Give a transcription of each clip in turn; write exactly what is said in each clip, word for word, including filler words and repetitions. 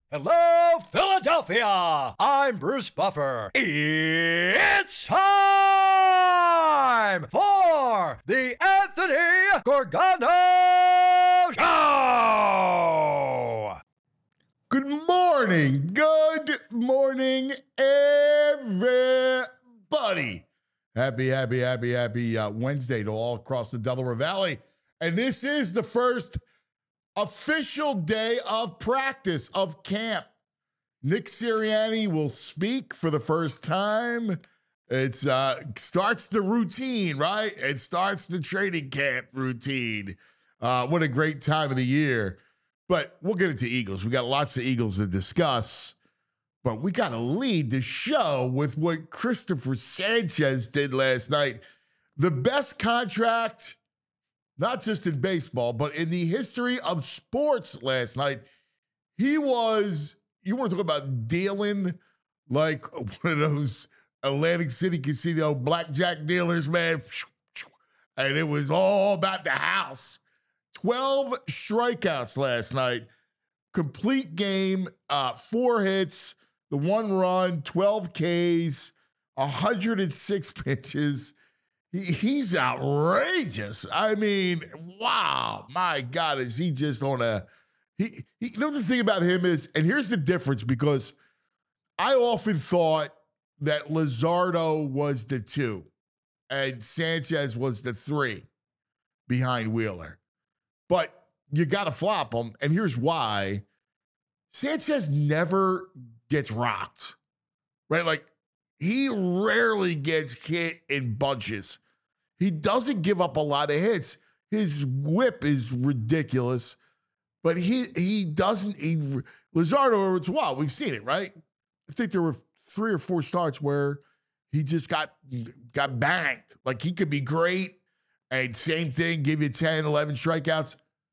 Hello, Philadelphia! I'm Bruce Buffer. It's time for the Anthony Gorgano Show! Good morning. Good morning, everybody. Happy, happy, happy, happy uh, Wednesday to all across the Delaware Valley. And this is the first official day of practice of camp. Nick Sirianni will speak for the first time. It's uh, starts the routine, right? It starts the training camp routine. Uh, what a great time of the year. But we'll get into Eagles. We got lots of Eagles to discuss. But we got to lead the show with what Christopher Sanchez did last night. The best contract, not just in baseball, but in the history of sports last night. He was, you want to talk about dealing like one of those Atlantic City casino blackjack dealers, man. And it was all about the house. twelve strikeouts last night. Complete game, uh, four hits, the one run, twelve Ks, one hundred six pitches. He, he's outrageous. I mean, wow, my God, is he just on a he, he you know the thing about him is, and here's the difference, because I often thought that Luzardo was the two and Sanchez was the three behind Wheeler. But you got to flop him, and here's why. Sanchez never gets rocked, right? Like, he rarely gets hit in bunches. He doesn't give up a lot of hits. His whip is ridiculous, but he he doesn't. He, Luzardo, it's wild. We've seen it, right? I think there were three or four starts where he just got got banged. Like, he could be great, and same thing, give you ten, eleven strikeouts,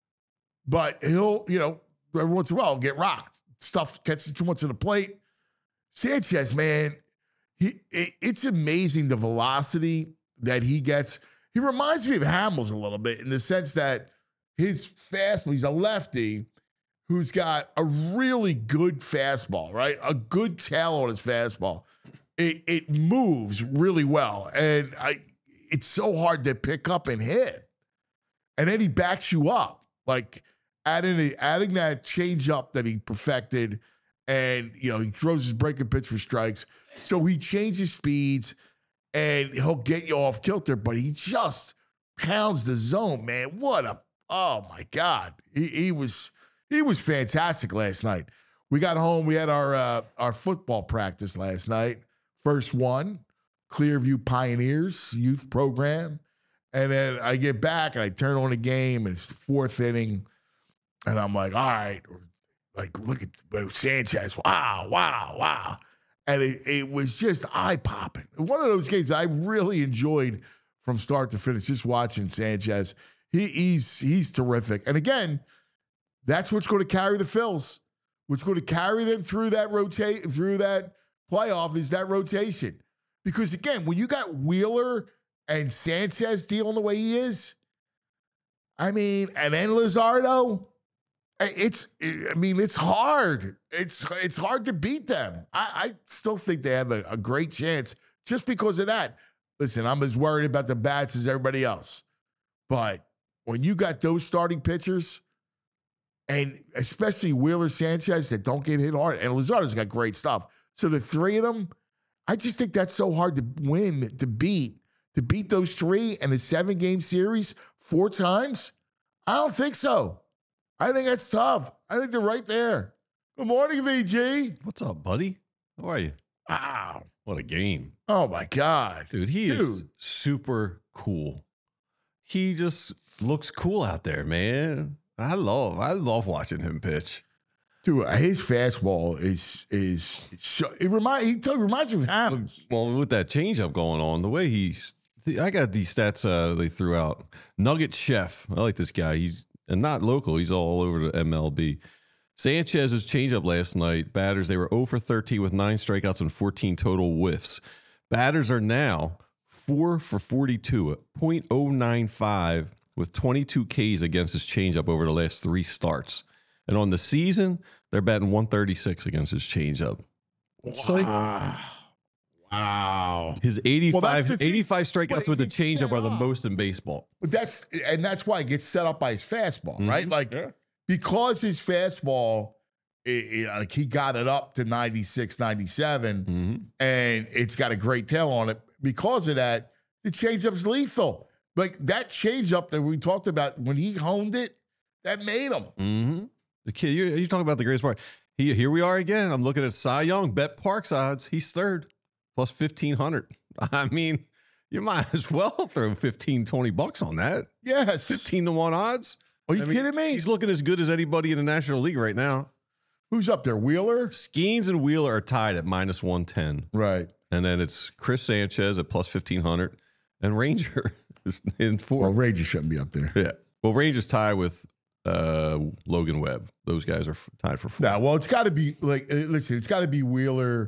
but he'll, you know, every once in a while get rocked. Stuff catches too much on the plate. Sanchez, man, He, it, it's amazing the velocity that he gets. He reminds me of Hamels a little bit in the sense that his fastball, he's a lefty who's got a really good fastball, right? A good tail on his fastball. It, it moves really well, and I, it's so hard to pick up and hit. And then he backs you up, like adding, a, adding that changeup that he perfected, and, you know, he throws his breaking pitch for strikes. So he changes speeds, and he'll get you off kilter, but he just pounds the zone, man. What a, oh, my God. He, he was he was fantastic last night. We got home. We had our uh, our football practice last night. First one, Clearview Pioneers youth program. And then I get back, and I turn on the game, and it's the fourth inning, and I'm like, all right, like, look at Sanchez. Wow, wow, wow. And it, it was just eye-popping. One of those games I really enjoyed from start to finish, just watching Sanchez. He, he's he's terrific. And again, that's what's going to carry the Phils. What's going to carry them through that rotate through that playoff is that rotation. Because again, when you got Wheeler and Sanchez dealing the way he is, I mean, and then Luzardo, It's, I mean, it's hard. It's it's hard to beat them. I, I still think they have a, a great chance just because of that. Listen, I'm as worried about the bats as everybody else. But when you got those starting pitchers, and especially Wheeler, Sanchez, that don't get hit hard, and Luzardo's got great stuff. So the three of them, I just think that's so hard to win, to beat. To beat those three in a seven-game series four times? I don't think so. I think that's tough. I think they're right there. Good morning, V G. What's up, buddy? How are you? Wow. What a game. Oh, my God. Dude, he Dude. is super cool. He just looks cool out there, man. I love, I love watching him pitch. Dude, his fastball is, is, it remind, he t- reminds me of Adams. Well, with that changeup going on, the way he's, I got these stats uh, they threw out. Nugget Chef. I like this guy. He's and not local. He's all over the M L B. Sanchez's changeup last night, batters, they were zero for thirteen with nine strikeouts and fourteen total whiffs. Batters are now four for forty-two at point oh nine five with twenty-two Ks against his changeup over the last three starts. And on the season, they're batting one thirty-six against his changeup. It's like Wow. Wow. his Well, eighty-five, that's 'cause he- eighty-five but strikeouts he with the gets changeup set are the up. most in baseball. But that's and that's why it gets set up by his fastball, Mhm. right? Like because his fastball, it, it, like he got it up to ninety-six, ninety-seven, Mhm. and it's got a great tail on it. Because of that, the changeup's lethal. Like that changeup that we talked about when he honed it, that made him. Mm-hmm. The kid, you're, you're talking about the greatest part. He, here we are again. I'm looking at Cy Young, Bet Parks odds. He's third, plus fifteen hundred. I mean, you might as well throw fifteen, twenty bucks on that. Yes. fifteen to one odds. Are you I mean, kidding me? He's looking as good as anybody in the National League right now. Who's up there? Wheeler? Skeens and Wheeler are tied at minus one ten. Right. And then it's Chris Sanchez at plus fifteen hundred. And Ranger is in Well, fourth. Ranger shouldn't be up there. Yeah. Well, Ranger's tied with uh, Logan Webb. Those guys are f- tied for fourth. No, well, it's got to be like, uh, listen, it's got to be Wheeler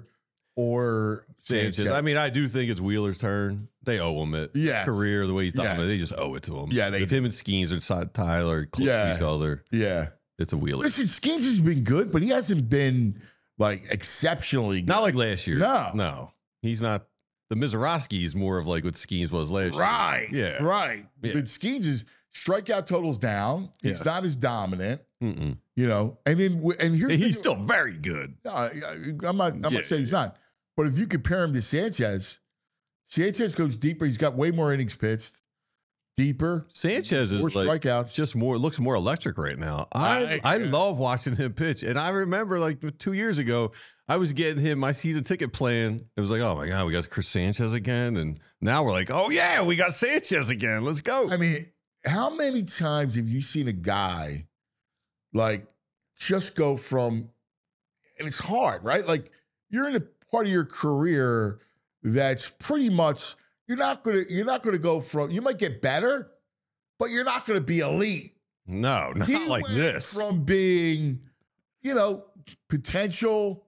or Sanchez. Sanchez. I mean, I do think it's Wheeler's turn. They owe him it. Yeah. Career, the way he's Yeah. dominated, they just owe it to him. Yeah, they if him and Skeens are side Tyler close Yeah. to each other, yeah. it's a Wheeler. Listen, Skeens has been good, but he hasn't been like exceptionally good. Not like last year. No. No. He's not. The Mizorowski is more of like what Skeens was last Right. year. Yeah. Right. Yeah. But Skeens is strikeout totals down. He's Yeah. not as dominant, Mm-mm. you know. And then and here's And the- he's still very good. No, I- I'm not. I'm Yeah. not saying he's not. But if you compare him to Sanchez, Sanchez goes deeper. He's got way more innings pitched, deeper, Sanchez is more like strikeouts. just more looks more electric right now. I I- I love watching him pitch, and I remember like two years ago, I was getting him my season ticket plan. It was like, oh my god, we got Chris Sanchez again, and now we're like, oh yeah, we got Sanchez again. Let's go. I mean, how many times have you seen a guy like just go from, and it's hard, right? Like you're in a part of your career that's pretty much you're not gonna you're not gonna go from you might get better, but you're not gonna be elite. no, not He like went this. from being, you know, potential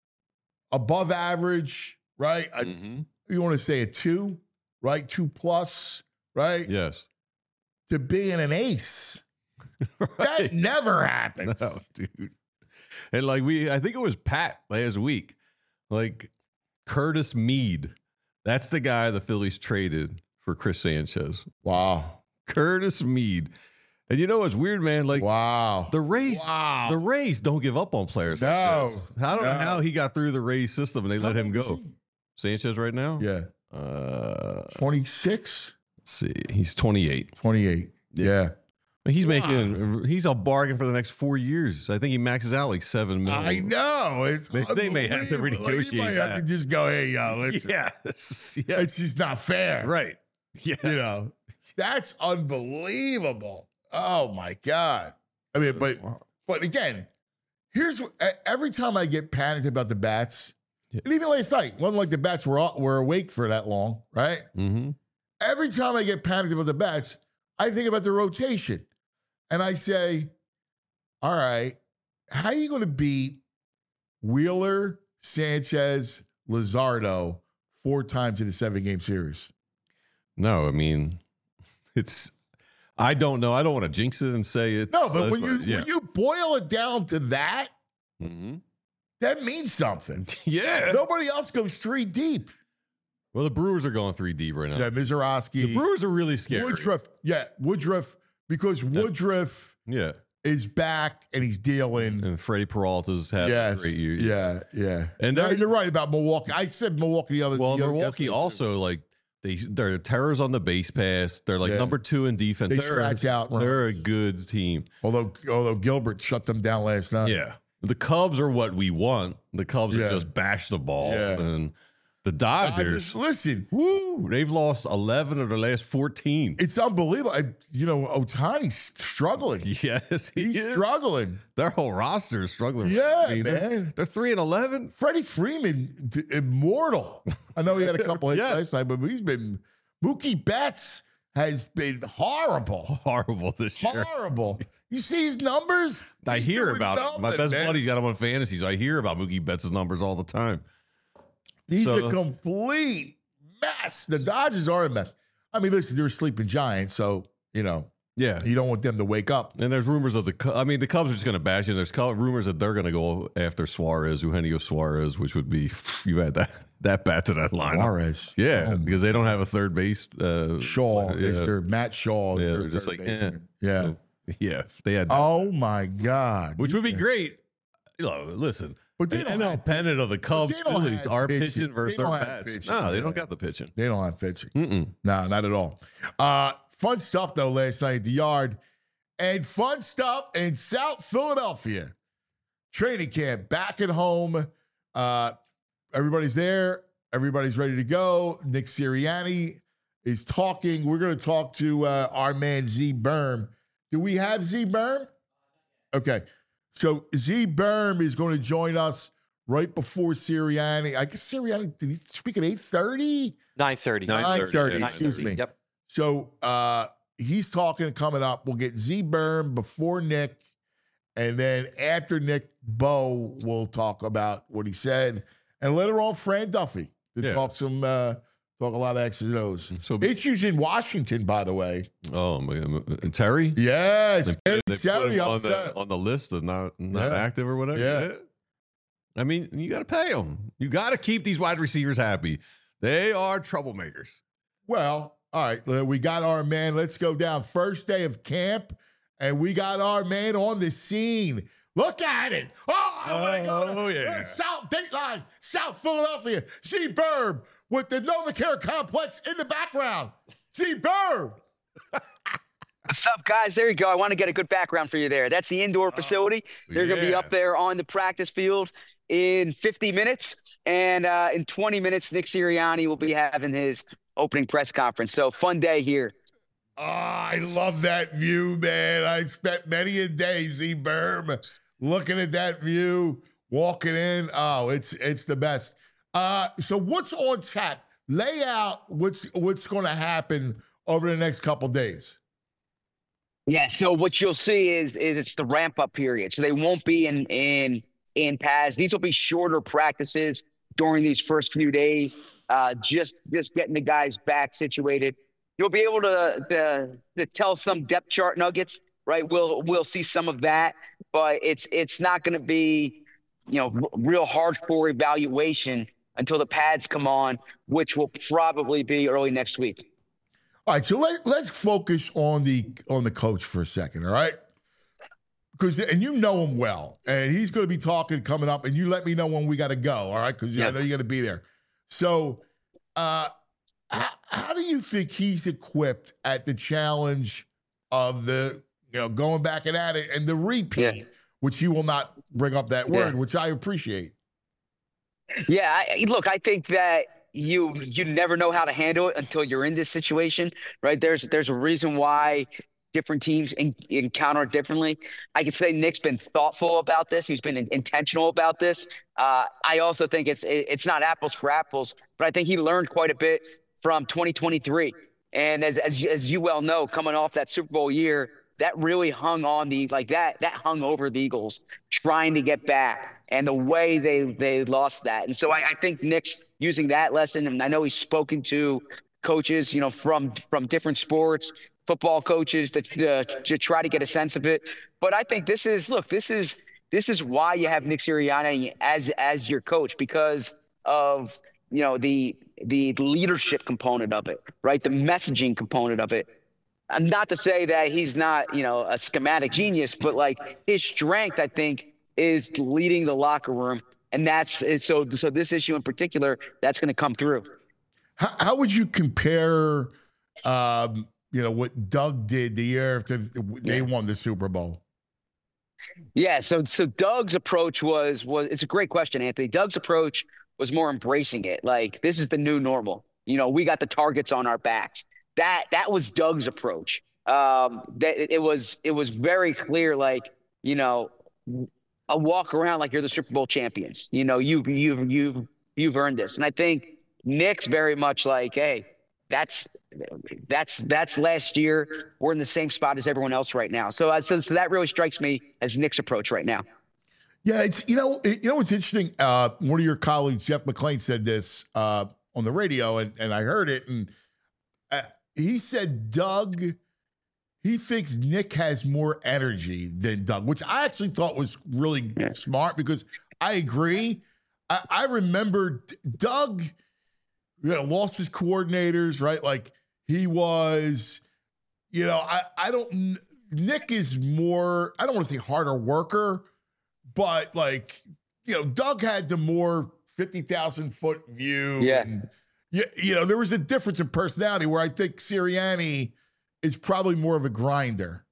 above average, right? A- Mhm. you want to say a two, right? Two plus, right? Yes. To being an ace. That Right. never happens. No, dude. And like we, I think it was Pat last week, like Curtis Mead. That's the guy the Phillies traded for Chris Sanchez. Wow. Curtis Mead. And you know what's weird, man? Like Wow. the Rays, Wow. the Rays don't give up on players. like No, this. I don't know no. how he got through the Rays system and they let How him old is go. he? Sanchez right now? Yeah. Uh, twenty-six, let's see. He's twenty-eight. twenty-eight. Yeah. He's Wow. making, he's a bargain for the next four years. I think he maxes out like seven million. I know. It's They- they may have to unbelievable. Like, renegotiate you might have that. to just go, hey, yo, listen. Yeah. It's, yeah. It's just not fair. Right. Yeah. You know, that's unbelievable. Oh my God. I mean, but but again, here's what, e- every time I get panicked about the bats, Yeah. and even last night, wasn't like the bats were all- were awake for that long, right? Mm-hmm. Every time I get panicked about the bats, I think about the rotation, and I say, all right, how are you going to beat Wheeler, Sanchez, Luzardo four times in a seven game series? No, I mean, it's, I don't know. I don't want to jinx it and say it. No, but when you yeah. when you boil it down to that, hmm that means something. yeah. Nobody else goes three deep. Well, the Brewers are going three deep right now. Yeah, Mizorowski, The Brewers are really scary. Woodruff. Yeah, Woodruff, because Woodruff Yeah. is back and he's dealing. And Freddie Peralta's had Yes. a great year. Yeah, yeah. And No, they're- you're right about Milwaukee. I said Milwaukee the other Well, the other- Milwaukee yesterday, too. also, like, they, they're terrors on the base pass. They're like Yeah. number two in defense. They they're, scratch out They're a runs. good team. Although although Gilbert shut them down last night. Yeah. The Cubs are what we want. The Cubs Yeah. are just bash the ball. Yeah. And the I Dodgers, just, listen, woo, they've lost eleven of their last fourteen. it's unbelievable. I, you know, Otani's struggling. Yes, he He's is. struggling. Their whole roster is struggling. Yeah, I mean, they're- man. They're three and eleven. Freddie Freeman, d- immortal. I know he had a couple hits Yes. last time, but he's been Mookie Betts has been horrible, Horrible this year. horrible. You see his numbers? I He's hear doing about it. My nothing, best man. buddy's got him on fantasy, so I hear about Mookie Betts' numbers all the time. He's So- a complete mess. The Dodgers are a mess. I mean, listen, they're a sleeping giant, so you know Yeah. You don't want them to wake up. And there's rumors of the, Cu- I mean, the Cubs are just going to bash you. There's cu- rumors that they're going to go after Suarez, Eugenio Suarez, which would be, you had that that bat to that line. Suarez. Yeah, Oh, because they don't have a third base. Uh, Shaw. Yeah, Is there Matt Shaw? is yeah their they're just third like, eh. baseman. Yeah. So, yeah, if they had that, Oh, my God. which would be great. You know, listen, But they an don't N L have- pennant of the Cubs, they don't Phillies have are pitching. pitching versus They don't their have bats. pitching, No, they yeah. don't got the pitching. They don't have pitching. Mm-mm. No, not at all. Uh, fun stuff, though, last night at the Yard. And fun stuff in South Philadelphia. Training camp back at home. Uh, everybody's there. Everybody's ready to go. Nick Sirianni is talking. We're going to talk to uh, our man Z Berm. Do we have Z Berm? Okay. So Z Berm is going to join us right before Sirianni. I guess Sirianni, did he speak at eight thirty? nine thirty. nine thirty, yeah, excuse me. Yep. So uh, he's talking coming up. We'll get Z Berm before Nick. And then after Nick, Bo will talk about what he said. And later on, Fran Duffy to Yeah. talk some, uh, talk a lot of X's and O's. So, Issues in Washington, by the way. oh my God, Terry. Yes. They, Eric they put Terry him on upset. the on the list of not not Yeah. active or whatever. Yeah. I mean, you got to pay them. You got to keep these wide receivers happy. They are troublemakers. Well, all right. uh, We got our man. Let's go down. First day of camp, and we got our man on the scene. Look at it. Oh, I want to go Oh, to yeah. uh, South Dateline, South Philadelphia. Z Berm with the NovaCare complex in the background. Z Berm. What's up, guys? There you go. I want to get a good background for you there. That's the indoor facility. They're going to be yeah. up there on the practice field in fifty minutes. And uh, in twenty minutes, Nick Sirianni will be having his opening press conference. So fun day here. Oh, I love that view, man. I spent many a day, Z Berm, looking at that view, walking in. Oh, it's it's the best. Uh, so what's on tap? Lay out what's what's going to happen over the next couple days. Yeah. So what you'll see is is it's the ramp up period. So they won't be in in in pads. These will be shorter practices during these first few days. Uh, just just getting the guys back situated. You'll be able to, to to tell some depth chart nuggets, right? We'll we'll see some of that, but it's it's not going to be, you know, r- real hardcore evaluation until the pads come on, which will probably be early next week. All right, so let, let's focus on the on the coach for a second, all right? Because and you know him well, and he's going to be talking coming up, and you let me know when we got to go, all right? Because I Yeah. know you got to be there. So, uh, how, how do you think he's equipped at the challenge of the you know going back and at it and the repeat, Yeah. which you will not bring up that word, Yeah. which I appreciate. Yeah, I, look, I think that you you never know how to handle it until you're in this situation, right? There's there's a reason why different teams en- encounter it differently. I could say Nick's been thoughtful about this. He's been in- intentional about this. Uh, I also think it's it, it's not apples for apples, but I think he learned quite a bit from twenty twenty-three. And as as as you well know, coming off that Super Bowl year, that really hung on the like that that hung over the Eagles trying to get back and the way they they lost that. And so I, I think Nick's using that lesson, and I know he's spoken to coaches, you know, from from different sports, football coaches to to, to try to get a sense of it. But I think this is look, this is this is why you have Nick Sirianni as as your coach, because of you know the the leadership component of it, right? The messaging component of it. And not to say that he's not, you know, a schematic genius, but like his strength, I think, is leading the locker room. And that's is so so this issue in particular, that's going to come through. How, how would you compare, um, you know, what Doug did the year after they Yeah. won the Super Bowl? Yeah, so so Doug's approach was was it's a great question, Anthony. Doug's approach was more embracing it. Like, this is the new normal. You know, we got the targets on our backs. That that was Doug's approach. Um, that it, it was it was very clear, like, you know, a walk around like you're the Super Bowl champions. You know, you you you you've earned this. And I think Nick's very much like, hey, that's that's that's last year. We're in the same spot as everyone else right now. So uh, so, so that really strikes me as Nick's approach right now. Yeah, it's you know it, you know what's interesting. Uh, one of your colleagues, Jeff McClain, said this uh, on the radio, and and I heard it, and uh, he said Doug he thinks Nick has more energy than Doug, which I actually thought was really Yeah. smart because I agree. I, I remember D- Doug, you know, lost his coordinators, right? Like he was, you know, I, I don't, Nick is more, I don't want to say harder worker, but like, you know, Doug had the more fifty thousand foot view. Yeah. And, you, you know, there was a difference in personality where I think Sirianni is probably more of a grinder.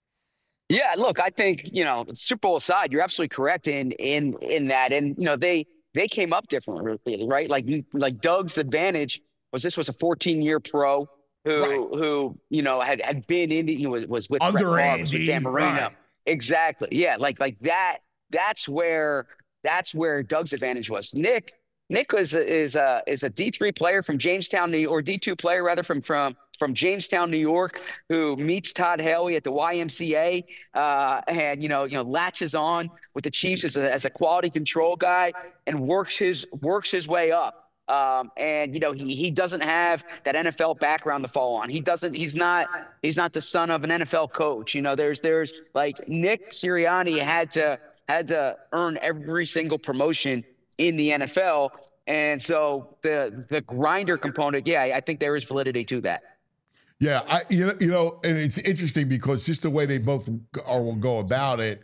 Yeah, look, I think, you know, Super Bowl aside, you're absolutely correct in in in that. And, you know, they they came up differently, right? Like like Doug's advantage was this was a fourteen-year pro who Right. who, you know, had, had been in the, you know, was, was with Brett Under Favre, was with Andy, Dan Marino. right. Exactly. Yeah, like like that that's where that's where Doug's advantage was. Nick Nick was is a is a D three player from Jamestown, New or D two player rather from from from Jamestown, New York, who meets Todd Haley at the Y M C A, uh, and you know you know latches on with the Chiefs as a, as a quality control guy and works his works his way up. Um, and you know he he doesn't have that N F L background to fall on. He doesn't. He's not. He's not the son of an N F L coach. You know, there's there's like Nick Sirianni had to had to earn every single promotion in the N F L. And so the the grinder component, yeah, I think there is validity to that. Yeah, I you know, you know, and it's interesting because just the way they both are, will go about it,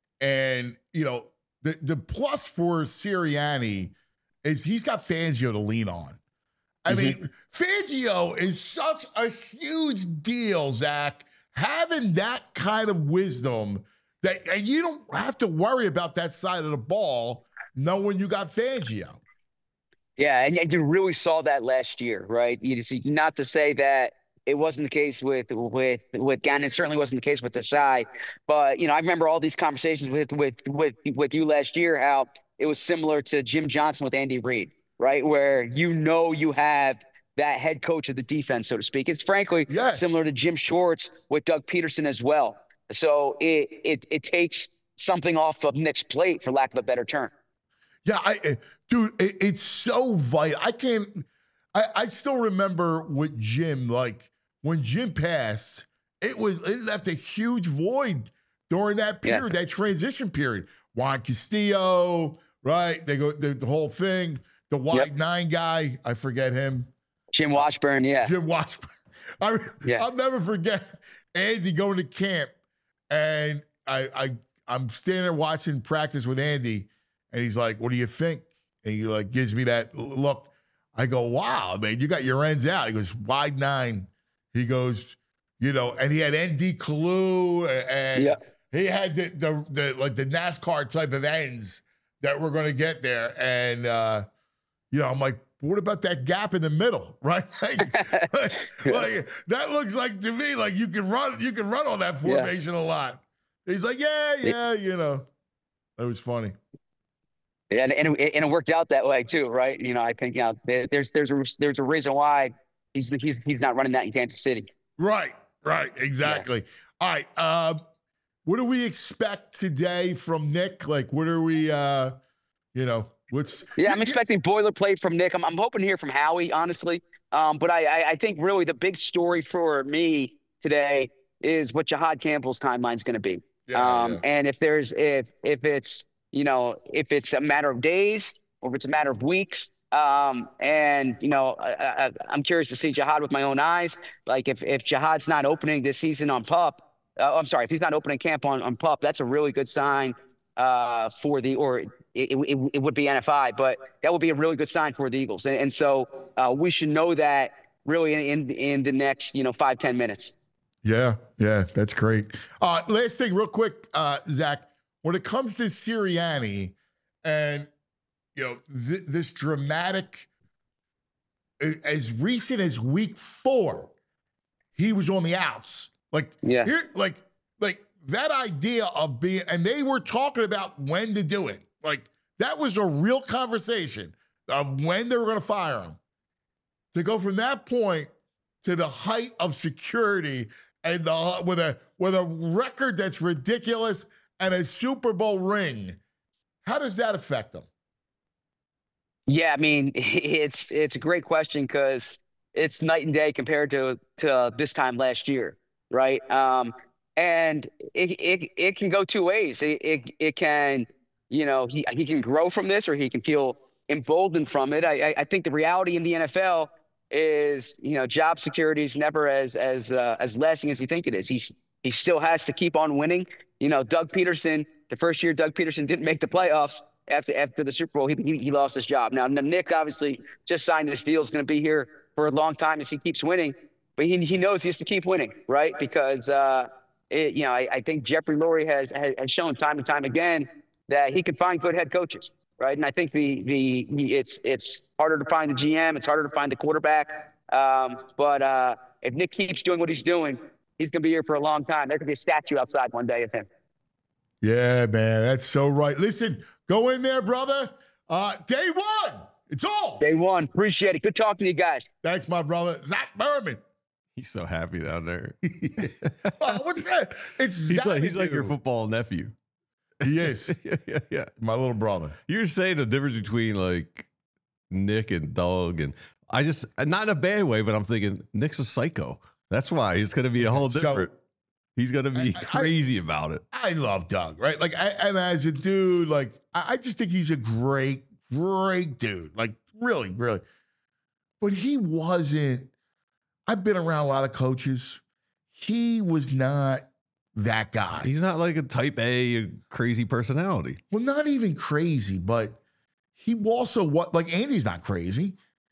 and you know, the the plus for Sirianni is he's got Fangio to lean on. I Mhm. mean, Fangio is such a huge deal, Zach. Having that kind of wisdom that, and you don't have to worry about that side of the ball, knowing you got Fangio. Yeah, and, and you really saw that last year, right? You see, not to say that it wasn't the case with with with Gannon. It certainly wasn't the case with Desai. But you know, I remember all these conversations with with with with you last year. How it was similar to Jim Johnson with Andy Reid, right? Where you know you have that head coach of the defense, so to speak. It's frankly Yes. similar to Jim Schwartz with Doug Peterson as well. So it it it takes something off of Nick's plate, for lack of a better term. Yeah, I, I- dude, it, it's so vital. I can't. I, I still remember with Jim, like when Jim passed, it was it left a huge void during that Yeah. period, that transition period. Juan Castillo, right? They go the, the whole thing. The wide Yep. nine guy, I forget him. Jim Washburn, yeah, Jim Washburn. I, Yeah. I'll never forget Andy going to camp, and I, I I'm standing there watching practice with Andy, and he's like, "What do you think?" And he like gives me that look. I go, "Wow, man, you got your ends out." He goes, "Wide nine." He goes, you know, and he had N D Kalu, and Yeah. he had the, the the like the NASCAR type of ends that we're going to get there, and uh, you know, I'm like, what about that gap in the middle, right? Like, like, like, that looks like to me like you can run, you can run on that Yeah. formation a lot. He's like, yeah, yeah, you know, that was funny. And and it, and it worked out that way too, right? You know, I think you know there, there's there's a there's a reason why he's he's he's not running that in Kansas City. Right, right, exactly. All right, uh, what do we expect today from Nick? Like, what are we, uh, you know, what's? Yeah, I'm expecting boilerplate from Nick. I'm I'm hoping to hear from Howie, honestly. Um, but I, I I think really the big story for me today is what Jihad Campbell's timeline is going to be. Yeah, um, yeah. and if there's if if it's you know if it's a matter of days or if it's a matter of weeks. Um, and you know, I, I, I'm curious to see Jihad with my own eyes. Like if, if Jihad's not opening this season on PUP, uh, I'm sorry, if he's not opening camp on, on PUP, that's a really good sign, uh, for the, or it, it, it would be N F I, but that would be a really good sign for the Eagles. And, and so, uh, we should know that really in, in, in the next, you know, five, ten minutes. Yeah, yeah, that's great. Uh, last thing, real quick, uh, Zach, when it comes to Sirianni and, you know, th- this dramatic, as recent as week four, he was on the outs. Like, Yeah. here, like, like that idea of being, and they were talking about when to do it. Like, that was a real conversation of when they were going to fire him. To go from that point to the height of security and the with a with a record that's ridiculous and a Super Bowl ring, how does that affect them? Yeah, I mean, it's it's a great question because it's night and day compared to to this time last year. right? Um, and it, it it can go two ways. It it, it can, you know, he he can grow from this, or he can feel emboldened from it. I I, I think the reality in the N F L is, you know, job security is never as as uh, as lasting as you think it is. He he still has to keep on winning. You know, Doug Peterson, the first year Doug Peterson didn't make the playoffs after after the Super Bowl, he he, he lost his job. Now Nick obviously just signed this deal, is going to be here for a long time as he keeps winning, but he he knows he has to keep winning, right? Because uh, it, you know, I, I think Jeffrey Lurie has, has has shown time and time again that he can find good head coaches, right? And I think the the it's it's harder to find the G M, it's harder to find the quarterback. Um, but uh, if Nick keeps doing what he's doing, he's going to be here for a long time. There could be a statue outside one day of him. Yeah, man, that's so right. Listen, go in there, brother. Uh, day one, it's all. Day one, appreciate it. Good talking to you guys. Thanks, my brother, Zach Berman. He's so happy down there. Oh, what's that? It's He's like he's Xanadu. like your football nephew. He is yeah, yeah, yeah. my little brother. You're saying the difference between like Nick and Doug, and I just not in a bad way, but I'm thinking Nick's a psycho. That's why he's going to be a whole So- different. He's going to be I- I- crazy about it. I love Doug, right? Like, I, and as a dude, like, I, I just think he's a great, great dude. Like, really, really. But he wasn't. I've been around a lot of coaches. He was not that guy. He's not like a type A, a crazy personality. Well, not even crazy, but he also what like Andy's not crazy.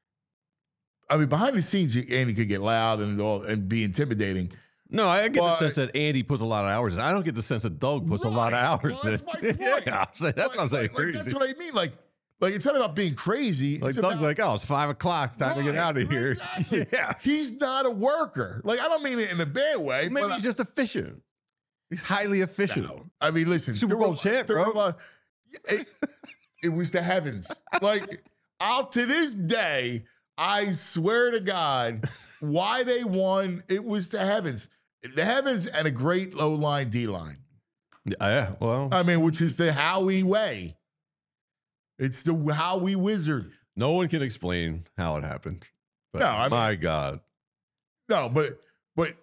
I mean, behind the scenes, Andy could get loud and all and be intimidating. No, I get But- the sense that Andy puts a lot of hours in. I don't get the sense that Doug puts a lot of Right. hours Well, in. that's my point. yeah, I'm saying- that's Like- what I'm saying. like- like, crazy. that's what I mean. Like, like it's not about being crazy. Like it's Doug's about, like, oh, it's five o'clock. Time to get Right, out of here. exactly. yeah. He's not a worker. Like, I don't mean it in a bad way. Maybe but he's just efficient. He's highly efficient. No. I mean, listen, Super there Bowl were- champ, there bro. were a lot- It, it was the heavens. Like, I'll to this day, I swear to God, why they won, it was the heavens. The heavens and a great low line D line. Yeah, yeah, well, I mean, which is the Howie way. It's the Howie wizard. no one can explain how it happened. But No, I mean- my God. No, but but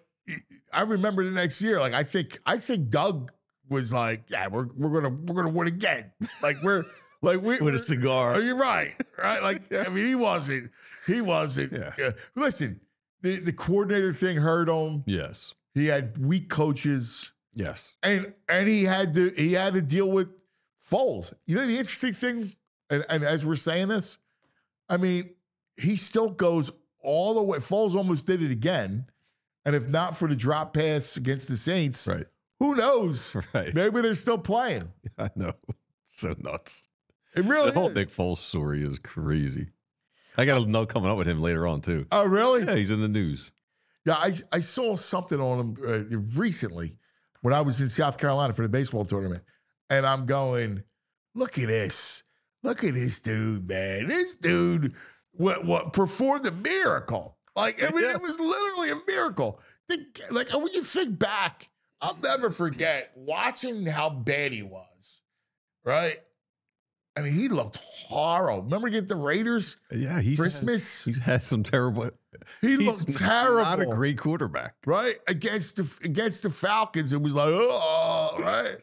I remember the next year. Like I think I think Doug was like, yeah, we're we're gonna we're gonna win again. Like we're like we With a we're- cigar. Oh, you're right, right? Like I mean, he wasn't. He wasn't. Yeah. Uh, listen, the the coordinator thing hurt him. Yes. He had weak coaches, Yes. and and he had to he had to deal with Foles. You know the interesting thing, and, and as we're saying this, I mean, he still goes all the way. Foles almost did it again, and if not for the drop pass against the Saints, Right. who knows? Right. Maybe they're still playing. I know. So nuts. It really The whole is. Nick Foles story is crazy. I got to know coming up with him later on, too. Oh, really? Yeah, he's in the news. Yeah, I, I saw something on him uh, recently when I was in South Carolina for the baseball tournament. And I'm going, look at this. Look at this dude, man. This dude what, what performed a miracle. Like, I mean, Yeah. it was literally a miracle. Think, like, when you think back, I'll never forget watching how bad he was, right? I mean, he looked horrible. Remember against the Raiders? Yeah, he's Christmas? Had, he's had some terrible. He he's looked terrible. Not a great quarterback. Right against the against the Falcons, it was like oh right,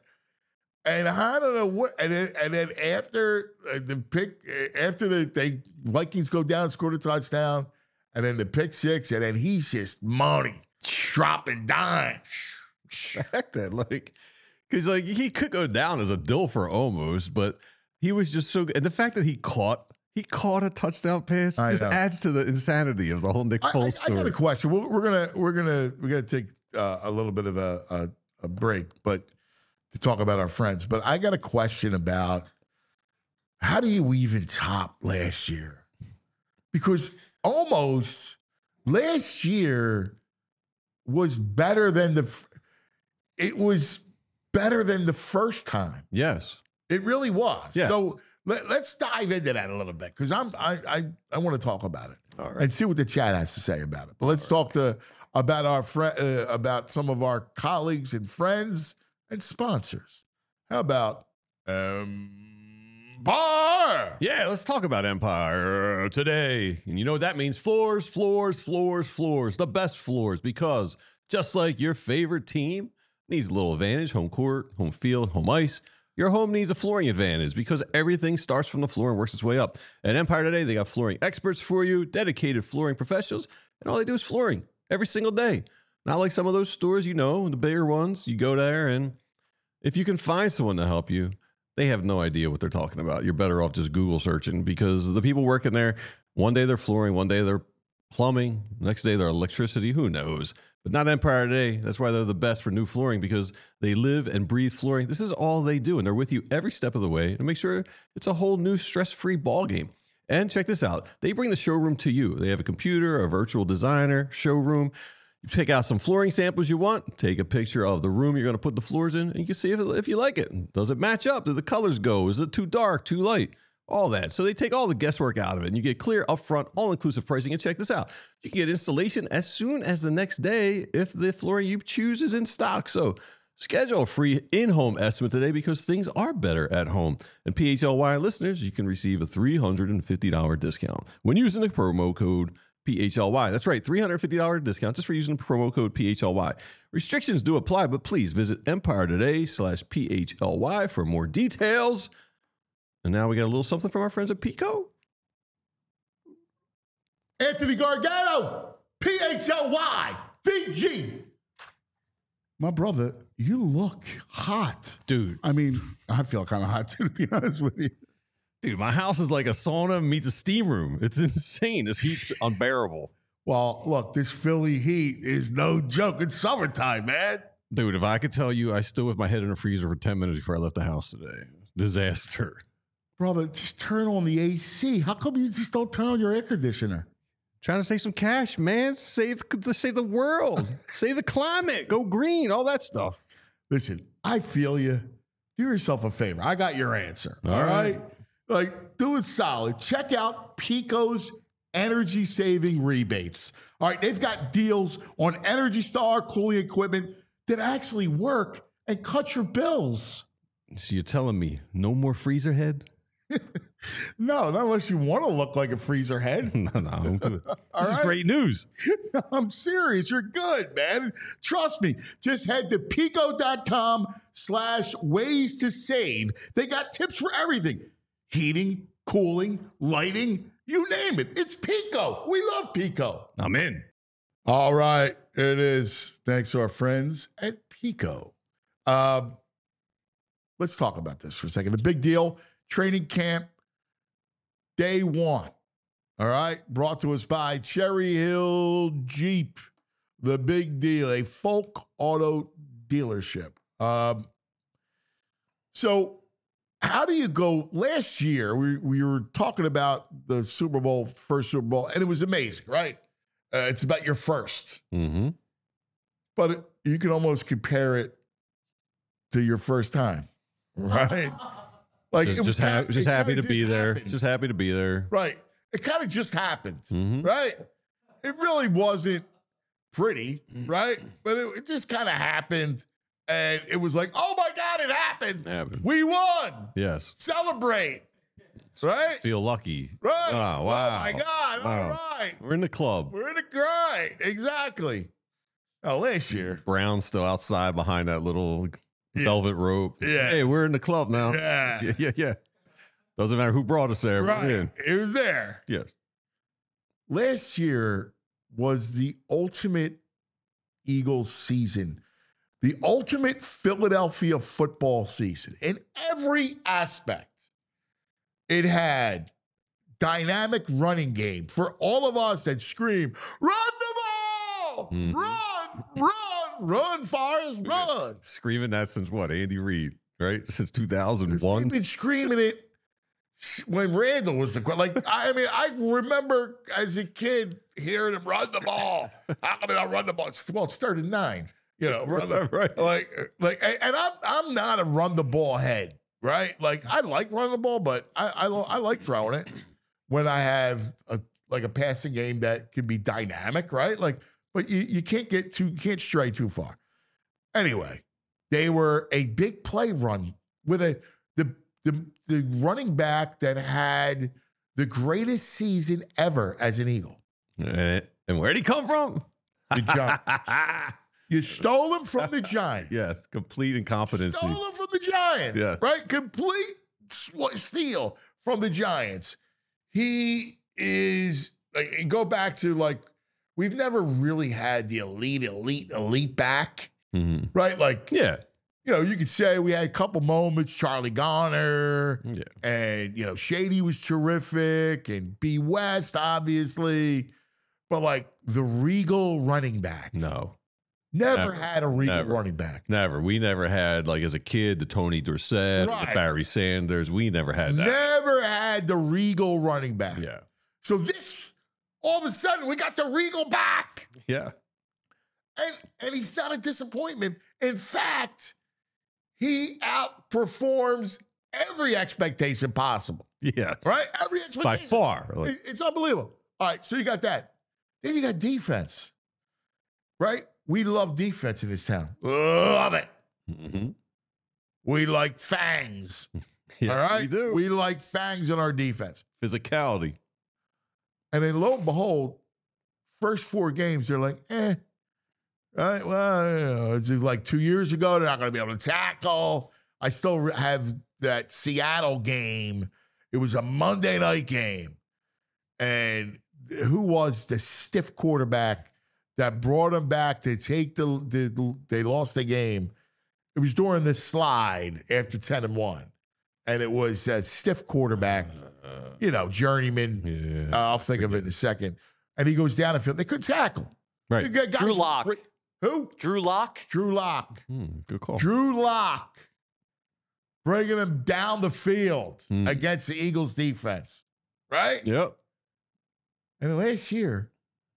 and I don't know what, and then and then after uh, the pick, uh, after the they Vikings go down, scored a touchdown, and then the pick six, and then he's just money dropping dimes. Heck that, like, because like he could go down as a Dilfer almost, but he was just so good. And the fact that he caught he caught a touchdown pass I just know. adds to the insanity of the whole Nick I, I, Foles I story. got a question. We're, we're gonna we're gonna we're gonna take uh, a little bit of a, a a break, but to talk about our friends. But I got a question about how do you even top last year? Because almost last year was better than the. f- It was better than the first time. Yes. It really was. Yes. So let, let's dive into that a little bit because I'm I I, I want to talk about it All right. and see what the chat has to say about it. But let's talk to about our friend uh, about some of our colleagues and friends and sponsors. How about um bar? Yeah, let's talk about Empire today. And you know what that means? Floors, floors, floors, floors. The best floors because Just like your favorite team needs a little advantage, home court, home field, home ice, your home needs a flooring advantage because everything starts from the floor and works its way up. At Empire Today, they got flooring experts for you, dedicated flooring professionals, and all they do is flooring every single day. Not like some of those stores, you know, the bigger ones, you go there and if you can find someone to help you, they have no idea what they're talking about. You're better off just Google searching because the people working there, one day they're flooring, one day they're plumbing, next day they're electricity, who knows? But not Empire Today. That's why they're the best for new flooring because they live and breathe flooring. This is all they do, and they're with you every step of the way to make sure it's a whole new stress-free ball game. And check this out. They bring the showroom to you. They have a computer, a virtual designer, showroom. You pick out some flooring samples you want, take a picture of the room you're going to put the floors in, and you can see if, if you like it. Does it match up? Do the colors go? Is it too dark, too light? All that. So they take all the guesswork out of it, and you get clear, upfront, all-inclusive pricing. And check this out. You can get installation as soon as the next day if the flooring you choose is in stock. So schedule a free in-home estimate today because things are better at home. And P H L Y listeners, you can receive a three hundred fifty dollars discount when using the promo code P H L Y. That's right, three hundred fifty dollars discount just for using the promo code P H L Y. Restrictions do apply, but please visit Empire Today slash P H L Y for more details. And now we got a little something from our friends at Pico. Anthony Gargano, P H L Y, D G. My brother, you look hot. Dude. I mean, I feel kind of hot too, to be honest with you. Dude, my house is like a sauna meets a steam room. It's insane. This heat's unbearable. Well, look, this Philly heat is no joke. It's summertime, man. Dude, if I could tell you, I stood with my head in a freezer for ten minutes before I left the house today. Disaster. Brother, just turn on the A C. How come you just don't turn on your air conditioner? Trying to save some cash, man. Save, save the world. Save the climate. Go green. All that stuff. Listen, I feel you. Do yourself a favor. I got your answer. All All right. right? Like, do it solid. Check out Pico's energy saving rebates. All right, they've got deals on Energy Star cooling equipment that actually work and cut your bills. So you're telling me no more freezer head? No, not unless you want to look like a freezer head. No, no. I'm good. All This is right. great news. I'm serious. You're good, man. Trust me. Just head to pico.com slash ways to save. They got tips for everything. Heating, cooling, lighting, you name it. It's Pico. We love Pico. I'm in. All right. It is. Thanks to our friends at Pico. Um, let's talk about this for a second. The big deal, training camp, day one. All right. Brought to us by Cherry Hill Jeep. The big deal, a Folk Auto dealership. Um, so, how do you go? Last year, we, we were talking about the Super Bowl, first Super Bowl, and it was amazing, right? Uh, it's about your first. Mm-hmm. But it, you can almost compare it to your first time, right? Like Just, it was just, ha- kinda- just it happy kinda to be just there. happened. Just happy to be there. Right. It kind of just happened, Mhm. right? It really wasn't pretty, right? But it, it just kind of happened. And it was like, oh my God, it happened. Happened. We won. Yes. Celebrate. Right? Feel lucky. Right. Oh, wow. Oh my God. Wow. All right. We're in the club. We're in the grind. Exactly. Oh, last year. Brown's still outside behind that little Yeah. velvet rope. Yeah. Hey, we're in the club now. Yeah. Yeah, yeah, yeah. Doesn't matter who brought us there. We're Right. in. It was there. Yes. Last year was the ultimate Eagles season, the ultimate Philadelphia football season in every aspect. It had dynamic running game for all of us that scream, run the ball, Mhm. run, run, run, Forrest, run. Screaming that since what? Andy Reid, right? Since two thousand We've one. been screaming it when Randall was the like. I mean, I remember as a kid hearing him run the ball. How come I don't run the ball? It's- Well, it's third and nine. You know, run the, Right. like, like, and I'm I'm not a run the ball head, right? Like, I like running the ball, but I I, lo- I like throwing it when I have a like a passing game that can be dynamic, right? Like, but you you can't get too you can't stray too far. Anyway, they were a big play run with a the the the running back that had the greatest season ever as an Eagle. And, and where'd he come from? The Gi- You stole him from the Giants. Yes, complete incompetency. Stole him from the Giants. Yeah. Right? Complete sw- steal from the Giants. He is, like, go back to, like, we've never really had the elite, elite, elite back. Mm-hmm. Right? Like, Yeah. you know, you could say we had a couple moments, Charlie Garner, Yeah. and, you know, Shady was terrific, and B. West, obviously. But, like, the regal running back. No. Never, Never. had a regal Never. running back. Never. We never had, like, as a kid, the Tony Dorsett, Right. the Barry Sanders. We never had that. Never had the regal running back. Yeah. So this, all of a sudden, we got the regal back. Yeah. And, and he's not a disappointment. In fact, he outperforms every expectation possible. Yeah. Right? Every expectation. By far. Like, It- It's unbelievable. All right, so you got that. Then you got defense. Right? We love defense in this town. Love it. mhm. We like fangs. Yes, all right? we do. We like fangs in our defense. Physicality. And then lo and behold, first four games, they're like, eh. Right? Well, you know, it's like two years ago, they're not going to be able to tackle. I still have that Seattle game. It was a Monday night game. And who was the stiff quarterback that brought them back to take the, the they lost the game? It was during the slide after ten and one. And it was a stiff quarterback, you know, journeyman. Yeah. Uh, I'll think of it in a second. And he goes down the field. They couldn't tackle. Right. You got guys- Drew Lock. Who? Drew Lock. Drew Lock. Hmm, good call. Drew Lock. Bringing him down the field Hmm. against the Eagles defense. Right? Yep. And last year,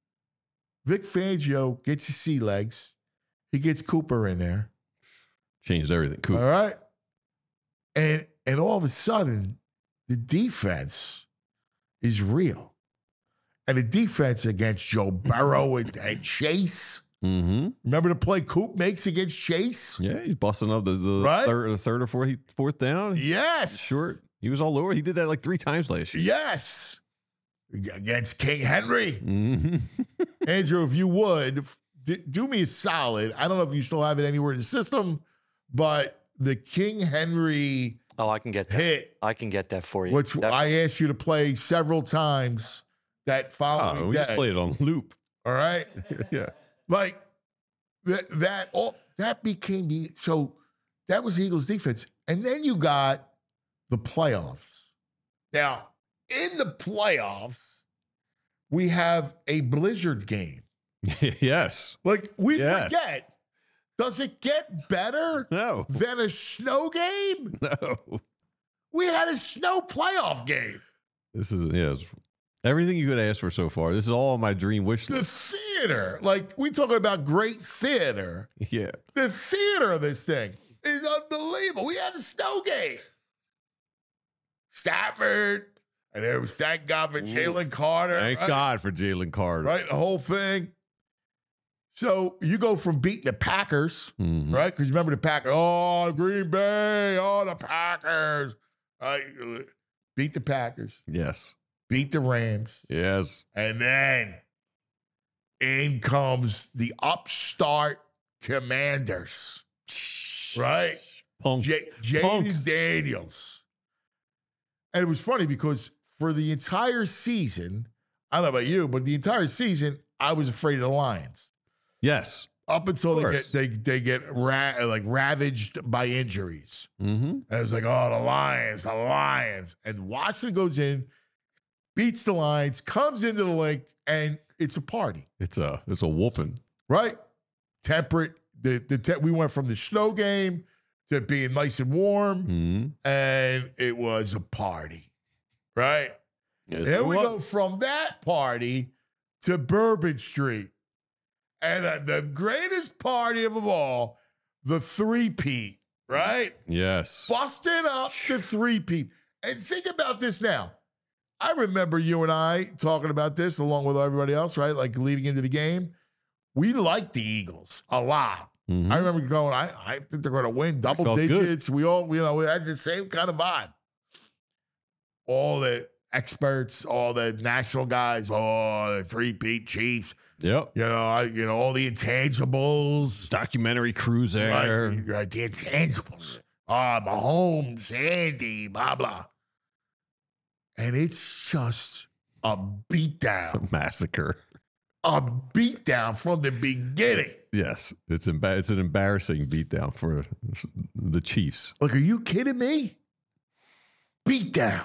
Vic Fangio gets his sea legs. He gets Cooper in there. Changed everything. Cool. All right. And and all of a sudden, the defense is real. And the defense against Joe Burrow and, and Chase. Mm-hmm. Remember the play Coop makes against Chase? Yeah, he's busting up the, the Right? third, the third or fourth, fourth down. Yes. Short. He was all over. He did that like three times last year. Yes. Against King Henry. Mm-hmm. Andrew, if you would, d- do me a solid. I don't know if you still have it anywhere in the system, but the King Henry Oh, I can get that. hit, I can get that for you. which That- I asked you to play several times that following Oh, we just day. played it on loop. All right? Yeah. Like that, that all that became the so that was the Eagles defense. And then you got the playoffs. Now, in the playoffs, we have a blizzard game. Yes. Like we Yes. forget. Does it get better No. than a snow game? No. We had a snow playoff game. This is yeah. It's everything you could ask for so far. This is all my dream wish The list. theater, like we talking about great theater. Yeah. The theater of this thing is unbelievable. We had a snow game. Stafford, and there was thank God for Jalen Carter. Thank right? God for Jalen Carter. Right, the whole thing. So you go from beating the Packers, Mhm. right? Because remember the Packers, oh, Green Bay, oh, the Packers. Right? Beat the Packers, Yes. beat the Rams, Yes. and then in comes the upstart Commanders, right? Punk. J- Punks. Jaden Daniels. And it was funny because for the entire season, I don't know about you, but the entire season, I was afraid of the Lions. Yes. Up until Of they course. get they they get ra- like ravaged by injuries. Mm-hmm. And it was like, oh, the Lions, the Lions. And Washington goes in, beats the Lions, comes into the link, and it's a party, It's a it's a whooping. right? Temperate. The the te- we went from the snow game to being nice and warm, Mm-hmm. and it was a party, right? Yes, And then it we was. go from that party to Bourbon Street. And uh, the greatest party of them all, the three-peat, right? Yes. Busting up the three-peat. And think about this now. I remember you and I talking about this along with everybody else, right? Like leading into the game. We liked the Eagles a lot. Mhm. I remember going, I, I think they're going to win double Felt good. digits. We all, you know, we had the same kind of vibe. All that experts, all the national guys, oh, the three-peat Chiefs. Yep. You know, I, you know all the intangibles. Documentary crews there. Right, right, the intangibles. Ah, Mahomes, Andy, blah blah. And it's just a beatdown. It's a massacre. A beatdown from the beginning. Yes, it's emba- it's an embarrassing beatdown for the Chiefs. Like, are you kidding me? Beatdown.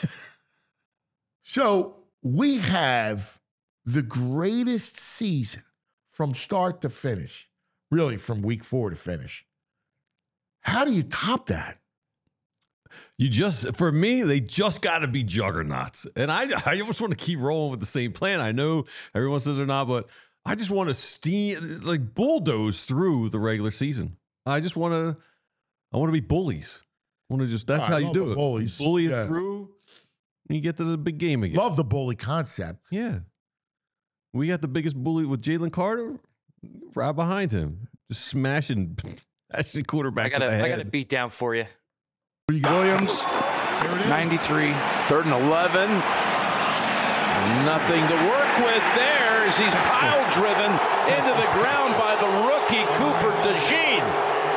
So we have the greatest season from start to finish, really from week four to finish. How do you top that? You just, for me, they just got to be juggernauts. And I, I almost want to keep rolling with the same plan. I know everyone says they're not, but I just want to steam, like bulldoze through the regular season. I just want to, I want to be bullies. I want to just, that's I how you love do the it. bullies. Bully it Yeah. through, and you get to the big game again. Love the bully concept. Yeah. We got the biggest bully with Jalen Carter right behind him, just smashing, smashing quarterbacks. I got in the a, I head. got a beat down for you. Williams, ninety-three, third and eleven. And nothing to work with there as he's pile driven into the ground by the rookie Cooper DeJean.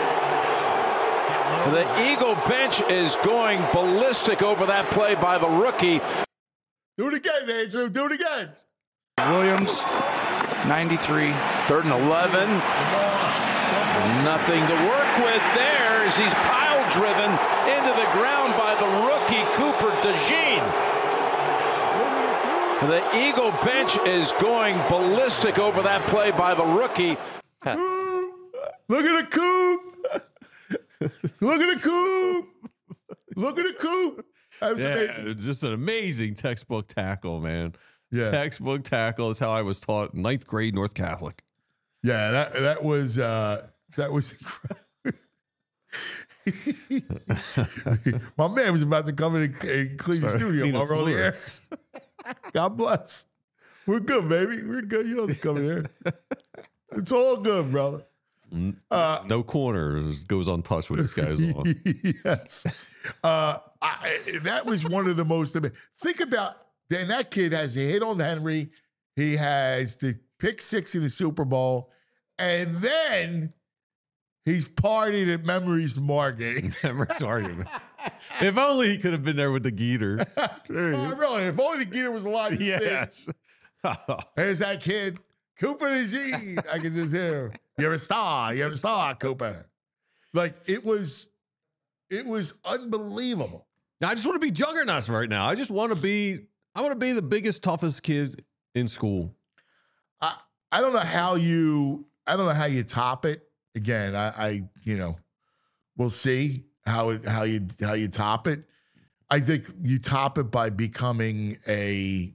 The Eagle bench is going ballistic over that play by the rookie. Do it again, Andrew. Do it again. Williams, ninety-three, third and eleven. And nothing to work with there as he's pile driven into the ground by the rookie Cooper DeJean. The Eagle bench is going ballistic over that play by the rookie. Look at the Coop. Look at the Coop. Look at the Coop. That was Yeah, amazing. it's just an amazing textbook tackle, man. Yeah. Textbook tackle is how I was taught ninth grade North Catholic. Yeah, that that was uh, that was incredible. My man was about to come in and, and clean the Sorry, studio clean while the we're on the air. floors. God bless. We're good, baby. We're good. You don't have to come in here. It's all good, brother. Uh, No corner goes untouched when this guy's on. yes. Uh, I, that was one of the most. Think about, then that kid has a hit on Henry. He has the pick six in the Super Bowl. And then he's partied at Memories Margate. Memories argument. If only he could have been there with the Geeter. Uh, really, if only the Geeter was alive. to Yes. see. There's that kid, Cooper DeJean. I can just hear him. You're a star. You're a star, Cooper. Like, it was, it was unbelievable. I just want to be juggernauts right now. I just want to be, I want to be the biggest, toughest kid in school. I, I don't know how you, I don't know how you top it. Again, I, I you know, we'll see how it, how you, how you top it. I think you top it by becoming a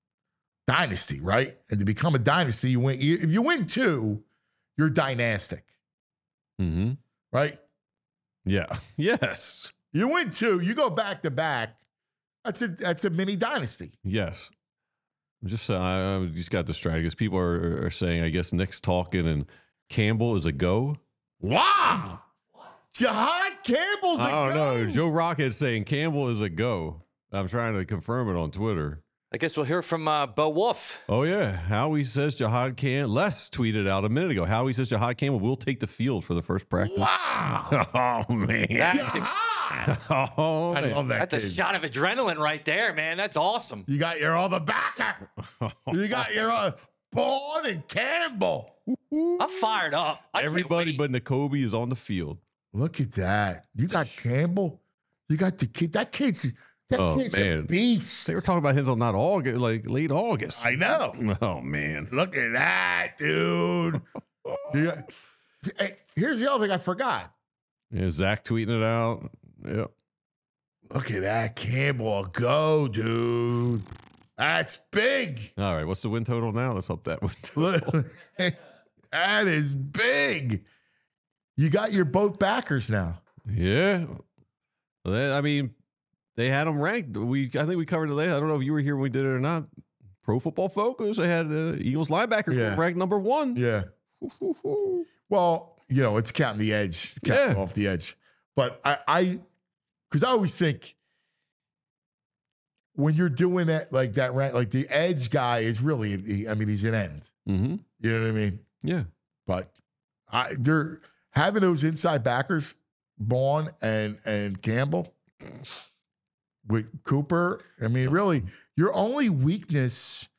dynasty, right? And to become a dynasty, you win. If you win two, you're dynastic, Mm-hmm. right? Yeah. Yes. You win two, you go back to back. That's a that's a mini dynasty. Yes. I'm just, uh, I just got distracted because people are, are saying, I guess Nick's talking and Campbell is a go. Wow, Jahad Campbell's. I a don't go. know. Joe Rocket's saying Campbell is a go. I'm trying to confirm it on Twitter. I guess we'll hear from uh, Bo Wolf. Oh, yeah. Howie says Jahad Campbell. Les tweeted out a minute ago. Howie says Jahad Campbell will take the field for the first practice. Wow, Oh, man. That's, ex- Jahad. Oh, I man. love that. that's a kid. shot of adrenaline right there, man. That's awesome. You got your other backer. You got your uh, Bourne and Campbell. I'm fired up. I can't Everybody wait. but N'Kobe is on the field. Look at that. You got Campbell. You got the kid. That kid's that Oh, kid's man. a beast. They were talking about him until not August, like late August. I know. Oh, man. Look at that, dude. Yeah. Hey, here's the other thing I forgot. Yeah, Zach tweeting it out. Yep. Look at that Campbell go, dude. That's big. All right. What's the win total now? Let's up that win total. Look, that is big. You got your both backers now. Yeah. Well, they- I mean, they had them ranked. We, I think we covered it later. I don't know if you were here when we did it or not. Pro Football Focus. They had uh, Eagles linebacker Yeah. ranked number one. Yeah. Well, you know, it's counting the edge, counting Yeah. off the edge. But I, I, because I always think when you're doing that, like that, right? Like the edge guy is really, he, I mean, he's an end. Mm-hmm. You know what I mean? Yeah. But I, they're having those inside backers, Vaughn and and Campbell with Cooper. I mean, really, your only weakness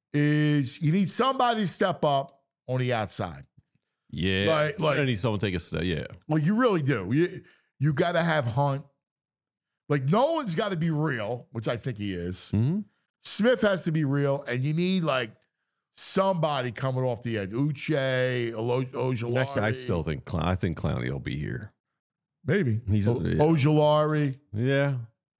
is you need somebody to step up on the outside. Yeah. Like- like- I need someone to take a step. Yeah. Well, you really do. You you got to have Hunt. Like Nolan's got to be real, which I think he is. Mm-hmm. Smith has to be real, and you need like somebody coming off the edge. Uche, Olo- Ojulari. Actually, I still think Clown, I think Clowney will be here. maybe He's- o- yeah. Ojulari. Yeah.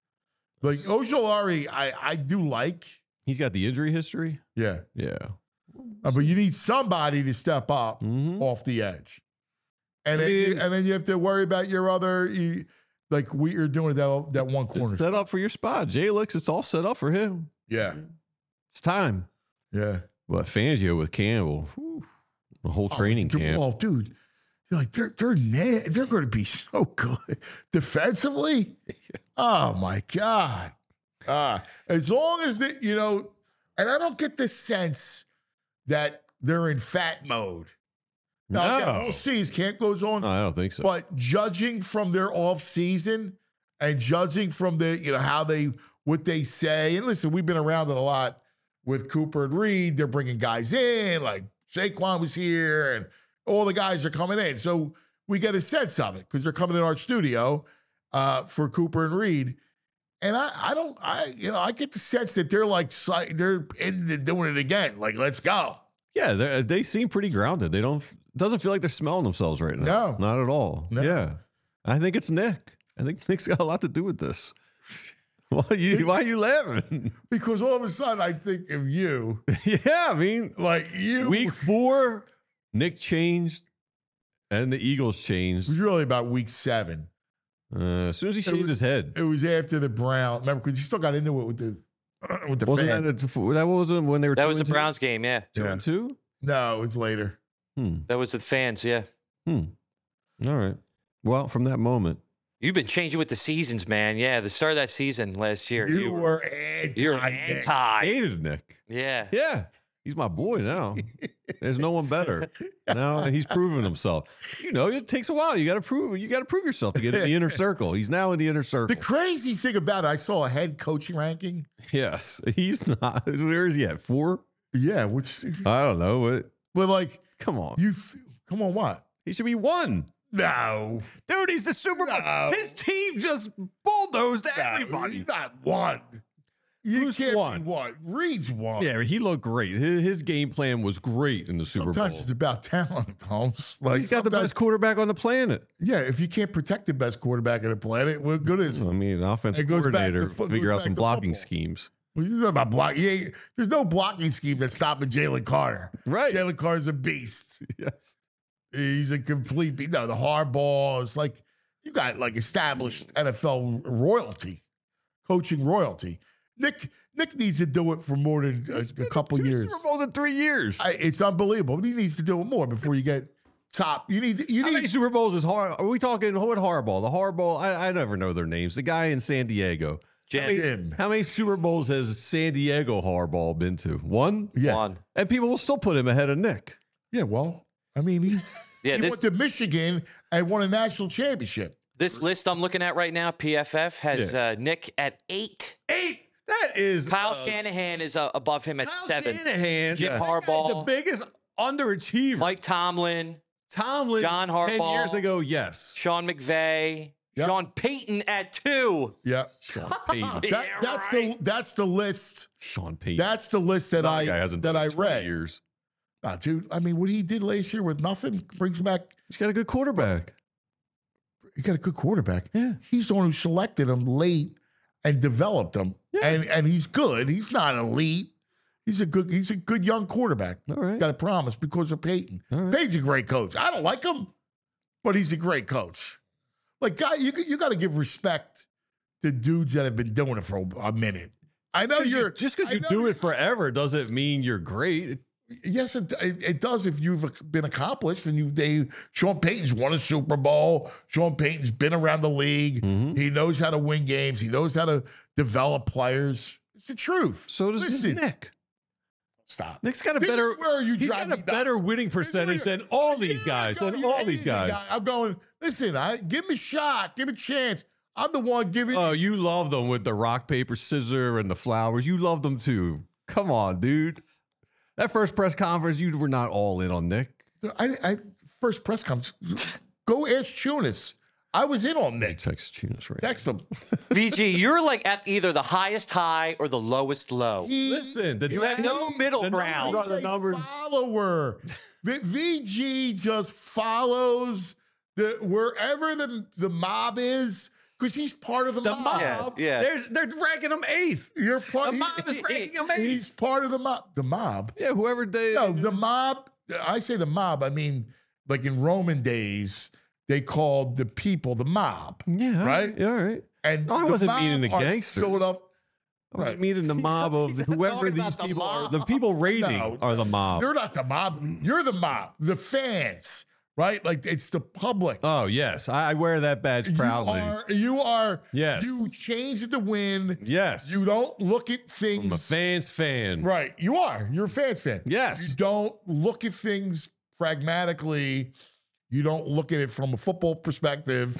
Like Ojulari, I I do like. He's got the injury history. Yeah, Yeah. Uh, but you need somebody to step up Mm-hmm. off the edge, and I then you, mean- and then you have to worry about your other. You, like we are doing that that one corner. It's set up for your spot. Jay looks, it's all set up for him. Yeah, It's time. yeah. But Fangio with Campbell, whew, the whole training oh, camp. Oh, dude, you're like they're they're na- they're going to be so good defensively. Oh my god! Uh, as long as that you know, and I don't get the sense that they're in fat mode. Now, again, No. we'll see as camp goes on. No, I don't think so. But judging from their off season and judging from the, you know, how they, what they say, and listen, we've been around it a lot with Cooper and Reed. They're bringing guys in, like Saquon was here, and all the guys are coming in. So we get a sense of it because they're coming in our studio uh, for Cooper and Reed. And I, I don't, I, you know, I get the sense that they're like, si- they're into doing it again. Like, let's go. yeah, they they seem pretty grounded. They don't, doesn't feel like they're smelling themselves right now. No. Not at all. No. Yeah. I think it's Nick. I think Nick's got a lot to do with this. Why are you, why are you laughing? Because all of a sudden I think of you, yeah, I mean, like you. week four, Nick changed and the Eagles It changed. was really about week seven. Uh, as soon as he It shaved was- his head. It was after the Brown. Remember, because you still got into it with the with the Wasn't fan. that, a, that wasn't when they were That two was the and two? Browns game, yeah. Two Yeah. and two? No, it's later. Hmm. That was the fans, yeah. Hmm. All right. Well, from that moment, You've been changing with the seasons, man. Yeah, the start of that season last year. You, you were anti. you're I anti. hated Nick. Yeah. Yeah. He's my boy now. There's no one better. Now he's proven himself. You know, it takes a while. You got to prove. You got to prove yourself to get in the inner circle. He's now in the inner circle. The crazy thing about it, I saw a head coaching ranking. Yes, he's not. Where is he at? Four? Yeah, which, I don't know. But but like come on, you, come on, what? he should be one. No, Dude, he's the Super Bowl. No. His team just bulldozed no, everybody. he's not one. You Who's can't one? be one. Reed's one. Yeah, he looked great. His, his game plan was great in the Super Sometimes Bowl. it's about talent, Holmes. Like He's got the sometimes- best quarterback on the planet. Yeah, if you can't protect the best quarterback on the planet, what good is I it? mean, an offensive It goes back to coordinator fo- figure goes out back some to blocking football. schemes. Well, he's not about block. He ain't, there's no blocking scheme that's stopping Jalen Carter. Right. Jalen Carter's a beast. Yes. He's a complete beast. No, the hardball is like you got like established N F L royalty, coaching royalty. Nick Nick needs to do it for more than a, a couple Two years. Super Bowls in three years. I, it's unbelievable. But he needs to do it more before you get top. You need you How many need Super Bowls is hard? Are we talking what Hardball? The Hardball. I, I never know their names. The guy in San Diego. How Jan- many, him. how many Super Bowls has San Diego Hardball been to? One. Yeah. One. And people will still put him ahead of Nick. Yeah, well, I mean he's Yeah, he this went to Michigan and won a national championship. this list I'm looking at right now, P F F, has Yeah. uh, Nick at eight. Eight. That is Kyle uh, Shanahan is uh, above him at Kyle seven. Shanahan. Jim that guy's Harbaugh. the biggest underachiever. Mike Tomlin, Tomlin. John ten Harbaugh. years ago. Yes. Sean McVay, Yep. Sean Payton at two. Yeah. Sean Payton. That, Yeah, that's right. the that's the list. Sean Payton. That's the list that That I guy hasn't that done I it in twenty read. years. Nah, dude, I mean, what he did last year with nothing brings him back. He's got a good quarterback. He got a good quarterback. Yeah. He's the one who selected him late and developed him, Yeah. and and he's good. He's not elite. He's a good. He's a good young quarterback. All right. Got a promise because of Peyton. All right. Peyton's a great coach. I don't like him, but he's a great coach. Like, guy, you you got to give respect to dudes that have been doing it for a, a minute. I know you're just because I you know do you- it forever doesn't mean you're great. Yes, it, it, it does if you've been accomplished and you they Sean Payton's won a Super Bowl. Sean Payton's been around the league. Mhm. He knows how to win games. He knows how to develop players. It's the truth. So does Listen, Nick. Stop. Nick's got a This is better. where you he's drive got a me better nuts. winning This is where percentage you- than all A these year guys. ago, Than you all hated these the guys. guy. I'm going. Listen, I give him a shot. Give him a chance. I'm the one giving. Oh, you love them with the rock, paper, scissor, and the flowers. You love them too. Come on, dude. That first press conference, you were not all in on Nick. I, I first press conference. Go ask Chunas. I was in on Nick. Text Tunis right. Text him. V G, you're like at either the highest high or the lowest low. He- Listen, the You the- have no middle the ground. numbers are the He's a numbers. follower. V- VG just follows the wherever the the mob is because he's part of the, The mob. mob. Yeah, yeah. There's, they're ranking him eighth. You're part. The mob is ranking him eighth. He's part of the mob. The mob. Yeah, whoever they. No, the mob. I say the mob. I mean, like in Roman days, they called the people the mob. Yeah. Right? Yeah, all right. And No, I the wasn't mob meaning the are gangsters. Philadelphia. I was Right. meaning the mob of whoever talking these about the people are. mob. The people rating No, are the mob. They're not the mob. You're the mob. The fans, right? Like it's the public. Oh, yes. I, I wear that badge proudly. You are. You are. Yes. You change it to win. Yes. You don't look at things. I'm a fan's fan. Right. You are. You're a fans fan. Yes. You don't look at things pragmatically. You don't look at it from a football perspective.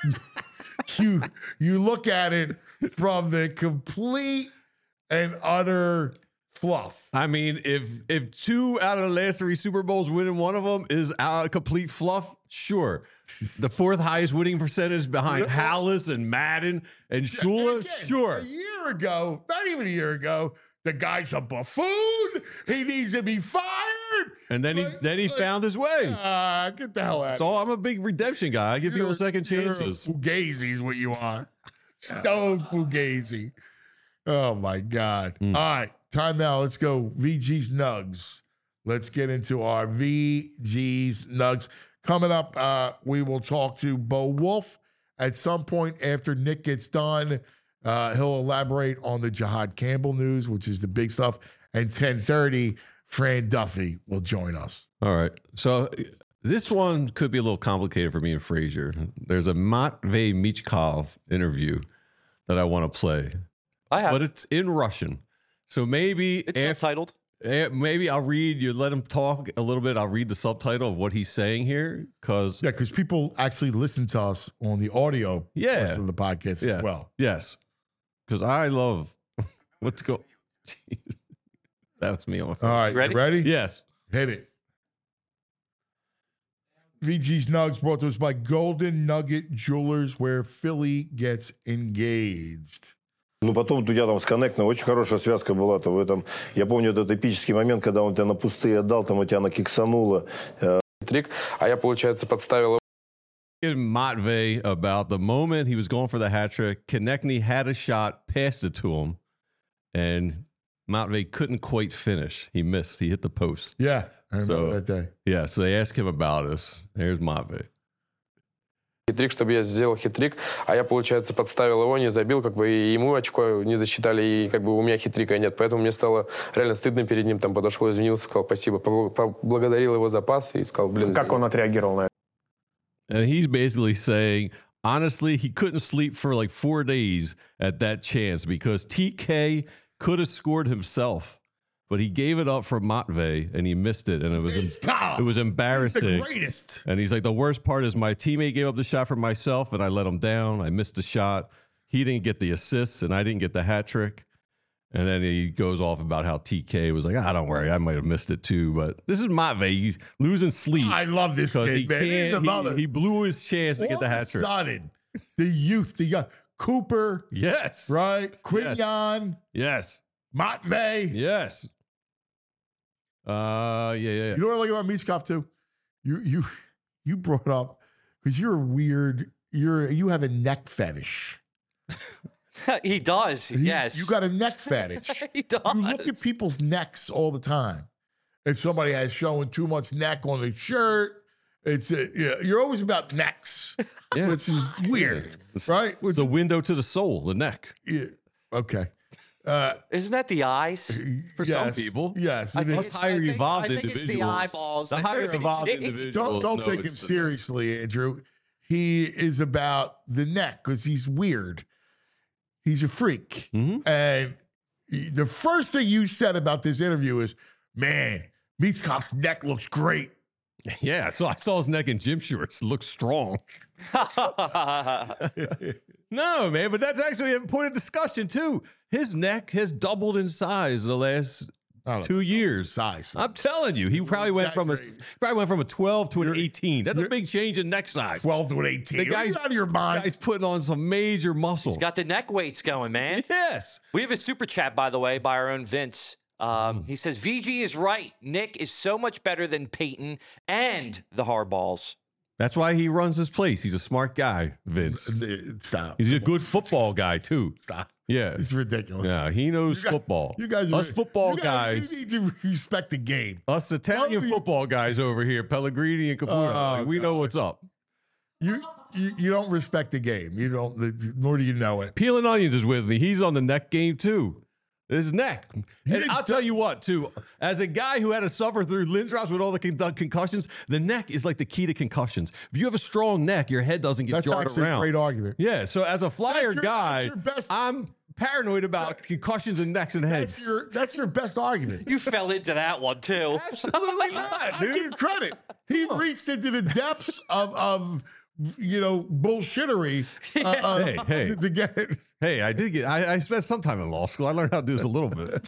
you you look at it from the complete and utter fluff. I mean, if if two out of the last three Super Bowls, winning one of them is out of complete fluff, sure. The fourth highest winning percentage behind Hallis and Madden and Shula, And again, sure. A year ago, not even a year ago, the guy's a buffoon. He needs to be fired. And then he Like- then he like, found his way. Ah, get the hell out. So I'm a big redemption guy. I give people second chances. Fugazi is what you are. Stone Fugazi. Oh my God. Mm. All right. Time now. Let's go. V G's Nugs. Let's get into our V G's Nugs. Coming up, uh, we will talk to Bo Wolf at some point after Nick gets done. Uh, he'll elaborate on the Jihad Campbell news, which is the big stuff. And ten thirty, Fran Duffy will join us. All right. So this one could be a little complicated for me and Frazier. There's a Matvey Michkov interview that I want to play, I have. but it's in Russian. So maybe It's after, subtitled. eh, maybe I'll read, you let him talk a little bit. I'll read the subtitle of what he's saying here. Cause Yeah, because people actually listen to us on the audio Yeah. portion of the podcast Yeah. as well. yes, because I love what's go. That was me on my phone. All right, Ready? you ready? Yes. Hit it. V G's Nugs brought to us by Golden Nugget Jewelers, where Philly gets engaged. Ну, потом у тебя там с Коннектом очень хорошая связка была-то в этом. Я помню этот эпический момент, когда он тебя на пустые отдал, там у тебя она киксанула. Трик, а я, получается, подставил In Matvey about the moment he was going for the hat trick. Konechny had a shot, passed it to him, and Matvey couldn't quite finish. He missed. He hit the post. Yeah, I remember So- that day. Yeah, so they asked him about us. Here's Matvey. хитрик, чтобы я сделал хитрик, а я, получается, подставил его, не забил, как бы и ему очко не засчитали, и как бы у меня хитрика нет. Поэтому мне стало реально стыдно перед ним. Там подошел, извинился, сказал спасибо, побл- поблагодарил его за пас и сказал, блин, Как он отреагировал на это? And he's basically saying, honestly, he couldn't sleep for like four days at that chance because T K could have scored himself, but he gave it up for Matvey and he missed it, and it was It's Kyle. it was He's the embarrassing. greatest. And he's like, the worst part is my teammate gave up the shot for myself, and I let him down. I missed the shot. He didn't get the assists, and I didn't get the hat trick. And then he goes off about how T K was like, ah, don't worry, I might have missed it too. But this is Matvey losing sleep I love this because kid, he man. He's the can't. mother. He, he blew his chance to All get the of a hat trick. sudden, the youth, the young Cooper, Yes. right? Quignon, Yes. Matvey. Yes. Uh, yeah, yeah, yeah. You know what I like about Michkov too? You you you brought up because you're a weird. You're you have a neck fetish. He does. You- Yes. you got a neck fetish. He does. You look at people's necks all the time. If somebody has showing too much neck on their shirt, it's a, yeah, you're always about necks, Yeah. which is weird, It's right? Which the is- window to the soul, the neck. yeah, okay. Uh, Isn't that the eyes? For some yes, people. yes. I it think is. Us it's- higher I think- evolved I think it's the individuals. eyeballs The that higher are evolved changed. individuals. Don't don't know take him it's the- seriously, Andrew. He is about the neck because he's weird. He's a freak, Mhm. and the first thing you said about this interview is, man, Michkov's neck looks great. Yeah, so I saw his neck in gym shorts. Looks strong. No, man, but that's actually a point of discussion, too. His neck has doubled in size the last two years. Size. I'm telling you, he probably went from a probably went from a twelve to an eighteen. That's a big change in neck size. twelve to an eighteen. The guy's out of your mind. Guy's putting on some major muscle. He's got the neck weights going, man. Yes. We have a super chat, by the way, by our own Vince. Um, he says, V G is right. Nick is so much better than Peyton and the Hardballs. That's why he runs this place. He's a smart guy, Vince. Stop. He's a good football guy, too. Stop. Yeah. It's ridiculous. Yeah, he knows You guys- football. You guys, us are, football you guys, guys, You need to respect the game. us Italian Well, you- football guys over here, Pellegrini and Caputo, Oh, like, we know what's up. You, you you don't respect the game. You don't, nor do you know it. Peeling Onions is with me. He's on the neck game, too. His neck. And I'll tell you what, too, as a guy who had to suffer through Lindros with all the con- concussions, the neck is like the key to concussions. If you have a strong neck, your head doesn't get That's jarred actually around. a great argument. Yeah, so as a flyer That's your- guy, that's your best- I'm paranoid about concussions and necks and heads. That's your that's your best argument. You fell into that one, too. Absolutely not, dude. Give him credit. He reached into the depths of of you know bullshittery uh, uh, Hey, hey. To, to get it. Hey, I did get, I, I spent some time in law school. I learned how to do this a little bit.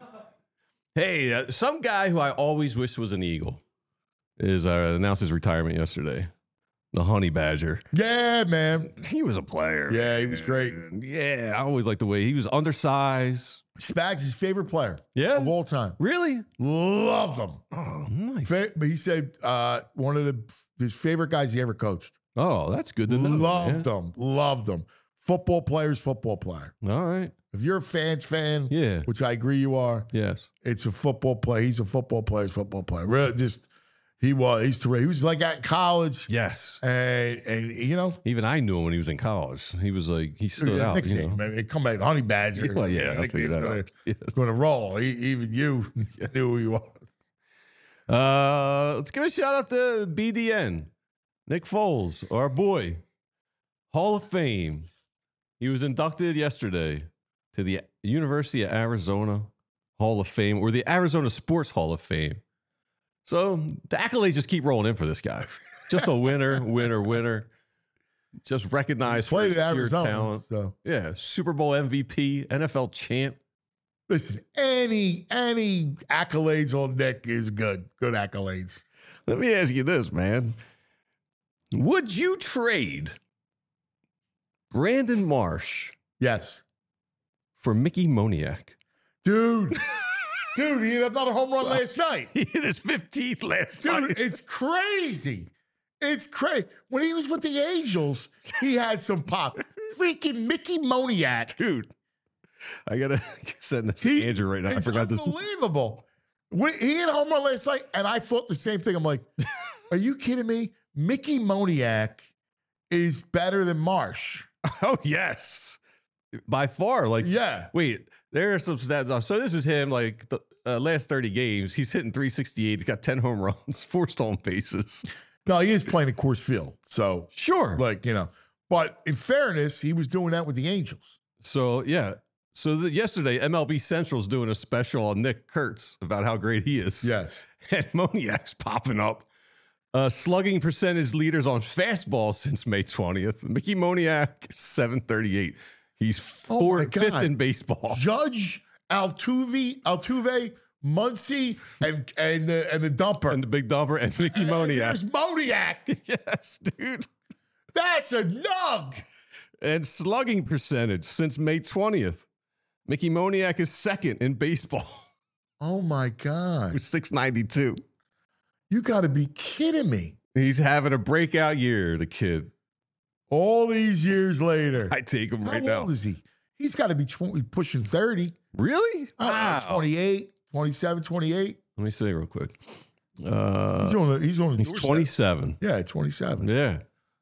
Hey, uh, some guy who I always wished was an Eagle is uh, announced his retirement yesterday. The Honey Badger. Yeah, man. He was a player. Yeah, he was great. Yeah, I always liked the way he was undersized. Spags' his favorite player Yeah? of all time. Really? Loved him. Oh, nice. Fa- but he said uh, one of the his favorite guys he ever coached. Oh, that's good to know. Loved yeah. him. Loved him. Football player's football player. All right. If you're a fans fan, Yeah. which I agree you are, Yes. it's a football player. He's a football player's football player. Really, just he was. He's terrific. He was like at college, Yes. and and you know, Even I knew him when he was in collge. He was like, he stood yeah, out. You nickname, know? man. It come out Honey Badger. Well, yeah, I figured that gonna, out. Yes. Going to roll. He, even you knew who he was. Uh, let's give a shout out to B D N, Nick Foles, our boy, Hall of Fame. He was inducted yesterday to the University of Arizona Hall of Fame, or the Arizona Sports Hall of Fame. So the accolades just keep rolling in for this guy. Just a winner, winner, winner. Just recognized for Played his at pure Arizona. talent. So Yeah, Super Bowl M V P, N F L champ. listen, any any accolades on Nick is good. Good accolades. Let me ask you this, man. Would you trade Brandon Marsh Yes, for Mickey Moniak? dude. Dude, he had another home run last night. He hit his fifteenth last Dude, night. it's crazy. It's crazy. When he was with the Angels, he had some pop. Freaking Mickey Moniak. Dude, I got to send this He- to Andrew right now. I It's forgot this. unbelievable. When- He had a home run last night, and I thought the same thing. I'm like, are you kidding me? Mickey Moniak is better than Marsh. Oh, yes. By far. Like, Yeah. wait, there are some stats off. So this is him, like, the uh, last thirty games. He's hitting three sixty-eight. He's got ten home runs, four stolen bases. No, he is playing at Coors Field. So, Sure. like, you know. But in fairness, he was doing that with the Angels. So, yeah. So the, yesterday, M L B Central's doing a special on Nick Kurtz about how great he is. Yes. And Moniak's popping up. Uh, slugging percentage leaders on fastball since May twentieth. Mickey Moniak, seven thirty-eight. He's Oh, four, my God. fifth in baseball. Judge, Altuve, Altuve, Muncy, and and the and the dumper. And the big dumper and Mickey And Moniak. There's Moniak. Yes, dude. That's a nug. And slugging percentage since May twentieth. Mickey Moniak is second in baseball Oh my God. with six ninety-two. You got to be kidding me. He's having a breakout year, the kid. All these years later. I take him How right old now. is he? He's got to be twenty, pushing thirty. Really? I don't know, Wow. twenty-eight, twenty-seven, twenty-eight. Let me see real quick. Uh, He's on the, he's on the he's doorstep. twenty-seven. Yeah, twenty-seven. Yeah.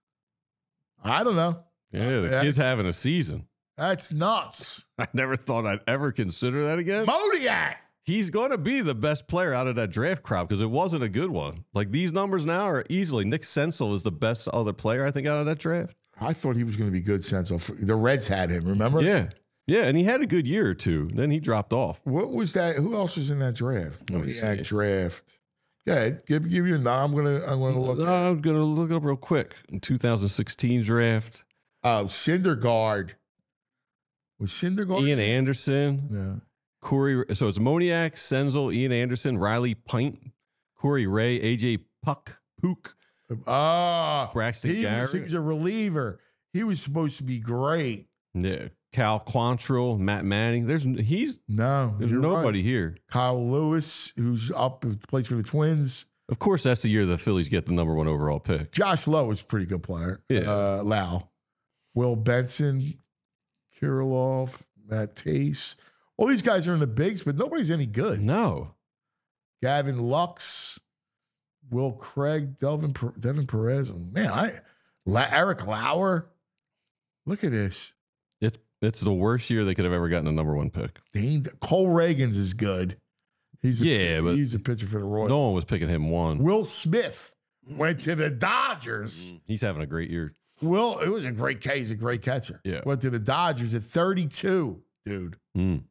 I don't know. Yeah, the That's- kid's having a season. That's nuts. I never thought I'd ever consider that again. Moniak. He's going to be the best player out of that draft crop because it wasn't a good one. Like these numbers now are easily. Nick Senzel is the best other player I think out of that draft. I thought he was going to be good, Senso. The Reds had him, remember? Yeah. Yeah, and he had a good year or two. Then he dropped off. What was that? Who else was in that draft? Let me That see. draft. Yeah, give give you a no. I'm gonna I'm gonna look. Uh, I'm gonna look up real quick. In two thousand sixteen draft, Oh, Syndergaard. Was Syndergaard? Ian Anderson, Yeah. Corey. So it's Moniak, Senzel, Ian Anderson, Riley Pint, Corey Ray, A J Puck, Pook, Ah, Braxton he was, he Garrett. was a reliever. He was supposed to be great. Yeah, Cal Quantrill, Matt Manning. There's he's No, there's you're nobody right. here. Kyle Lewis, who's up, plays for the Twins. Of course, that's the year the Phillies get the number one overall pick. Josh Lowe is a pretty good player. Yeah. Uh, Lau. Will Benson, Kirilov, Matt Tace. All these guys are in the bigs, but nobody's any good. No, Gavin Lux, Will Craig, Delvin, Per- Devin Perez. Man, I La- Eric Lauer. Look at this. it's it's the worst year they could have ever gotten a number one pick. Dane, Cole Reagans is good. He's a, Yeah, but he's a pitcher for the Royals. No one was picking him one. Will Smith went to the Dodgers. He's having a great year. Will, it was a great catch. He's a great catcher. Yeah. Went to the Dodgers at thirty-two, dude. Mm.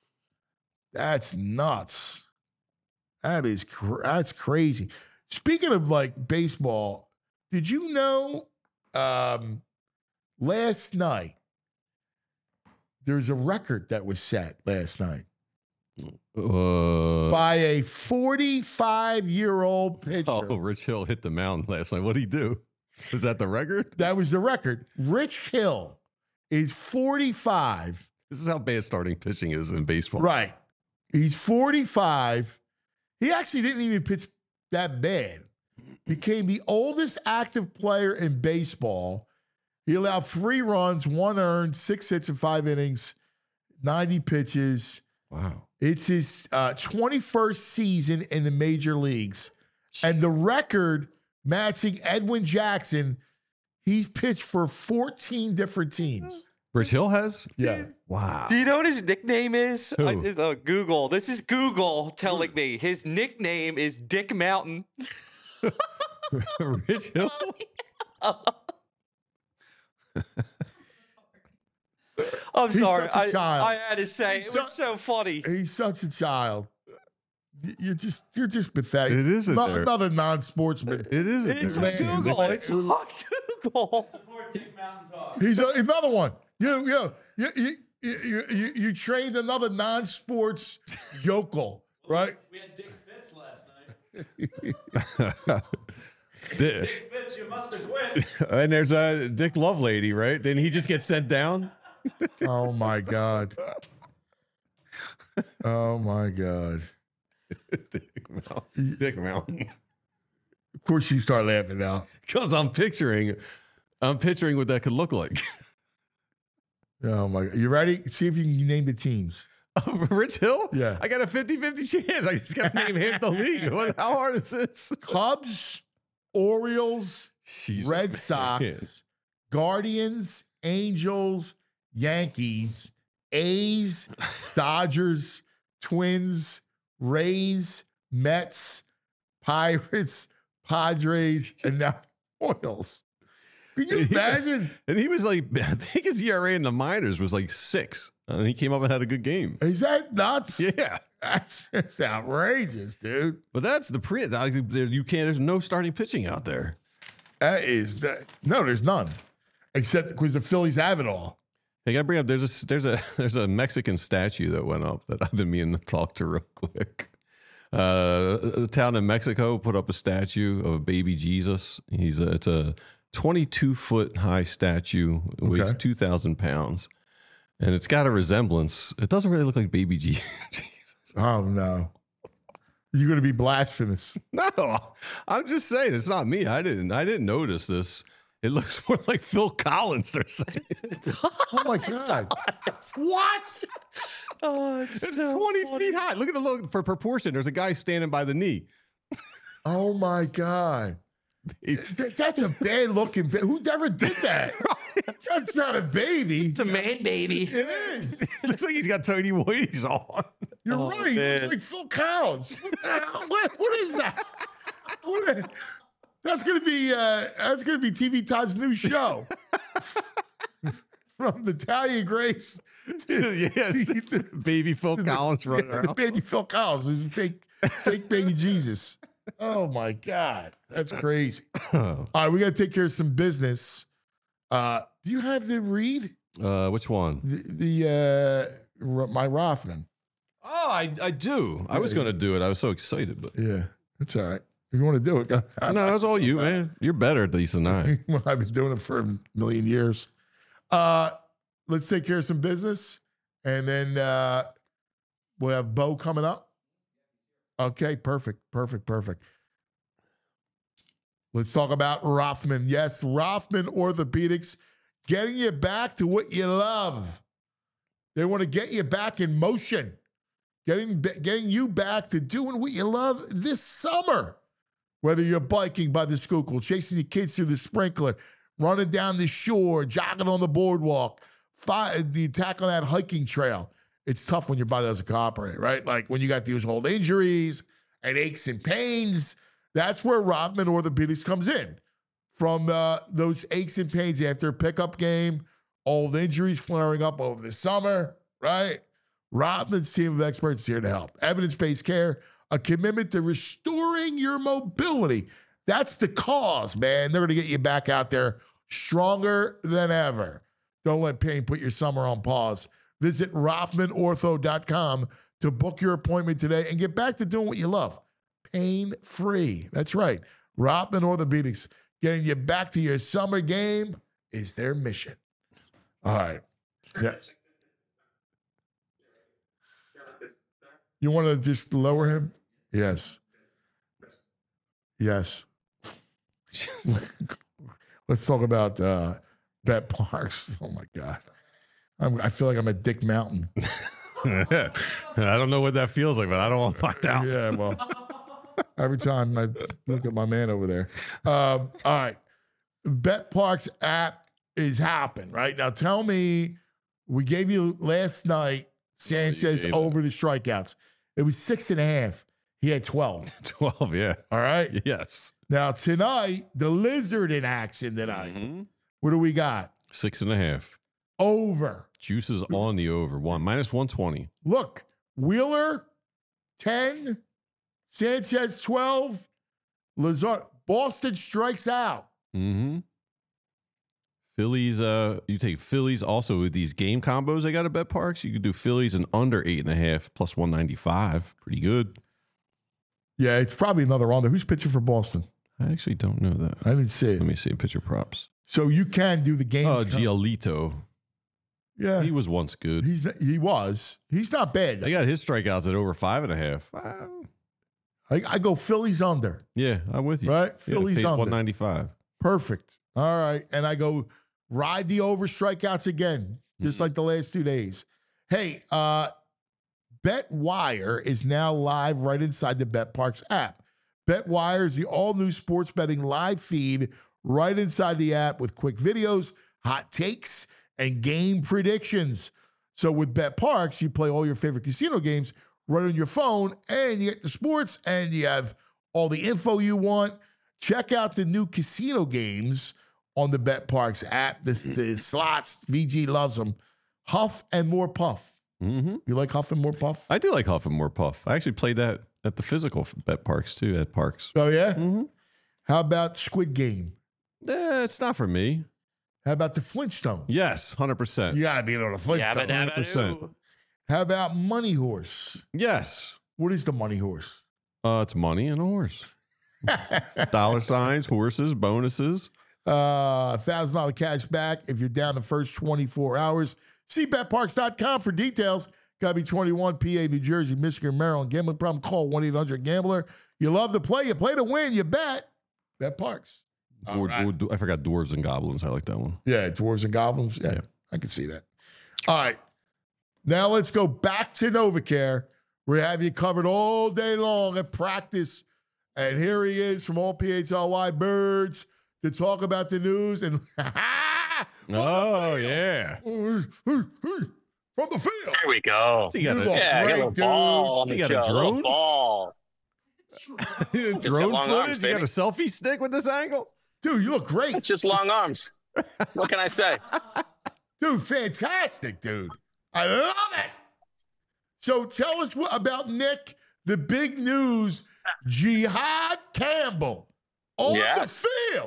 That's nuts. That is cr- that's crazy. Speaking of like baseball, did you know um, last night there's a record that was set last night Uh, by a forty-five-year-old pitcher. oh, Rich Hill hit the mound last night. What did he do? Was that the record? That was the record. Rich Hill is forty-five. This is how bad starting pitching is in baseball. Right. He's forty-five. He actually didn't even pitch that bad. Became the oldest active player in baseball. He allowed three runs, one earned, six hits in five innings, ninety pitches. Wow. It's his uh, twenty-first season in the major leagues. And the record matching Edwin Jackson, he's pitched for fourteen different teams. Rich Hill has? Yeah. Wow. Do you know what his nickname is? Who? I, uh, Google. This is Google telling me his nickname is Dick Mountain. Rich Hill? I'm He's sorry. such a I, child. I had to say it He's was so funny. He's such a child. You're just you're just pathetic. It isn't Not, there. another non-sportsman. It is. It's there. on Google. It's on Google. He's a, another one. You you you you you, you, you trained another non-sports yokel, right? We had Dick Fitz last night. Dick, Dick Fitz, you must have quit. and there's a Dick Lovelady, right? Then he just gets sent down. Oh my god. Oh my god. Dick Mountain. Dick Mountain. Of course, you start laughing now. Because I'm picturing, I'm picturing what that could look like. Oh my god. You ready? See if you can name the teams. Oh, Rich Hill? Yeah. I got a fifty-fifty chance. I just got to name half the league. What, how hard is this? Cubs, Orioles, Jeez, Red man. Sox, Guardians, Angels, Yankees, A's, Dodgers, Twins, Rays, Mets, Pirates, Padres, and now Royals. Can you imagine? And he was like, I think his E R A in the minors was like six. And he came up and had a good game. Is that nuts? Yeah. That's just outrageous, dude. But that's the pre. There, you can't. There's no starting pitching out there. That is that. No, there's none, except because the Phillies have it all. Hey, I gotta bring up. There's a there's a there's a Mexican statue that went up that I've been meaning to talk to real quick. Uh, a town in Mexico put up a statue of baby Jesus. He's a, it's a twenty-two foot high statue, weighs Okay. two thousand pounds, and it's got a resemblance. It doesn't really look like baby Je- Jesus. Oh no, you're going to be blasphemous. No, I'm just saying it's not me. I didn't I didn't notice this. It looks more like Phil Collins. They're saying. Oh my god, what? Oh, it's, It's so twenty funny. feet high. Look at the look for proportion. There's a guy standing by the knee. Oh my god, Th- that's a bad looking. Ba- Who ever did that? That's not a baby. It's a man baby. It is. It looks like he's got Tony Whitey's on. You're Oh, right. He looks man. like Phil Collins. What the hell? What, what is that? What a- that's gonna be uh, that's gonna be T V Todd's new show. from the Italian Grace. yes, baby Phil Collins running around. Baby Phil Collins, who's fake, fake baby Jesus. Oh my God, that's crazy. All right, we got to take care of some business. Uh, do you have the read? Uh, which one? The, the uh, my Rothman. Oh, I I do. I was going to do it. I was so excited, but yeah, it's all right. If you want to do it, go. No, that's all you, man. You're better at these than I. Well, I've been doing it for a million years. Uh, let's take care of some business, and then uh, we'll have Bo coming up. Okay, perfect, perfect, perfect. Let's talk about Rothman. Yes, Rothman Orthopedics, getting you back to what you love. They want to get you back in motion, getting getting you back to doing what you love this summer. Whether you're biking by the Schuylkill, chasing your kids through the sprinkler, running down the shore, jogging on the boardwalk, fi- the attack on that hiking trail. It's tough when your body doesn't cooperate, right? Like when you got these old injuries and aches and pains, that's where Rothman Orthopedics comes in. From uh, those aches and pains after a pickup game, old injuries flaring up over the summer, right? Rothman's team of experts is here to help. Evidence-based care, a commitment to restoring your mobility. That's the cause, man. They're going to get you back out there stronger than ever. Don't let pain put your summer on pause. Visit Rothman Ortho dot com to book your appointment today and get back to doing what you love. Pain-free. That's right. Rothman Orthopedics, getting you back to your summer game is their mission. All right. Yes. You want to just lower him? Yes. Yes. Let's talk about uh, Bet Parks. Oh, my God. I'm, I feel like I'm at Dick Mountain. I don't know what that feels like, but I don't want to find out. Yeah, well, every time I look at my man over there. Um, all right. Bet Parks app is happening, right? Now, tell me, we gave you last night Sanchez over the strikeouts. It was six and a half. He had twelve. twelve, yeah. All right? Yes. Now, tonight, the Lizard in action tonight. Mm-hmm. What do we got? Six and a half. Over. Juice is on the over. One minus one twenty. Look, Wheeler, ten. Sanchez, twelve. Lazard. Boston strikes out. Mm-hmm. Phillies, uh, you take Phillies also with these game combos they got at Bet Parks. You could do Phillies and under eight and a half plus one ninety-five. Pretty good. Yeah, it's probably another on there. Who's pitching for Boston? I actually don't know that. I didn't see it. Let me see pitcher props. So you can do the game. Oh, com- Giolito. Yeah. He was once good. He's He was. He's not bad. They got his strikeouts at over five and a half. Uh, I, I go Phillies under. yeah, I'm with you. Right? Yeah, Phillies pays under. one ninety-five. Perfect. All right. And I go ride the over strikeouts again, just Mm-hmm. like the last two days. Hey, uh, BetWire is now live right inside the Bet Parks app. BetWire is the all-new sports betting live feed right inside the app with quick videos, hot takes, and game predictions. So with Bet Parks, you play all your favorite casino games right on your phone, and you get the sports, and you have all the info you want. Check out the new casino games on the Bet Parks app. The, the slots, V G loves them. Huff and More Puff. Mm-hmm. You like Huff and More Puff? I do like Huff and More Puff. I actually played that at the physical Bet Parks too, at Parks. Oh, yeah? Mm-hmm. How about Squid Game? Eh, it's not for me. How about the Flintstones? Yes, one hundred percent. You got to be on the Flintstones. Yabba dabba one hundred percent. doo. How about Money Horse? Yes. What is the Money Horse? Uh, it's money and a horse. Dollar signs, horses, bonuses. Uh, one thousand dollars cash back if you're down the first twenty-four hours. See bet parks dot com for details. Got to be twenty-one, P A, New Jersey, Michigan, Maryland. Gambling problem, call one eight hundred gambler. You love to play. You play to win. You bet. Bet Parks. Dwar- right. dwar- I forgot Dwarves and Goblins. I like that one. Yeah, Dwarves and Goblins. Yeah, Yeah. I can see that. All right. Now let's go back to NovaCare. We have you covered all day long at practice. And here he is from all P H L Y Birds to talk about the news. And Oh, yeah. from the field. There we go. So you got You a, look Yeah, I got a great, little dude. ball on So the you got a show, little drone? ball. drone long footage. arms, You got baby. a selfie stick with this angle. Dude, you look great. It's just long arms. What can I say? Dude, fantastic, dude. I love it. So tell us what, about Nick, the big news, Jihad Campbell on Yeah. the field.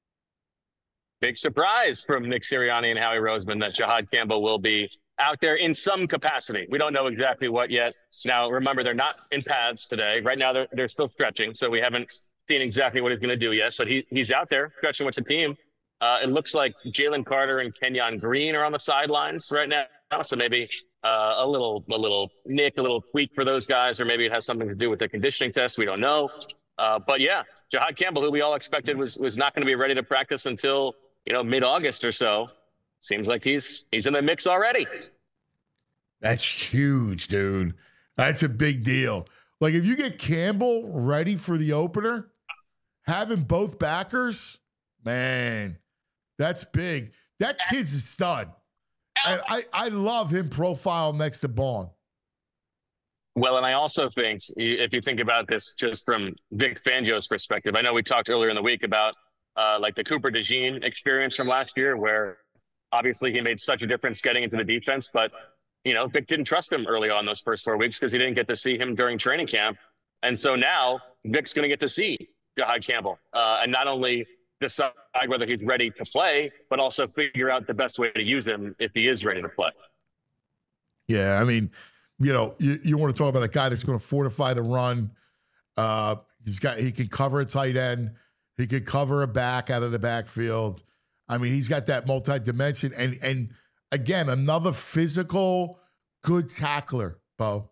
Big surprise from Nick Sirianni and Howie Roseman that Jihad Campbell will be out there in some capacity. We don't know exactly what yet. Now, remember, they're not in pads today. Right now, they're, they're still stretching, so we haven't seen exactly what he's going to do yet. But he, he's out there stretching with the team. Uh, it looks like Jalen Carter and Kenyon Green are on the sidelines right now, so maybe uh, a little a little nick, a little tweak for those guys, or maybe it has something to do with the conditioning test. We don't know. Uh, but, yeah, Jihad Campbell, who we all expected was was not going to be ready to practice until, you know, mid-August or so, seems like he's he's in the mix already. That's huge, dude. That's a big deal. Like, if you get Campbell ready for the opener, having both backers, man, that's big. That kid's a stud. And I, I love him profile next to Bond. Well, and I also think, if you think about this just from Vic Fangio's perspective, I know we talked earlier in the week about uh, like the Cooper DeJean experience from last year, where obviously he made such a difference getting into the defense, but, you know, Vic didn't trust him early on those first four weeks because he didn't get to see him during training camp. And so now Vic's going to get to see Jihad Campbell uh, and not only decide whether he's ready to play, but also figure out the best way to use him if he is ready to play. Yeah, I mean, you know, you, you want to talk about a guy that's going to fortify the run. Uh, he's got he can cover a tight end. He could cover a back out of the backfield. I mean, he's got that multi-dimension. And, and again, another physical, good tackler, Bo.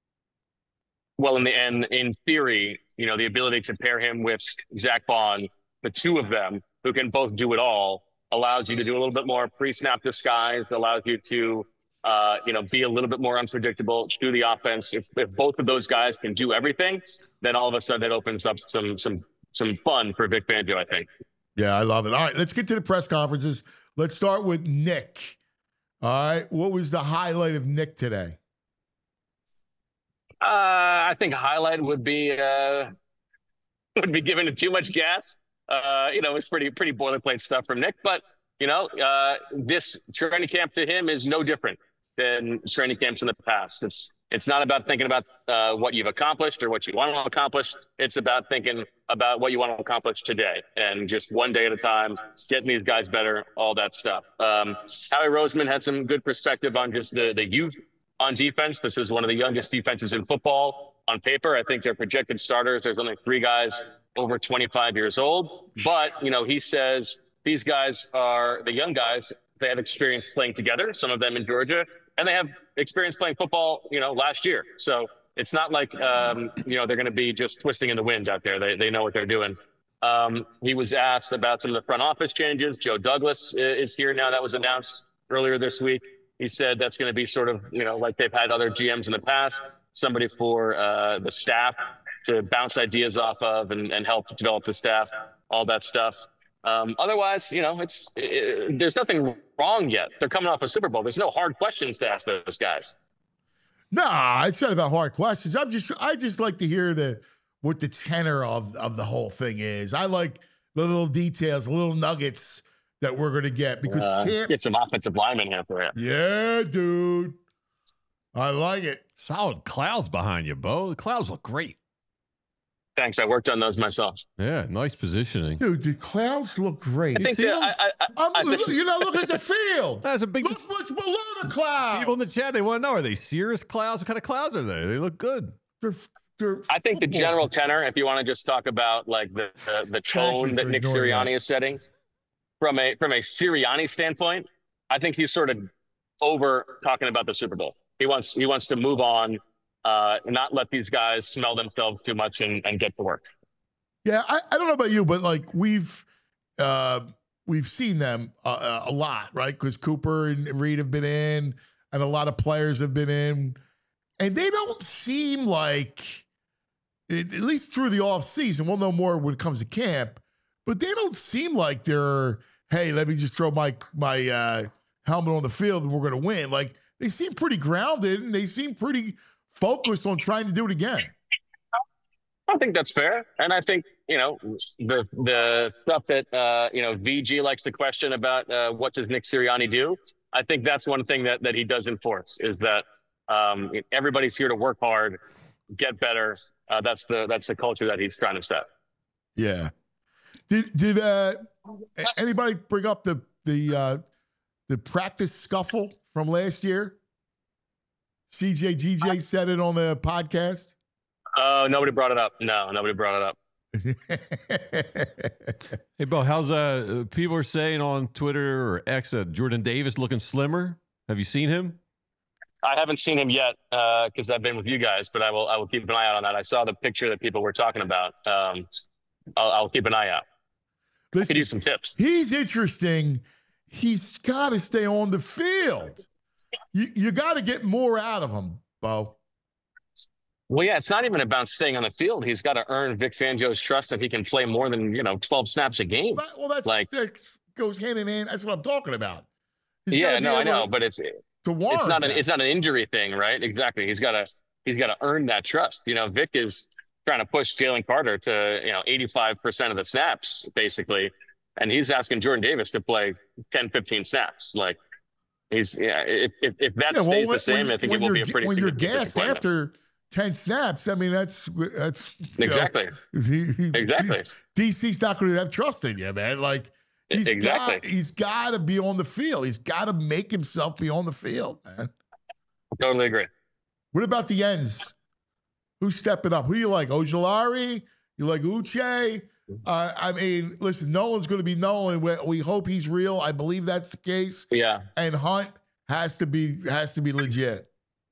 Well, in the end, in theory, you know, the ability to pair him with Zach Bond, the two of them who can both do it all, allows you to do a little bit more pre-snap disguise, allows you to, uh, you know, be a little bit more unpredictable, do the offense. If, if both of those guys can do everything, then all of a sudden it opens up some some some fun for Vic Fangio, I think. Yeah, I love it. All right, let's get to the press conferences. Let's start with Nick. All right, what was the highlight of Nick today? Uh, I think a highlight would be uh, would be giving it too much gas. Uh, you know, it's pretty pretty boilerplate stuff from Nick, but you know, uh, this training camp to him is no different than training camps in the past. It's it's not about thinking about uh, what you've accomplished or what you want to accomplish. It's about thinking about what you want to accomplish today and just one day at a time, getting these guys better, all that stuff. Um, Howie Roseman had some good perspective on just the the youth on defense. This is one of the youngest defenses in football on paper. I think they're projected starters. There's only three guys over twenty-five years old. But, you know, he says these guys are the young guys. They have experience playing together, some of them in Georgia, and they have experience playing football, you know, last year. So it's not like, um, you know, they're going to be just twisting in the wind out there. They, they know what they're doing. Um, he was asked about some of the front office changes. Joe Douglas is here now. That was announced earlier this week. He said that's going to be sort of, you know, like they've had other G Ms in the past, somebody for uh, the staff to bounce ideas off of and, and help develop the staff, all that stuff. Um, otherwise, you know, it's it, there's nothing wrong yet. They're coming off a Super Bowl. There's no hard questions to ask those guys. Nah, it's not about hard questions. I'm just, I just like to hear the what the tenor of, of the whole thing is. I like the little details, the little nuggets that we're going to get because uh, Camp, get some offensive linemen here for you. Yeah, dude. I like it. Solid clouds behind you, Bo. The clouds look great. Thanks. I worked on those myself. Yeah, nice positioning. Dude, the clouds look great. I think that, I, I, I'm, I think, you're not looking at the field. That's a big. Look what's below the clouds. People in the chat, they want to know: are they Cirrus clouds? What kind of clouds are they? They look good. They're, they're I think the football general clouds. tenor, if you want to just talk about like the the, the tone you that for Nick ignoring Sirianni that. is setting, from a from a Sirianni standpoint, I think he's sort of over talking about the Super Bowl. He wants he wants to move on, uh, and not let these guys smell themselves too much and, and get to work. Yeah, I, I don't know about you, but like we've uh, we've seen them uh, a lot, right? Because Cooper and Reed have been in, and a lot of players have been in, and they don't seem like, at least through the off season, we'll know more when it comes to camp, but they don't seem like they're, hey, let me just throw my my uh, helmet on the field and we're going to win. Like they seem pretty grounded and they seem pretty focused on trying to do it again. I think that's fair, and I think you know the the stuff that uh, you know V G likes to question about uh, what does Nick Sirianni do. I think that's one thing that, that he does enforce is that um, everybody's here to work hard, get better. Uh, that's the that's the culture that he's trying to set. Yeah. Did did uh, anybody bring up the the uh, the practice scuffle from last year? C J G J said it on the podcast. Oh, uh, nobody brought it up. No, nobody brought it up. Hey, Bo, how's uh people are saying on Twitter or X uh, Jordan Davis looking slimmer? Have you seen him? I haven't seen him yet because uh, I've been with you guys, but I will I will keep an eye out on that. I saw the picture that people were talking about. Um, I'll, I'll keep an eye out. Listen, I could use some tips. He's interesting. He's got to stay on the field. You you got to get more out of him, Bo. Well, yeah, it's not even about staying on the field. He's got to earn Vic Fangio's trust that he can play more than, you know, twelve snaps a game. But, well, that's like that goes hand in hand. That's what I'm talking about. He's yeah, no, I know, to, but it's to warrant it's not an that. it's not an injury thing, right? Exactly. He's got to he's got to earn that trust. You know, Vic is trying to push Jalen Carter to, you know, eighty-five percent of the snaps basically, and he's asking Jordan Davis to play ten, fifteen snaps. Like he's yeah, if if, if that yeah, well, stays when, the same, when, I think it will be a pretty when you're significant gassed after ten snaps. I mean, that's that's exactly know, he, he, exactly. D C's not going to have trust in you, man. Like he's exactly. got he's got to be on the field. He's got to make himself be on the field, man. Totally agree. What about the ends? Who's stepping up? Who do you like? Ojulari? You like Uche? Uh, I mean, listen, Nolan's going to be Nolan. We, we hope he's real. I believe that's the case. Yeah. And Hunt has to be has to be legit.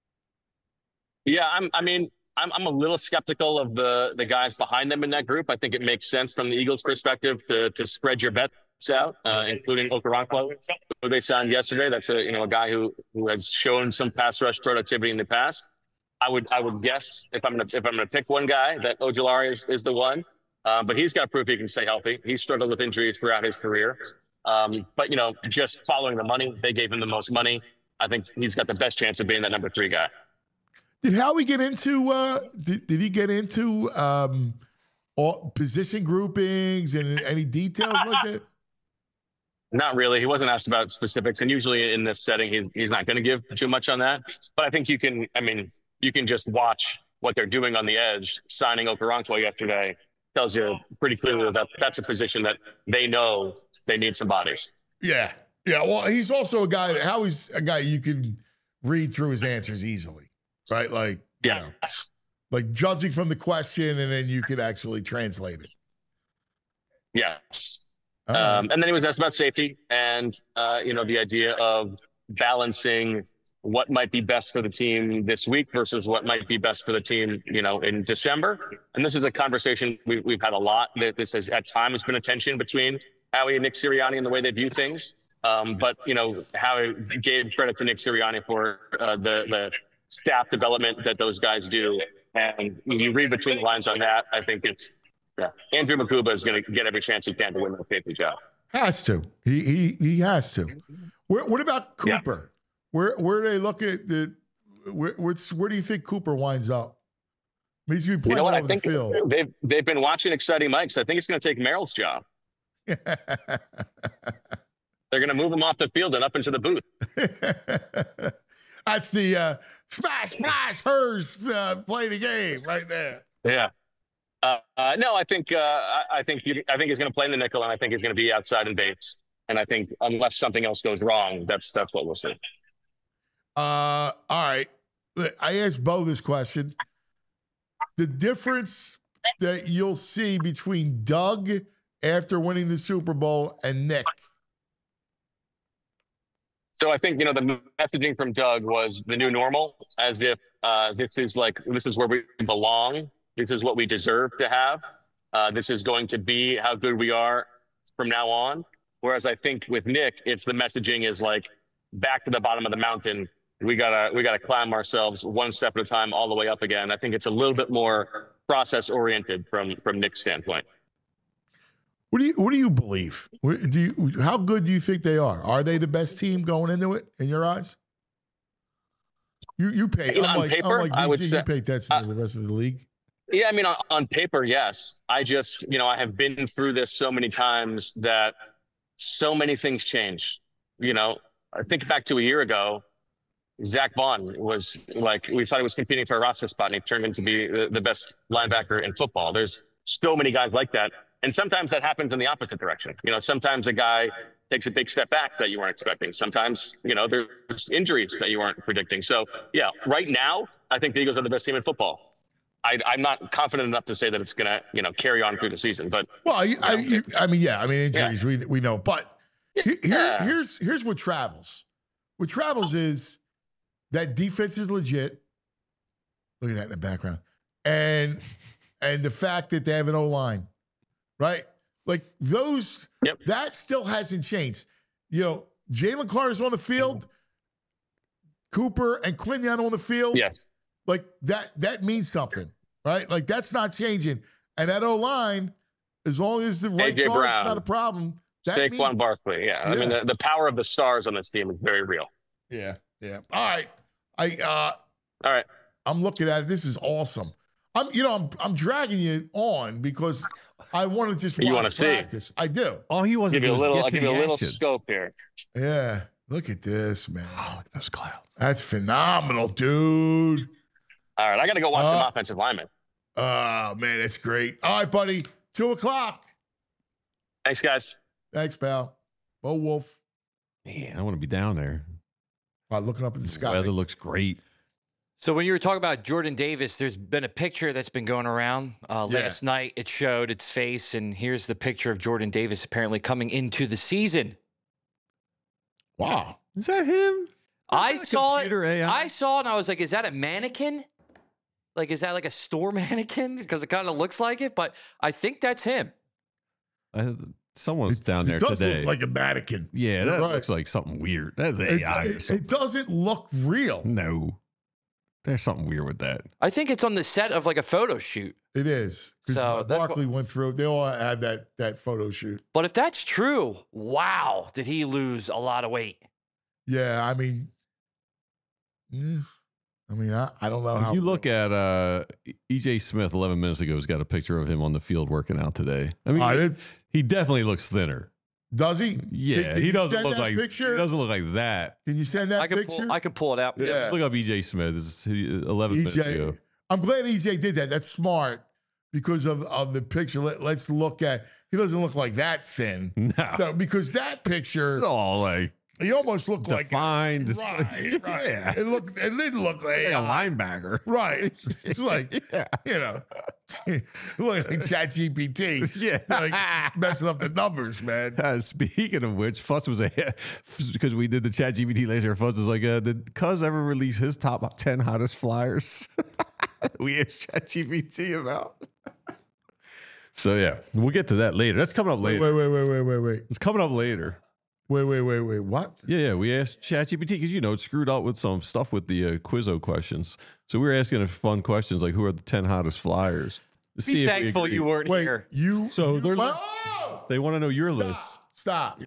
Yeah, I'm. I mean, I'm. I'm a little skeptical of the the guys behind them in that group. I think it makes sense from the Eagles' perspective to to spread your bets out, uh, including Okoronkwo, who they signed yesterday. That's a you know a guy who who has shown some pass rush productivity in the past. I would I would guess if I'm gonna if I'm gonna pick one guy that Ojulari is, is the one, uh, but he's got proof he can stay healthy. He struggled with injuries throughout his career, um, but you know just following the money, they gave him the most money. I think he's got the best chance of being that number three guy. Did Howie get into? Uh, did, did he get into um, all position groupings and any details like that? Not really. He wasn't asked about specifics, and usually in this setting, he's he's not going to give too much on that. But I think you can. I mean, you can just watch what they're doing on the edge. Signing Okoronkwo yesterday tells you pretty clearly that that's a position that they know they need some bodies. Yeah, yeah. Well, he's also a guy. Howie's a guy you can read through his answers easily, right? Like, yeah, you know, like judging from the question, and then you could actually translate it. Yes. Um, um, and then he was asked about safety and, uh, you know, the idea of balancing what might be best for the team this week versus what might be best for the team, you know, in December. And this is a conversation we, we've had a lot. That this has at times been a tension between Howie and Nick Sirianni in the way they view things. Um, but, you know, Howie gave credit to Nick Sirianni for uh, the, the staff development that those guys do. And when you read between the lines on that, I think it's, yeah, Andrew Makuba is going to get every chance he can to win the safety job. Has to. He he he has to. Where, what about Cooper? Yeah. Where where are they looking at the? Where where's, where do you think Cooper winds up? I mean, he's going to be playing you know what? all over I think the field. They've they've been watching Exciting Mike, so I think it's going to take Merrill's job. They're going to move him off the field and up into the booth. That's the uh, smash smash hers uh, play the game right there. Yeah. Uh, uh, no, I think uh, I, I think you, I think he's going to play in the nickel, and I think he's going to be outside in base. And I think unless something else goes wrong, that's that's what we'll see. Uh, all right. I asked Bo this question. The difference that you'll see between Doug after winning the Super Bowl and Nick. So I think, you know, the messaging from Doug was the new normal, as if uh, this is like this is where we belong. This is what we deserve to have. Uh, this is going to be how good we are from now on. Whereas I think with Nick, it's the messaging is like back to the bottom of the mountain. We gotta we gotta climb ourselves one step at a time all the way up again. I think it's a little bit more process oriented from from Nick's standpoint. What do you what do you believe? What, do you how good do you think they are? Are they the best team going into it in your eyes? You you pay You know, on unlike, paper, unlike I would V G, say- you pay attention uh, to the rest of the league. Yeah, I mean, on, on paper, yes. I just, you know, I have been through this so many times that so many things change. You know, I think back to a year ago, Zach Vaughn was like, we thought he was competing for a roster spot, and he turned into be the, the best linebacker in football. There's so many guys like that. And sometimes that happens in the opposite direction. You know, sometimes a guy takes a big step back that you weren't expecting. Sometimes, you know, there's injuries that you weren't predicting. So, yeah, right now, I think the Eagles are the best team in football. I, I'm not confident enough to say that it's going to, you know, carry on through the season. But well, I, I, I mean, yeah, I mean, injuries, yeah. we we know. But here, Yeah. here's here's what travels. What travels is that defense is legit. Look at that in the background. And and the fact that they have an O-line, right? Like those, Yep. that still hasn't changed. You know, Jalen Carter's on the field, Cooper and Quinion on the field. Yes. Like that, that means something, right? Like that's not changing. And that O-line, as long as the right A J guard's Brown, not a problem. That Saquon means, Barkley. Yeah. I Yeah. mean, the, the power of the stars on this team is very real. yeah, yeah. All right. I uh All right. I'm looking at it. This is awesome. I'm, you know, I'm I'm dragging you on because I want to just You watch wanna see. practice. I do. All he wasn't Give you a doing was little, I'll get to give you a the little action. scope here. Yeah. Look at this, man. Oh, look at those clouds. That's phenomenal, dude. All right. I got to go watch Uh, some offensive linemen. Oh man, that's great. All right, buddy. Two o'clock. Thanks, guys. Thanks, pal. Bo Wolf. Man, I want to be down there. Uh, looking up at the The sky. weather looks great. So when you were talking about Jordan Davis, there's been a picture that's been going around. Uh, Yeah. Last night, it showed its face, and here's the picture of Jordan Davis apparently coming into the season. Wow. Is that him? I that a saw it. computer A I? I saw it, and I was like, "Is that a mannequin? Like, is that like a store mannequin? Because it kind of looks like it." But I think that's him. I, someone's It- down there it does today. look like a mannequin. yeah, You're that right. looks like something weird. That's It, A I. or it, something. it doesn't look real. No, there's something weird with that. I think it's on the set of like a photo shoot. It is. 'Cause So that's what- Barkley went through. They all had that that photo shoot. But if that's true, wow, did he lose a lot of weight? Yeah, I mean, mm, I mean, I, I don't know If how you look at uh, E J Smith eleven minutes ago, has got a picture of him on the field working out today. I mean, I he, did- he definitely looks thinner. Does he? Yeah, Can- can he you doesn't send look that like picture? he doesn't look like that. Can you send that I can picture? pull. I can pull it out. Yeah. Just look up E J Smith. This is eleven minutes E J, ago. I'm glad E J did that. That's smart because of, of the picture. Let, let's look at. He doesn't look like that thin. No, No, because that picture, it's all like he almost looked like defined. It's right, like- right. Yeah, It looked. It didn't look like, like a linebacker. right. It's like Yeah. you know, look like ChatGPT. Yeah. like messing up the numbers, man. Uh, speaking of which, Futz was ahead because we did the Chat G P T later. Futz is like, uh, did Cuz ever release his top ten hottest flyers? we asked Chat G P T about. So yeah, we'll get to that later. That's coming up Wait, later. wait, wait, wait, wait, wait, wait, It's coming up later. wait, wait, wait, wait. What? Yeah, yeah. We asked Chat G P T because you know it screwed up with some stuff with the uh, Quizzo questions. So we were asking it fun questions like, "Who are the ten hottest flyers?" To see Be if we thankful agree. you weren't Wait, here. you. So you, they're- oh! They want to know your list. Stop.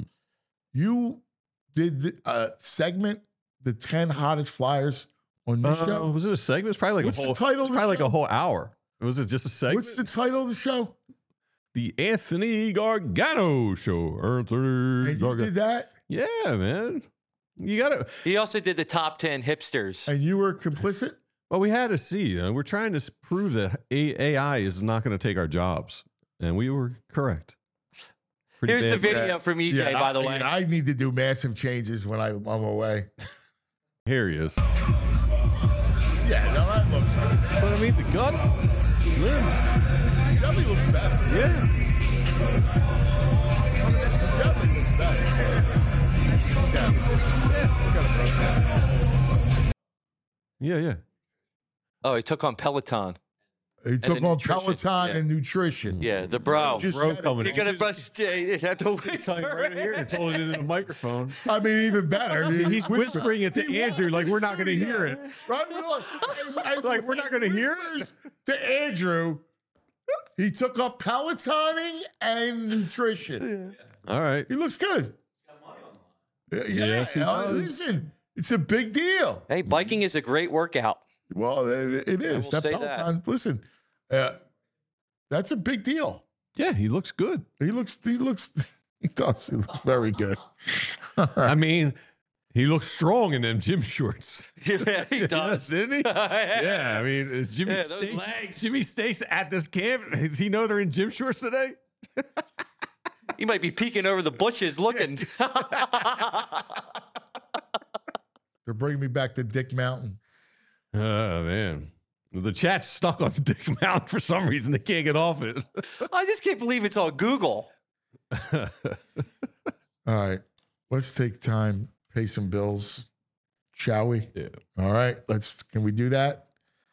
You did the uh, segment, the ten hottest flyers on this Uh, show. was it a segment? It's probably like What's a the whole. title It's of the probably like show? a whole hour. Was it just a segment? What's the title of the show? The Anthony Gargano Show. Anthony And you Gargano. did that, Yeah, man. You got to. He also did the top ten hipsters. and you were complicit. Well, we had to see. You know, we're trying to s- prove that A- AI is not going to take our jobs, and we were correct. Pretty Here's the bad for that. video from E J, Yeah, by the I, way. I need to do massive changes when I, I'm away. Here he is. Yeah, no, that looks. But I mean, the guts, slim. Definitely looks better. Yeah. Definitely looks better. Yeah. Yeah, yeah. Oh, he took on Peloton. He took then on nutrition, Peloton yeah. and nutrition. Yeah, the bro. Just Bro said it. coming You're in. gonna bust. You have to Telling whisper. right here and told it into the microphone. I mean, even better. He's whispering it to He Andrew was like we're not going to whispering hear it. it. Right? We're like, Like, we're not gonna hear it? whispers to Andrew. He took up Pelotoning and nutrition. All right. He looks good. Yeah, yeah, Yes, he uh, does. listen, it's a big deal. Hey, biking is a great workout. Well, it, it is. will That say Peloton, listen, uh, that's a big deal. Yeah, he looks good. He looks, he looks, he does. He looks very good. I mean, He looks strong in them gym shorts. Yeah, he does. Didn't he? yeah. Yeah, I mean, is Jimmy Yeah, those Stakes, legs. Jimmy Stakes at this camp? Does he know they're in gym shorts today? He might be peeking over the bushes looking. They're bringing me back to Dick Mountain. Oh, man. The chat's stuck on Dick Mountain for some reason. They can't get off it. I just can't believe it's on Google. All right. Let's take time, pay some bills, shall we? Yeah. All right. Let's, can we do that?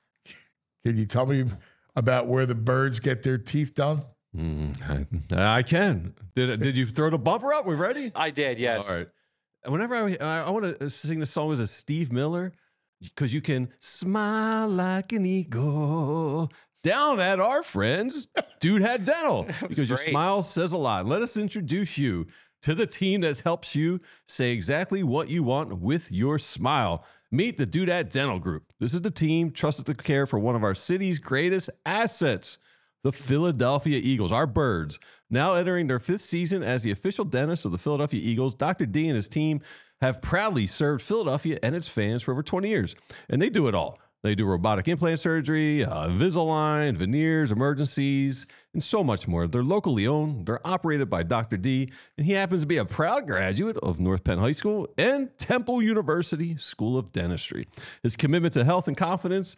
Can you tell me about where the birds get their teeth done? Mm, I, I can. Did did you throw the bumper up? We ready? I did, yes. All right. Whenever I I, I want to sing the song as a Steve Miller, because you can smile like an eagle down at our friends, Dude Hat Dental. Because your great. smile says a lot. Let us introduce you to the team that helps you say exactly what you want with your smile. Meet the Dude Hat Dental Group. This is the team trusted to care for one of our city's greatest assets, the Philadelphia Eagles, our birds. Now entering their fifth season as the official dentist of the Philadelphia Eagles, Doctor D and his team have proudly served Philadelphia and its fans for over twenty years. And they do it all. They do robotic implant surgery, uh, Invisalign, veneers, emergencies, and so much more. They're locally owned. They're operated by Doctor D, and he happens to be a proud graduate of North Penn High School and Temple University School of Dentistry. His commitment to health and confidence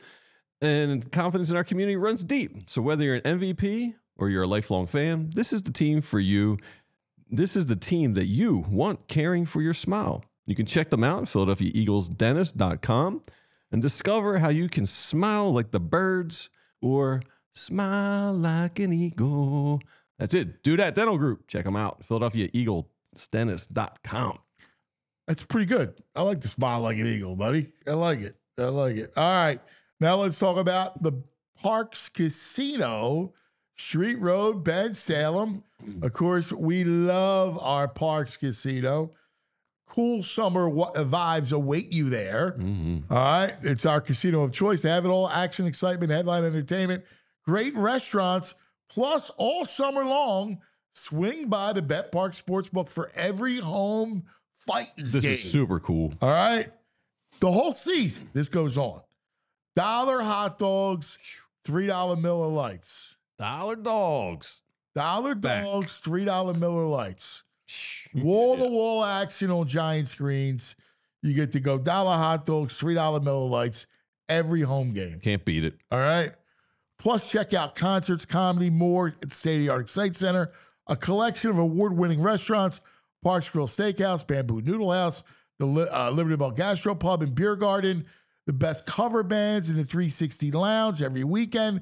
and confidence in our community runs deep. So whether you're an M V P or you're a lifelong fan, this is the team for you. This is the team that you want caring for your smile. You can check them out at Philadelphia Eagles Dentist dot com and discover how you can smile like the birds or smile like an eagle. That's it. Do that Dental Group. Check them out. Philadelphia Eagles Dentist dot com. That's pretty good. I like to smile like an eagle, buddy. I like it. I like it. All right. Now let's talk about the Parx Casino, Street Road, Ben Salem. Of course, we love our Parx Casino. Cool summer wa- vibes await you there. Mm-hmm. All right. It's our casino of choice. They have it all: action, excitement, headline entertainment, great restaurants, plus all summer long, swing by the Bet Park Sportsbook for every home fighting This game. is super cool. All right. The whole season, this goes on. Dollar hot dogs, three dollar Miller Lights. Dollar dogs. Dollar Back. dogs, three dollar Miller Lights. Wall-to-wall action on giant screens. You get to go dollar hot dogs, three dollar Miller Lights, every home game. Can't beat it. All right. Plus, check out concerts, comedy, more at the State-of-the-Art Excite Center. A collection of award-winning restaurants: Parks Grill Steakhouse, Bamboo Noodle House, the uh, Liberty Bell Gastro Pub and Beer Garden, the best cover bands in the three sixty Lounge every weekend.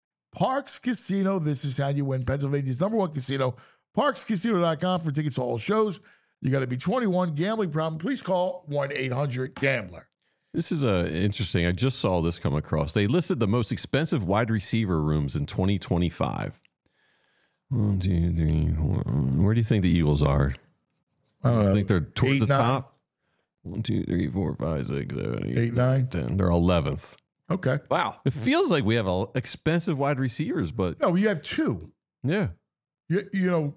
Parx Casino, this is how you win. Pennsylvania's number one casino. Parx Casino dot com for tickets to all shows. You got to be twenty-one. Gambling problem, please call one eight hundred gambler. This is uh, interesting. I just saw this come across. They listed the most expensive wide receiver rooms in twenty twenty-five. One, two, three, four. Where do you think the Eagles are? I don't know. I think they're towards Eight, the nine? top. One, two, three, four, five, six, seven, eight, Eight, nine? ten. They're eleventh. Okay. Wow. It feels like we have a, expensive wide receivers, but No, you have two. yeah. You, you know,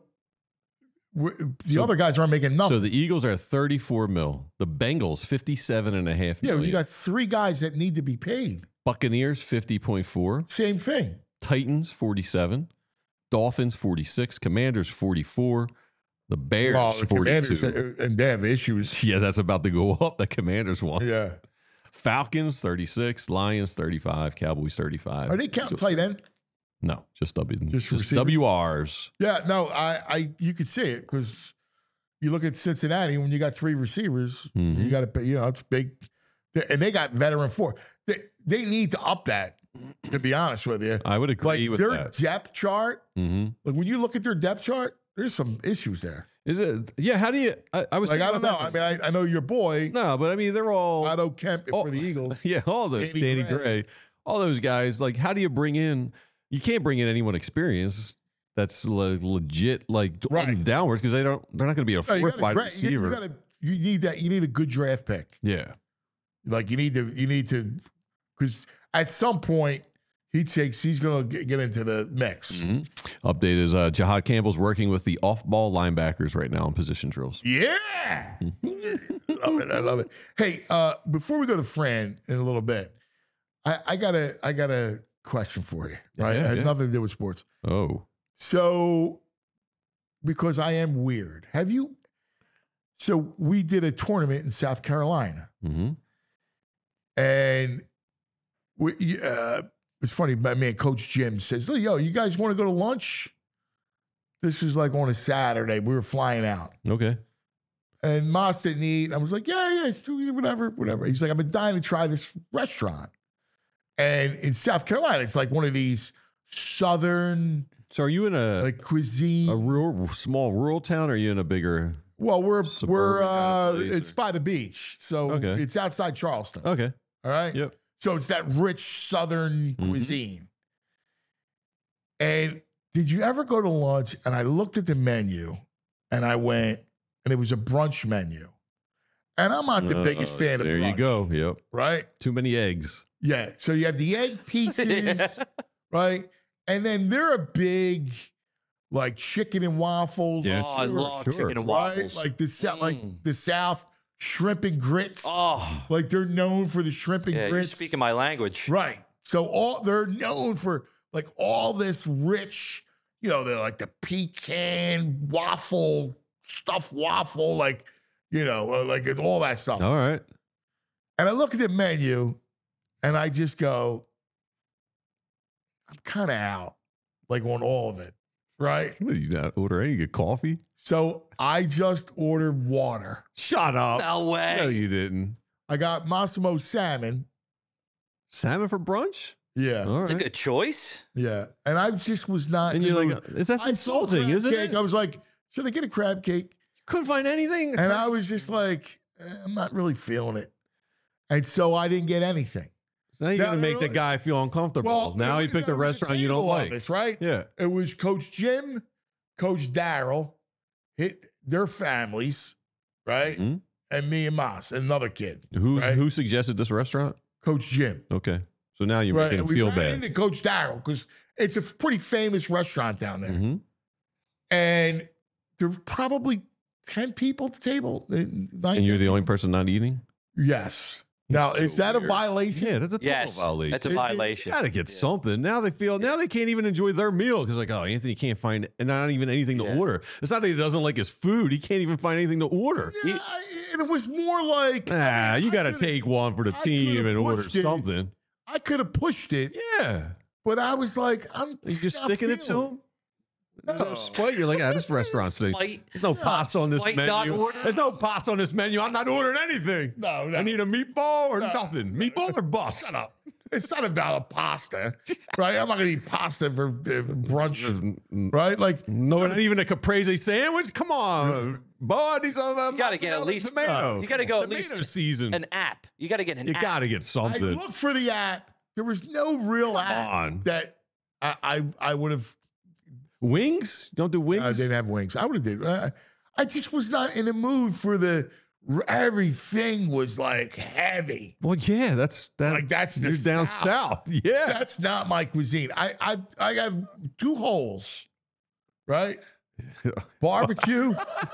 w- the So- other guys aren't making nothing. So the Eagles are thirty-four mil. The Bengals, fifty-seven and a half yeah, million. you got three guys that need to be paid. Buccaneers, fifty point four. Same thing. Titans, forty-seven. Dolphins, forty-six. Commanders, forty-four. The Bears, Well, the Commanders, forty-two. uh, and they have issues. Yeah, that's about to go up. The Commanders one. Yeah. Falcons, thirty-six. Lions, thirty-five. Cowboys, thirty-five. Are they counting tight end? No, just W. Just Just, receivers? W Rs. Yeah, no, I, I, you could see it because you look at Cincinnati when you got three receivers, Mhm. you got to pay. You know, it's big, and they got veteran four. They they need to up that. To be honest with you, I would agree like with their that. depth chart. Mm-hmm. Like when you look at their depth chart, there's some issues there. Is it? Yeah. How do you? I, I was Like I thinking don't know. about I that. mean, I, I know your boy No, but I mean, they're all. Otto Kemp Oh, for the Eagles. Yeah, all those Danny Danny Gray. Gray, all those guys. Like, how do you bring in? You can't bring in anyone experienced that's le- legit, like Right. downwards, because they don't. They're not going to be a No, you fourth gotta wide gra- you- receiver. You, gotta, you need that. You need a good draft pick. yeah, Like you need to. You need to because at some point he takes. He's going to get into the mix. Mm-hmm. Update is uh, Jahad Campbell's working with the off-ball linebackers right now in position drills. Yeah, love it. I love it. Hey, uh, before we go to Fran in a little bit, I, I got a I got a question for you. Right, Yeah, it has yeah. nothing to do with sports. Oh, So, because I am weird, have you? So we did a tournament in South Carolina, mm-hmm. and we. Uh, it's funny, my man, Coach Jim says, "Yo, you guys want to go to lunch?" This was like on a Saturday. We were flying out. Okay. And Moss didn't eat. I was like, yeah, yeah, it's- whatever, whatever. He's like, I've been dying to try this restaurant. And in South Carolina, it's like one of these southern So are you in a like cuisine. a rural, small rural town, or are you in a bigger? well, we're suburban we're kind uh, of place, it's or- by the beach, so Okay. it's outside Charleston. Okay. All right. Yep. So it's that rich southern Mhm. cuisine. And did you ever go to lunch? And I looked at the menu, and I went, and it was a brunch menu. And I'm not the biggest Uh, fan of There brunch. you go. Yep. Right? Too many eggs. Yeah. So you have the egg pieces, right? And then they're a big, like chicken and waffles. Yeah, Oh, I sure, love sure. chicken and right? waffles. Like the South, like Mm. the South, shrimp and grits. Oh, Like they're known for the shrimp and yeah, you're grits. speaking my language. Right. So all they're known for like all this rich, you know, they're like the pecan waffle, stuffed waffle, like, you know, uh, like it's all that stuff. All right. And I look at the menu and I just go, I'm kind of out, like on all of it. Right. What, you not order any? You get coffee? So I just ordered water. Shut up. No way. No, you didn't. I got Massimo salmon. Salmon for brunch? Yeah. All It's a right. good choice. Yeah. And I just was not. And in you're the like, mood. is that I saw insulting, crab isn't cake. it? I was like, should I get a crab cake? Couldn't find anything. And I was just like, eh, I'm not really feeling it. And so I didn't get anything. Now you're No, going to no, make the no. guy feel uncomfortable. Well, now look he at picked that, a there was restaurant you don't table of like. us, right? Yeah. It was Coach Jim, Coach Daryl, hit their families, right? Mhm. And me and Moss, and another kid. Who's, Right. Who suggested this restaurant? Coach Jim. Okay. So now you're Right. making And him we feel ran bad. into Coach Daryl because it's a pretty famous restaurant down there. Mhm. And there were probably ten people at the table. nine, And you're ten the only people. person not eating? Yes. Now, That's is so that a weird. violation? Yeah, that's a total Yes, violation. that's a Is it- violation. Gotta get Yeah. something. Now they feel now they can't even enjoy their meal because like, oh, Anthony can't find and not even anything to Yeah. order. It's not that he doesn't like his food; he can't even find anything to order. Yeah, I- and it was more like Nah, you I got to could've- take one for the I team could've and order pushed it. something. I could have pushed it, Yeah, but I was like, I'm you just not sticking it to feeling him. There's no spite. You're like, ah, this restaurant's thing. Spite. There's no pasta on this Spite not menu. order? There's no pasta on this menu. I'm not ordering anything. No, no. I need a meatball or No. nothing. Meatball or bust. Shut up. It's not about a pasta, right? I'm not going to eat pasta for uh, brunch, right? Like, No, not even a caprese sandwich. Come on, Bo. I need some. Uh, You got to get at mozzarella least tomato. You got to go at Tomato least season. an app. You got to get an you app. got to get I something. looked for the app. There was no real app on. that I I, I would have. Wings? Don't do wings. I didn't have wings. I would have did. I, I just was not in the mood for the. Everything was like heavy. well, yeah, that's that. Like, that's the you're down South. south. Yeah. That's not my cuisine. I I I have two holes, right? Barbecue.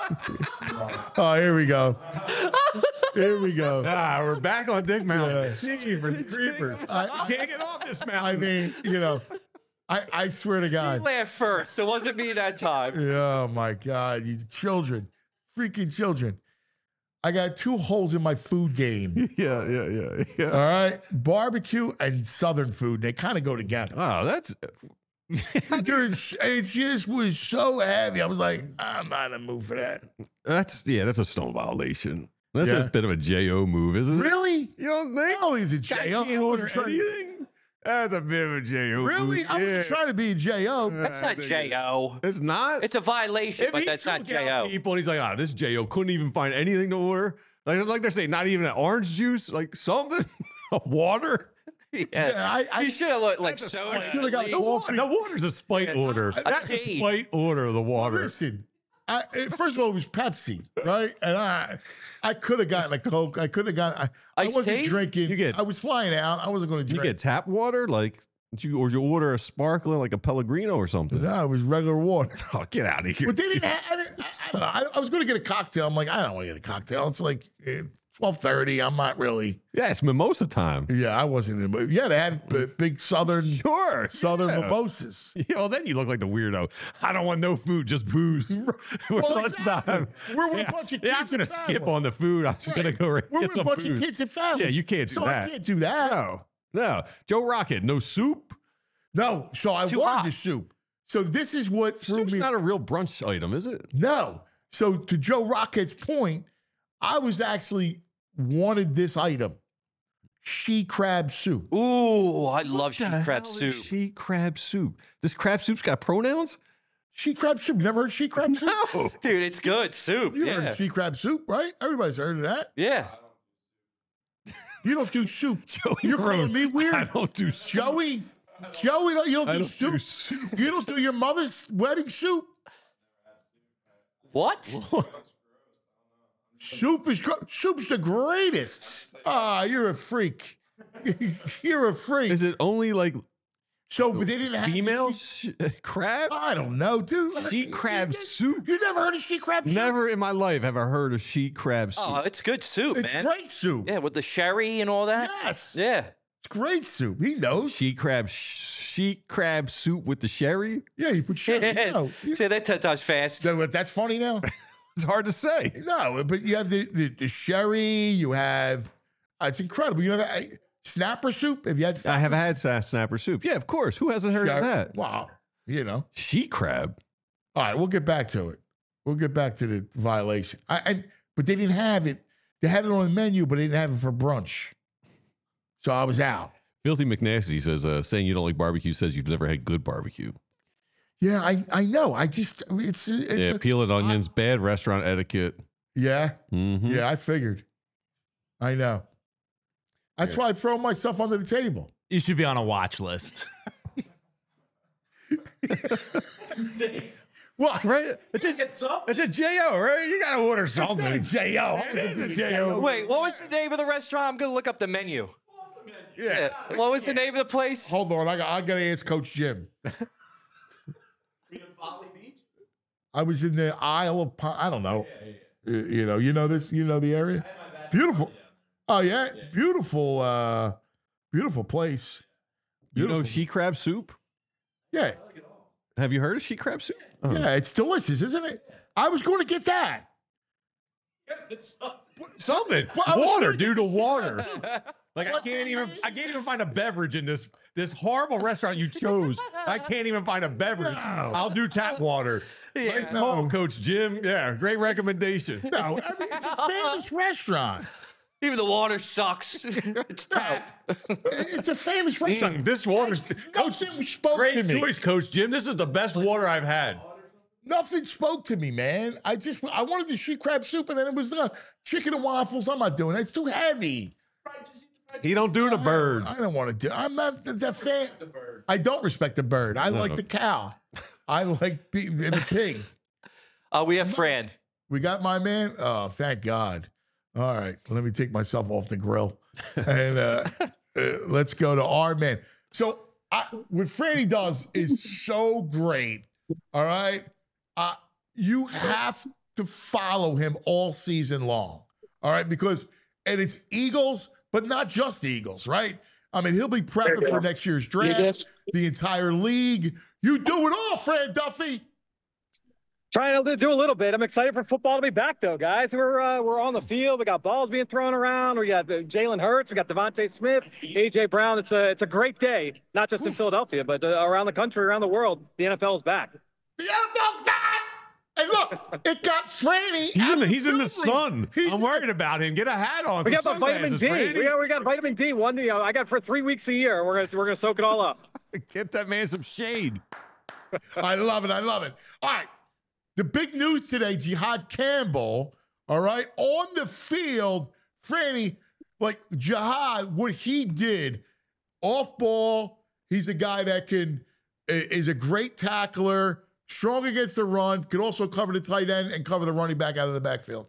Oh, here we go. Here we go. Ah, we're back on Dick Mountain. Yeah. Jeepers creepers. I- You can't get off this mountain. I mean, you know, I I swear to You God. laughed first. It wasn't me that time. Oh my God, you children, freaking children. I got two holes in my food game. yeah, yeah, yeah, yeah. All right, barbecue and Southern food. They kind of go together. Oh, that's Dude, it just was so heavy. I was like, I'm not in the mood for that. that's yeah, that's a stone violation. That's Yeah. a bit of a J O move, isn't it? Really? You don't think? Oh, he's a Guy J O. can't order anything. That's a bit of a J O. Really? move. I wasn't Yeah. trying to be a J O. That's I not think J O. It's not. It's a violation, If but he that's not took J out O. People, and he's like, ah, this J O couldn't even find anything to order. Like, like they're saying, not even an orange juice, like something, water. Yeah. Yeah, I, I You should have looked like That's a soda. spite. should've got at No, least. water, no water's a spite order. That's a tea. spite order of the water. listen. I, it- first of all, it was Pepsi, right? And I, I could have gotten a Coke. I could have gotten. I, I Iced wasn't tea? drinking. You get- I was flying out. I wasn't going to You drink. get tap water, like Did you, or did you order a sparkling like a Pellegrino or something? No, it was regular water. Oh, get out of here. But they didn't have, I, didn't, I, I, don't know, I, I was going to get a cocktail. I'm like, I don't want to get a cocktail. It's like twelve thirty. I'm not really. Yeah, it's mimosa time. Yeah, I wasn't in the mood. Yeah, they had b- big southern sure, southern yeah. mimosas. Yeah, well, then you look like the weirdo. I don't want no food, just booze. Well, exactly. We're with yeah. a bunch of kids. Yeah, I'm going to skip on the food. I'm just Right. going to go right We're get with some a bunch booze. of kids and families. Yeah, you can't do so that. I can't do that. No, no. Joe Rocket, no soup? No, so I Too wanted hot. the soup. So this is what threw Soup's me. not a real brunch item, is it? No. So to Joe Rocket's point, I was actually wanted this item. She crab soup. Ooh, I What love the sheep crab hell is soup. She crab soup. This crab soup's got pronouns? She crab soup. Never heard she crab soup? No. Dude, it's good soup. You yeah. heard of she crab soup, right? Everybody's heard of that. Yeah. You don't do soup. Joey You're calling Road. me weird? I don't do soup. Joey, Joey, don't- you don't I do don't soup. do soup. You don't do your mother's wedding soup. What? Soup is gr- soup's the greatest. Ah, you're a freak. You're a freak. Is it only like So, but they didn't have the female she- sh- crab? I don't know, dude. Sheet crab soup? You never heard of sheet crab soup? Never in my life have I heard of sheet crab soup. Oh, it's good soup, It's man. great soup. Yeah, with the sherry and all that. Yes. Yeah. It's great soup. He knows. Sheet crab, sheet crab soup with the sherry? Yeah, you put sherry. No, you- Say that ten times fast. So, that's funny now. It's hard to say. No, but you have the, the, the sherry. You have. Uh, it's incredible. You have uh, snapper soup. Have you had? I Snapper have had sa- snapper soup. Yeah, of course. Who hasn't heard Sherry? of that? Wow. You know. Sheet crab. All right, we'll get back to it. We'll get back to the violation. I, I but they didn't have it. They had it on the menu, but they didn't have it for brunch. So I was out. Filthy McNasty says, uh, saying you don't like barbecue says you've never had good barbecue. Yeah, I I know. I just it's, it's yeah, a- peeling onions, bad restaurant etiquette. yeah Mhm. yeah. I figured. I know. That's why I throw myself under the table. You should be on a watch list. Well, Right? It's a, it's a J O, right? You got to order it's not a J O. It's a J O. Wait, what was the name of the restaurant? I'm gonna look up the menu. Yeah. What was the name of the place? Hold on, I got I got to ask Coach Jim. I was in the Isle of Pine. I don't know. You, you know, you know this. You know the area. Beautiful. Oh yeah, beautiful. Uh, beautiful place. You know Beautiful. sheet crab soup? Yeah, Have you heard of sheet crab soup? Oh. yeah. It's delicious, isn't it? I was going to get that. Something. Well, I was water, gonna dude, get a the water. soup. Like I What can't the even heck? I can't even find a beverage in this this horrible restaurant you chose. I can't even find a beverage. No. I'll do tap water. Yeah. Nice call, Coach Jim. Yeah, great recommendation. No, I mean, it's a famous restaurant. Even the water sucks. It's tap. It's a famous restaurant. Mm, this water's Nothing spoke great to me. choice, Coach Jim. This is the best water I've had. Nothing spoke to me, man. I just I wanted the sheet crab soup, and then it was the chicken and waffles. I'm not doing it. It's too heavy. He don't do the bird. I don't want to do. I'm not the, the fan. I don't respect the bird. I like the cow. I like be, the pig. Uh, we have Fran. We got my man. Oh, thank God. All right, let me take myself off the grill, and uh, uh, let's go to our man. So I, what Franny does is so great. All right, uh, you have to follow him all season long. All right, because and it's Eagles, but not just Eagles, right? I mean, he'll be prepping for next year's draft, the entire league. You do it all, Fran Duffy. Trying to do a little bit. I'm excited for football to be back, though, guys. We're uh, we're on the field. We got balls being thrown around. We got uh, Jalen Hurts. We got Devontae Smith, A J Brown. It's a it's a great day, not just in Philadelphia, but uh, around the country, around the world. The N F L is back. The N F L's back. And look, it got Franny. He's in the, he's in the absolutely- sun. He's I'm worried about him. Get a hat on. We some got the vitamin sunglasses, D. Franny. We got we got vitamin D. One, you know, I got for three weeks a year. We're gonna we're gonna soak it all up. Get that man some shade. I love it. I love it. All right. The big news today, Jihad Campbell, all right, on the field, Franny, like Jihad, what he did off ball, he's a guy that can, is a great tackler, strong against the run, can also cover the tight end and cover the running back out of the backfield.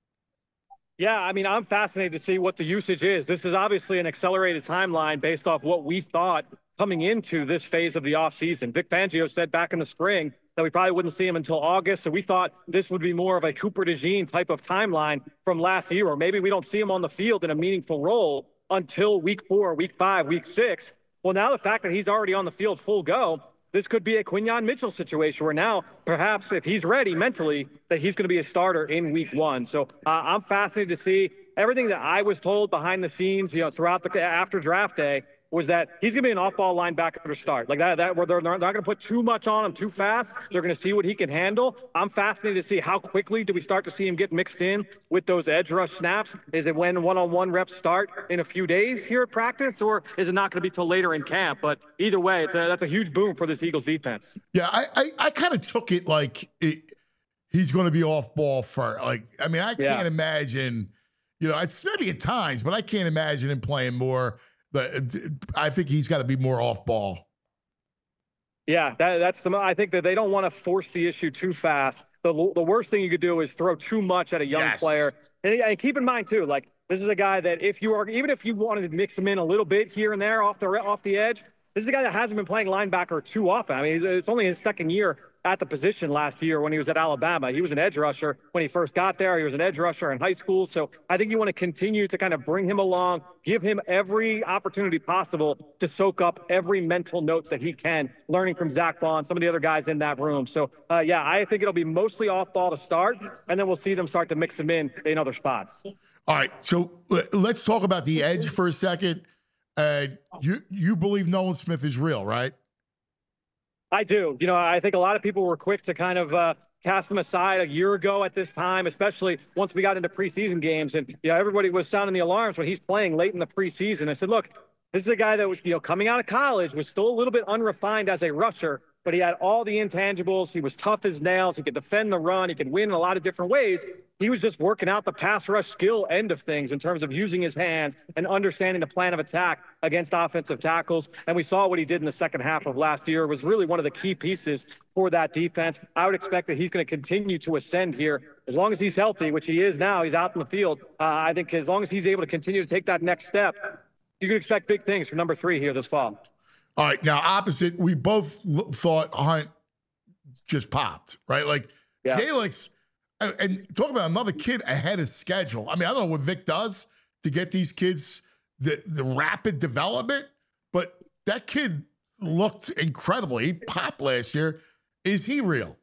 Yeah, I mean, I'm fascinated to see what the usage is. This is obviously an accelerated timeline based off what we thought coming into this phase of the offseason. Vic Fangio said back in the spring that we probably wouldn't see him until August. So we thought this would be more of a Cooper DeJean type of timeline from last year, or maybe we don't see him on the field in a meaningful role until week four, week five, week six. Well, now the fact that he's already on the field full go, this could be a Quinyon Mitchell situation where now perhaps if he's ready mentally that he's going to be a starter in week one. So uh, I'm fascinated to see everything that I was told behind the scenes, you know, throughout the after draft day was that he's going to be an off-ball linebacker to start. Like that, that where they're not going to put too much on him too fast. They're going to see what he can handle. I'm fascinated to see how quickly do we start to see him get mixed in with those edge rush snaps. Is it when one-on-one reps start in a few days here at practice, or is it not going to be till later in camp? But either way, it's a, that's a huge boom for this Eagles defense. Yeah, I I, I kind of took it like it, he's going to be off-ball for like. I mean, I Yeah. can't imagine. You know, it's maybe at times, but I can't imagine him playing more. But I think he's got to be more off ball. Yeah, that, that's the. I think that they don't want to force the issue too fast. The, the worst thing you could do is throw too much at a young Yes. player. And, and keep in mind too, like this is a guy that if you are, even if you wanted to mix him in a little bit here and there off the off the edge, this is a guy that hasn't been playing linebacker too often. I mean, it's only his second year at the position last year when he was at Alabama. He was an edge rusher when he first got there. He was an edge rusher in high school. So I think you want to continue to kind of bring him along, give him every opportunity possible to soak up every mental note that he can, learning from Zach Vaughn, some of the other guys in that room. So, uh, yeah, I think it'll be mostly off ball to start, and then we'll see them start to mix him in in other spots. All right, so uh, let's talk about the edge for a second. Uh, you you believe Nolan Smith is real, right? I do. You know, I think a lot of people were quick to kind of uh, cast him aside a year ago at this time, especially once we got into preseason games. And, you know, everybody was sounding the alarms when he's playing late in the preseason. I said, look, this is a guy that was, you know, coming out of college, was still a little bit unrefined as a rusher, but he had all the intangibles. He was tough as nails. He could defend the run. He could win in a lot of different ways. He was just working out the pass rush skill end of things in terms of using his hands and understanding the plan of attack against offensive tackles. And we saw what he did in the second half of last year. It was really one of the key pieces for that defense. I would expect that he's going to continue to ascend here as long as he's healthy, which he is now. He's out in the field. Uh, I think as long as he's able to continue to take that next step, you can expect big things from number three here this fall. All right, now opposite, we both l- thought Hunt just popped, right? Like Yeah. Jalix, and, and talk about another kid ahead of schedule. I mean, I don't know what Vic does to get these kids the, the rapid development, but that kid looked incredible. He popped last year. Is he real?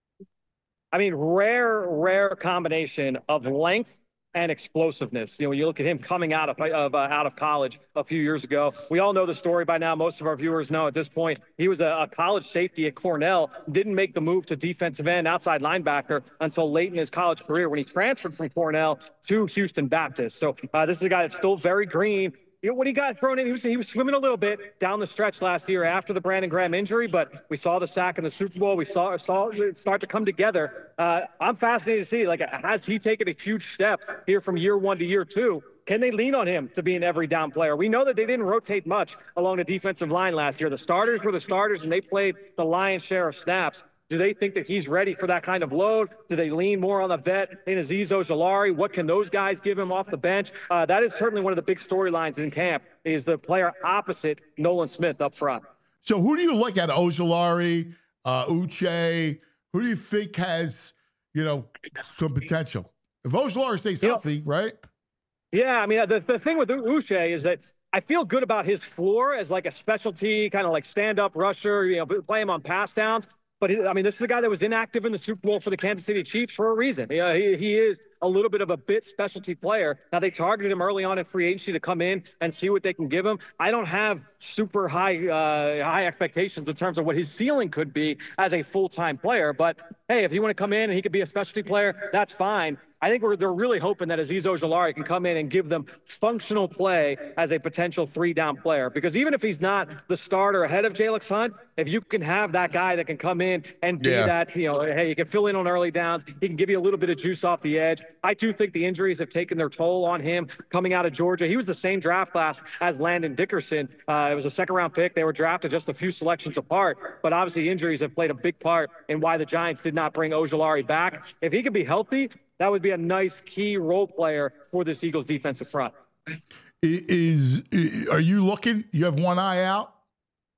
I mean, rare, rare combination of length and explosiveness. You know, when you look at him coming out of, of uh, out of college a few years ago, we all know the story by now. Most of our viewers know at this point, he was a, a college safety at Cornell, didn't make the move to defensive end, outside linebacker until late in his college career when he transferred from Cornell to Houston Baptist. So uh, this is a guy that's still very green. You know, when he got thrown in, he was, he was swimming a little bit down the stretch last year after the Brandon Graham injury, but we saw the sack in the Super Bowl. We saw, saw it start to come together. Uh, I'm fascinated to see, like, has he taken a huge step here from year one to year two? Can they lean on him to be an every down player? We know that they didn't rotate much along the defensive line last year. The starters were the starters, and they played the lion's share of snaps. Do they think that he's ready for that kind of load? Do they lean more on the vet in Azeez Ojulari? What can those guys give him off the bench? Uh, that is certainly one of the big storylines in camp, is the player opposite Nolan Smith up front. So who do you like out of Ojulari, uh, Uche? Who do you think has, you know, some potential? If Ojulari stays You know- healthy, right? Yeah, I mean, the, the thing with Uche is that I feel good about his floor as like a specialty, kind of like stand-up rusher, you know, play him on pass downs. But, he, I mean, this is a guy that was inactive in the Super Bowl for the Kansas City Chiefs for a reason. Yeah, he, he is a little bit of a bit specialty player. Now, they targeted him early on in free agency to come in and see what they can give him. I don't have super high uh, high expectations in terms of what his ceiling could be as a full-time player. But, hey, if you want to come in and he could be a specialty player, that's fine. I think we're, they're really hoping that Azeez Ojulari can come in and give them functional play as a potential three-down player. Because even if he's not the starter ahead of Jalix Hunt, if you can have that guy that can come in and be Yeah. that, you know, hey, you can fill in on early downs, he can give you a little bit of juice off the edge. I do think the injuries have taken their toll on him coming out of Georgia. He was the same draft class as Landon Dickerson. Uh, it was a second-round pick. They were drafted just a few selections apart. But obviously injuries have played a big part in why the Giants did not bring Ojulari back. If he could be healthy, that would be a nice key role player for this Eagles defensive front. Is, is are you looking? You have one eye out?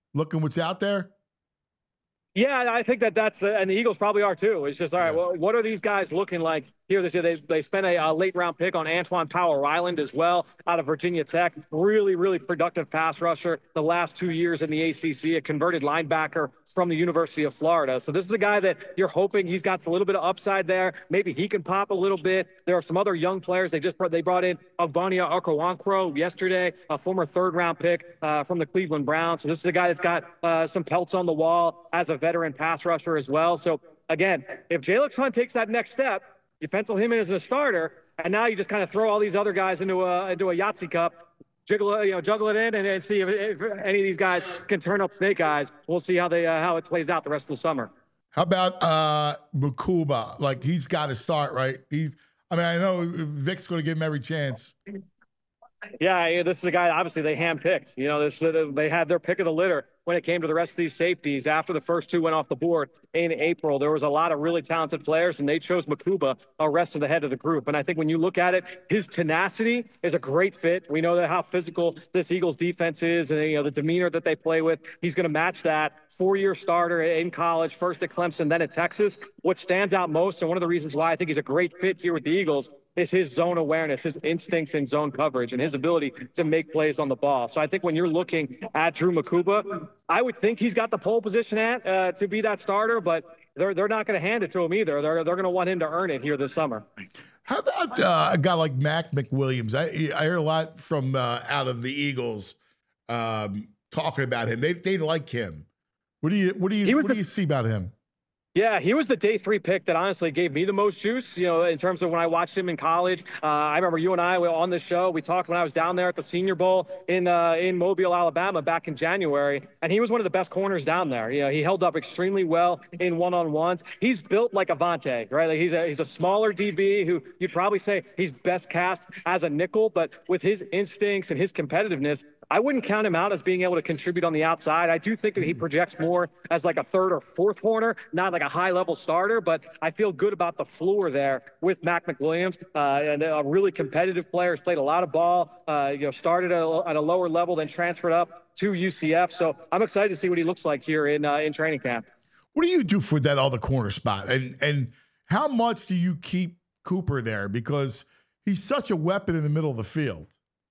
looking what's out there? Yeah, I think that that's the, and the Eagles probably are too. It's just, all right, well, what are these guys looking like here this year? They, they spent a, a late round pick on Antoine Power Island as well out of Virginia Tech. Really, really productive pass rusher the last two years in the A C C, a converted linebacker from the University of Florida. So this is a guy that you're hoping he's got a little bit of upside there. Maybe he can pop a little bit. There are some other young players. They just brought, they brought in Ogbonnia Okoronkwo yesterday, a former third round pick uh, from the Cleveland Browns. So this is a guy that's got uh, some pelts on the wall as a veteran pass rusher as well. So again, if Jalen Hunt takes that next step, you pencil him in as a starter, and now you just kind of throw all these other guys into a into a Yahtzee cup, jiggle it, you know, juggle it in, and, and see if, if any of these guys can turn up snake eyes. We'll see how they uh, how it plays out the rest of the summer. How about uh, Mukuba? Like, he's got to start, right? He's. I mean, I know Vic's going to give him every chance. Yeah, this is a guy, obviously, they handpicked. You know, this, they had their pick of the litter when it came to the rest of these safeties. After the first two went off the board in April, there was a lot of really talented players, and they chose Mukuba the rest of the head of the group. And I think when you look at it, his tenacity is a great fit. We know that how physical this Eagles defense is, and you know the demeanor that they play with. He's going to match that. Four-year starter in college, first at Clemson, then at Texas. What stands out most, and one of the reasons why I think he's a great fit here with the Eagles, is his zone awareness, his instincts in zone coverage, and his ability to make plays on the ball. So I think when you're looking at Drew Mukuba, I would think he's got the pole position at uh, to be that starter, but they're they're not going to hand it to him either. They're they're going to want him to earn it here this summer. How about uh, a guy like Mac McWilliams? I I hear a lot from uh, out of the Eagles um, talking about him. They they like him. What do you what do you what the- do you see about him? Yeah, he was the day three pick that honestly gave me the most juice, you know, in terms of when I watched him in college. Uh, I remember you and I were on the show. We talked when I was down there at the Senior Bowl in uh, in Mobile, Alabama back in January, and he was one of the best corners down there. You know, he held up extremely well in one-on-ones. He's built like Avante, right? Like he's a he's a smaller D B who you'd probably say he's best cast as a nickel, but with his instincts and his competitiveness, I wouldn't count him out as being able to contribute on the outside. I do think that he projects more as like a third or fourth corner, not like a high-level starter, but I feel good about the floor there with Mac McWilliams. Uh, and a really competitive player, has played a lot of ball, uh, you know, started at a, at a lower level, then transferred up to U C F. So I'm excited to see what he looks like here in uh, in training camp. What do you do for that other corner spot? And and how much do you keep Cooper there? Because he's such a weapon in the middle of the field.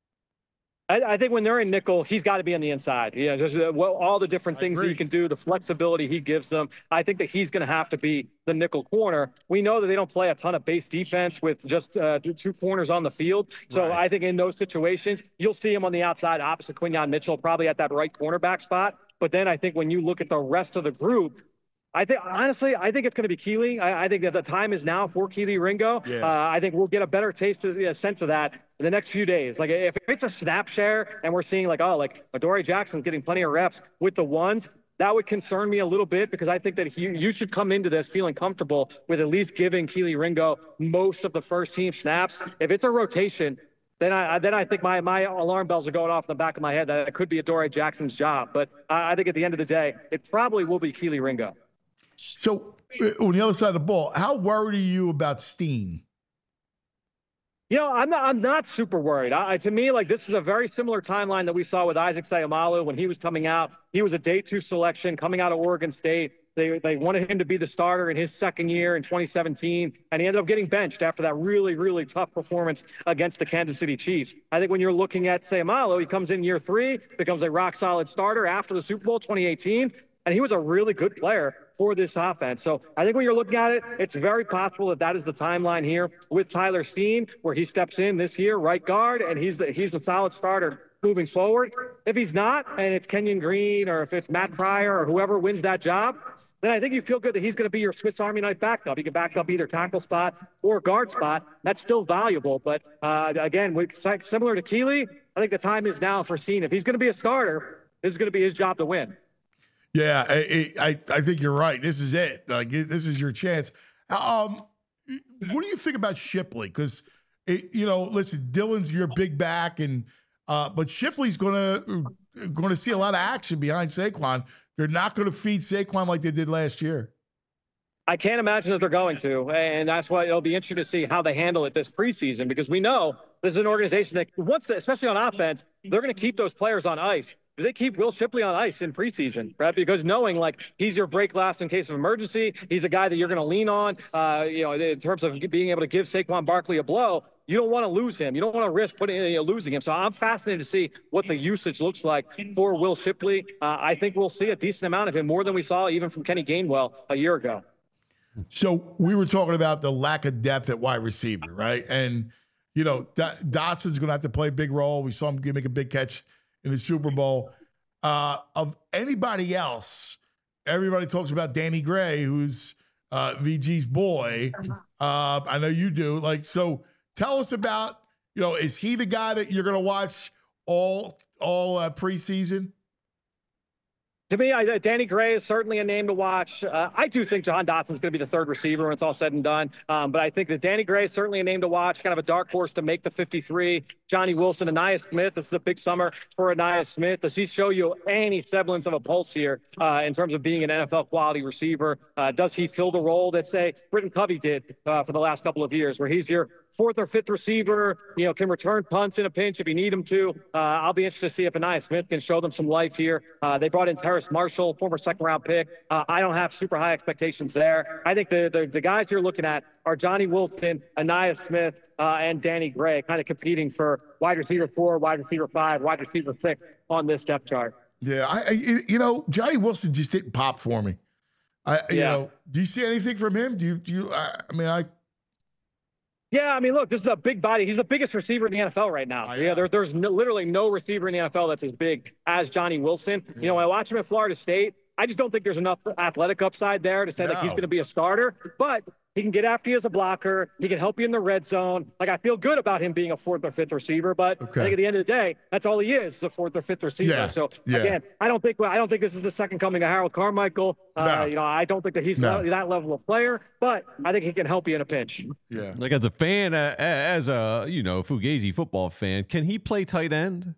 I, I think when they're in nickel, he's got to be on the inside. Yeah, just uh, well, all the different I things agree. he can do, the flexibility he gives them. I think that he's going to have to be the nickel corner. We know that they don't play a ton of base defense with just uh, two corners on the field. So Right. I think in those situations, you'll see him on the outside opposite Quinyon Mitchell, probably at that right cornerback spot. But then I think when you look at the rest of the group, I think, honestly, I think it's going to be Keely. I, I think that the time is now for Keely Ringo. Yeah. Uh, I think we'll get a better taste of a sense of that in the next few days. Like, if it's a snap share and we're seeing, like, oh, like, Adoree Jackson's getting plenty of reps with the ones, that would concern me a little bit because I think that he, you should come into this feeling comfortable with at least giving Keely Ringo most of the first team snaps. If it's a rotation, then I then I think my my alarm bells are going off in the back of my head that it could be Adoree Jackson's job. But I, I think at the end of the day, it probably will be Keely Ringo. So uh, on the other side of the ball, how worried are you about Steen? You know, I'm not, I'm not super worried. I, to me, like, this is a very similar timeline that we saw with Isaac Sayamalu when he was coming out. He was a day two selection coming out of Oregon State. They, they wanted him to be the starter in his second year in twenty seventeen, and he ended up getting benched after that really, really tough performance against the Kansas City Chiefs. I think when you're looking at Sayamalu, he comes in year three, becomes a rock-solid starter after the Super Bowl twenty eighteen, and he was a really good player for this offense. So I think when you're looking at it, it's very possible that that is the timeline here with Tyler Steen, where he steps in this year, right guard, and he's the, he's a solid starter moving forward. If he's not, and it's Kenyon Green, or if it's Matt Pryor, or whoever wins that job, then I think you feel good that he's going to be your Swiss Army knife backup. He can back up either tackle spot or guard spot. That's still valuable. But uh, again, with, similar to Keely, I think the time is now for Steen. If he's going to be a starter, this is going to be his job to win. Yeah, I, I I think you're right. This is it. Like, this is your chance. Um, what do you think about Shipley? Because, you know, listen, Dylan's your big back, and uh, but Shipley's gonna going to see a lot of action behind Saquon. They're not going to feed Saquon like they did last year. I can't imagine that they're going to, and that's why it'll be interesting to see how they handle it this preseason, because we know this is an organization that, once, especially on offense, they're going to keep those players on ice do they keep Will Shipley on ice in preseason, right? Because knowing like he's your break glass in case of emergency, he's a guy that you're going to lean on, uh, you know, in terms of being able to give Saquon Barkley a blow. You don't want to lose him. You don't want to risk putting you know, losing him. So I'm fascinated to see what the usage looks like for Will Shipley. Uh, I think we'll see a decent amount of him, more than we saw even from Kenny Gainwell a year ago. So we were talking about the lack of depth at wide receiver, right? And, you know, D- Dotson's going to have to play a big role. We saw him make a big catch in the Super Bowl. Uh, of anybody else, everybody talks about Danny Gray, who's uh, V G's boy. Uh, I know you do. Like, so tell us about, you know, is he the guy that you're going to watch all all uh, preseason? To me, I, Danny Gray is certainly a name to watch. Uh, I do think Jahan Dotson's going to be the third receiver when it's all said and done. Um, but I think that Danny Gray is certainly a name to watch, kind of a dark horse to make the fifty-three. Johnny Wilson, Ainias Smith. This is a big summer for Ainias Smith. Does he show you any semblance of a pulse here uh, in terms of being an N F L quality receiver? Uh, does he fill the role that, say, Britton Covey did uh, for the last couple of years, where he's your fourth or fifth receiver, you know, can return punts in a pinch if you need him to? Uh, I'll be interested to see if Ainias Smith can show them some life here. Uh, they brought in Terrace Marshall, former second round pick. Uh, I don't have super high expectations there. I think the, the, the guys you're looking at are Johnny Wilson, Ainias Smith, uh, and Danny Gray, kind of competing for wide receiver four, wide receiver five, wide receiver six on this depth chart. Yeah, I, I you know, Johnny Wilson just didn't pop for me. I, you Yeah. know, do you see anything from him? Do you, do you, I, I mean, I, Yeah, I mean, look, this is a big body. He's the biggest receiver in the N F L right now. Yeah, there, there's no, literally no receiver in the N F L that's as big as Johnny Wilson. You know, I watch him at Florida State. I just don't think there's enough athletic upside there to say like he's No. going to be a starter. But he can get after you as a blocker. He can help you in the red zone. Like, I feel good about him being a fourth or fifth receiver. But Okay. I think at the end of the day, that's all he is, is a fourth or fifth receiver. Yeah, So yeah. again, I don't think I don't think this is the second coming of Harold Carmichael. Uh, No. You know, I don't think that he's No. that level of player. But I think he can help you in a pinch. yeah. Like as a fan, uh, as a you know Fugazi football fan, can he play tight end?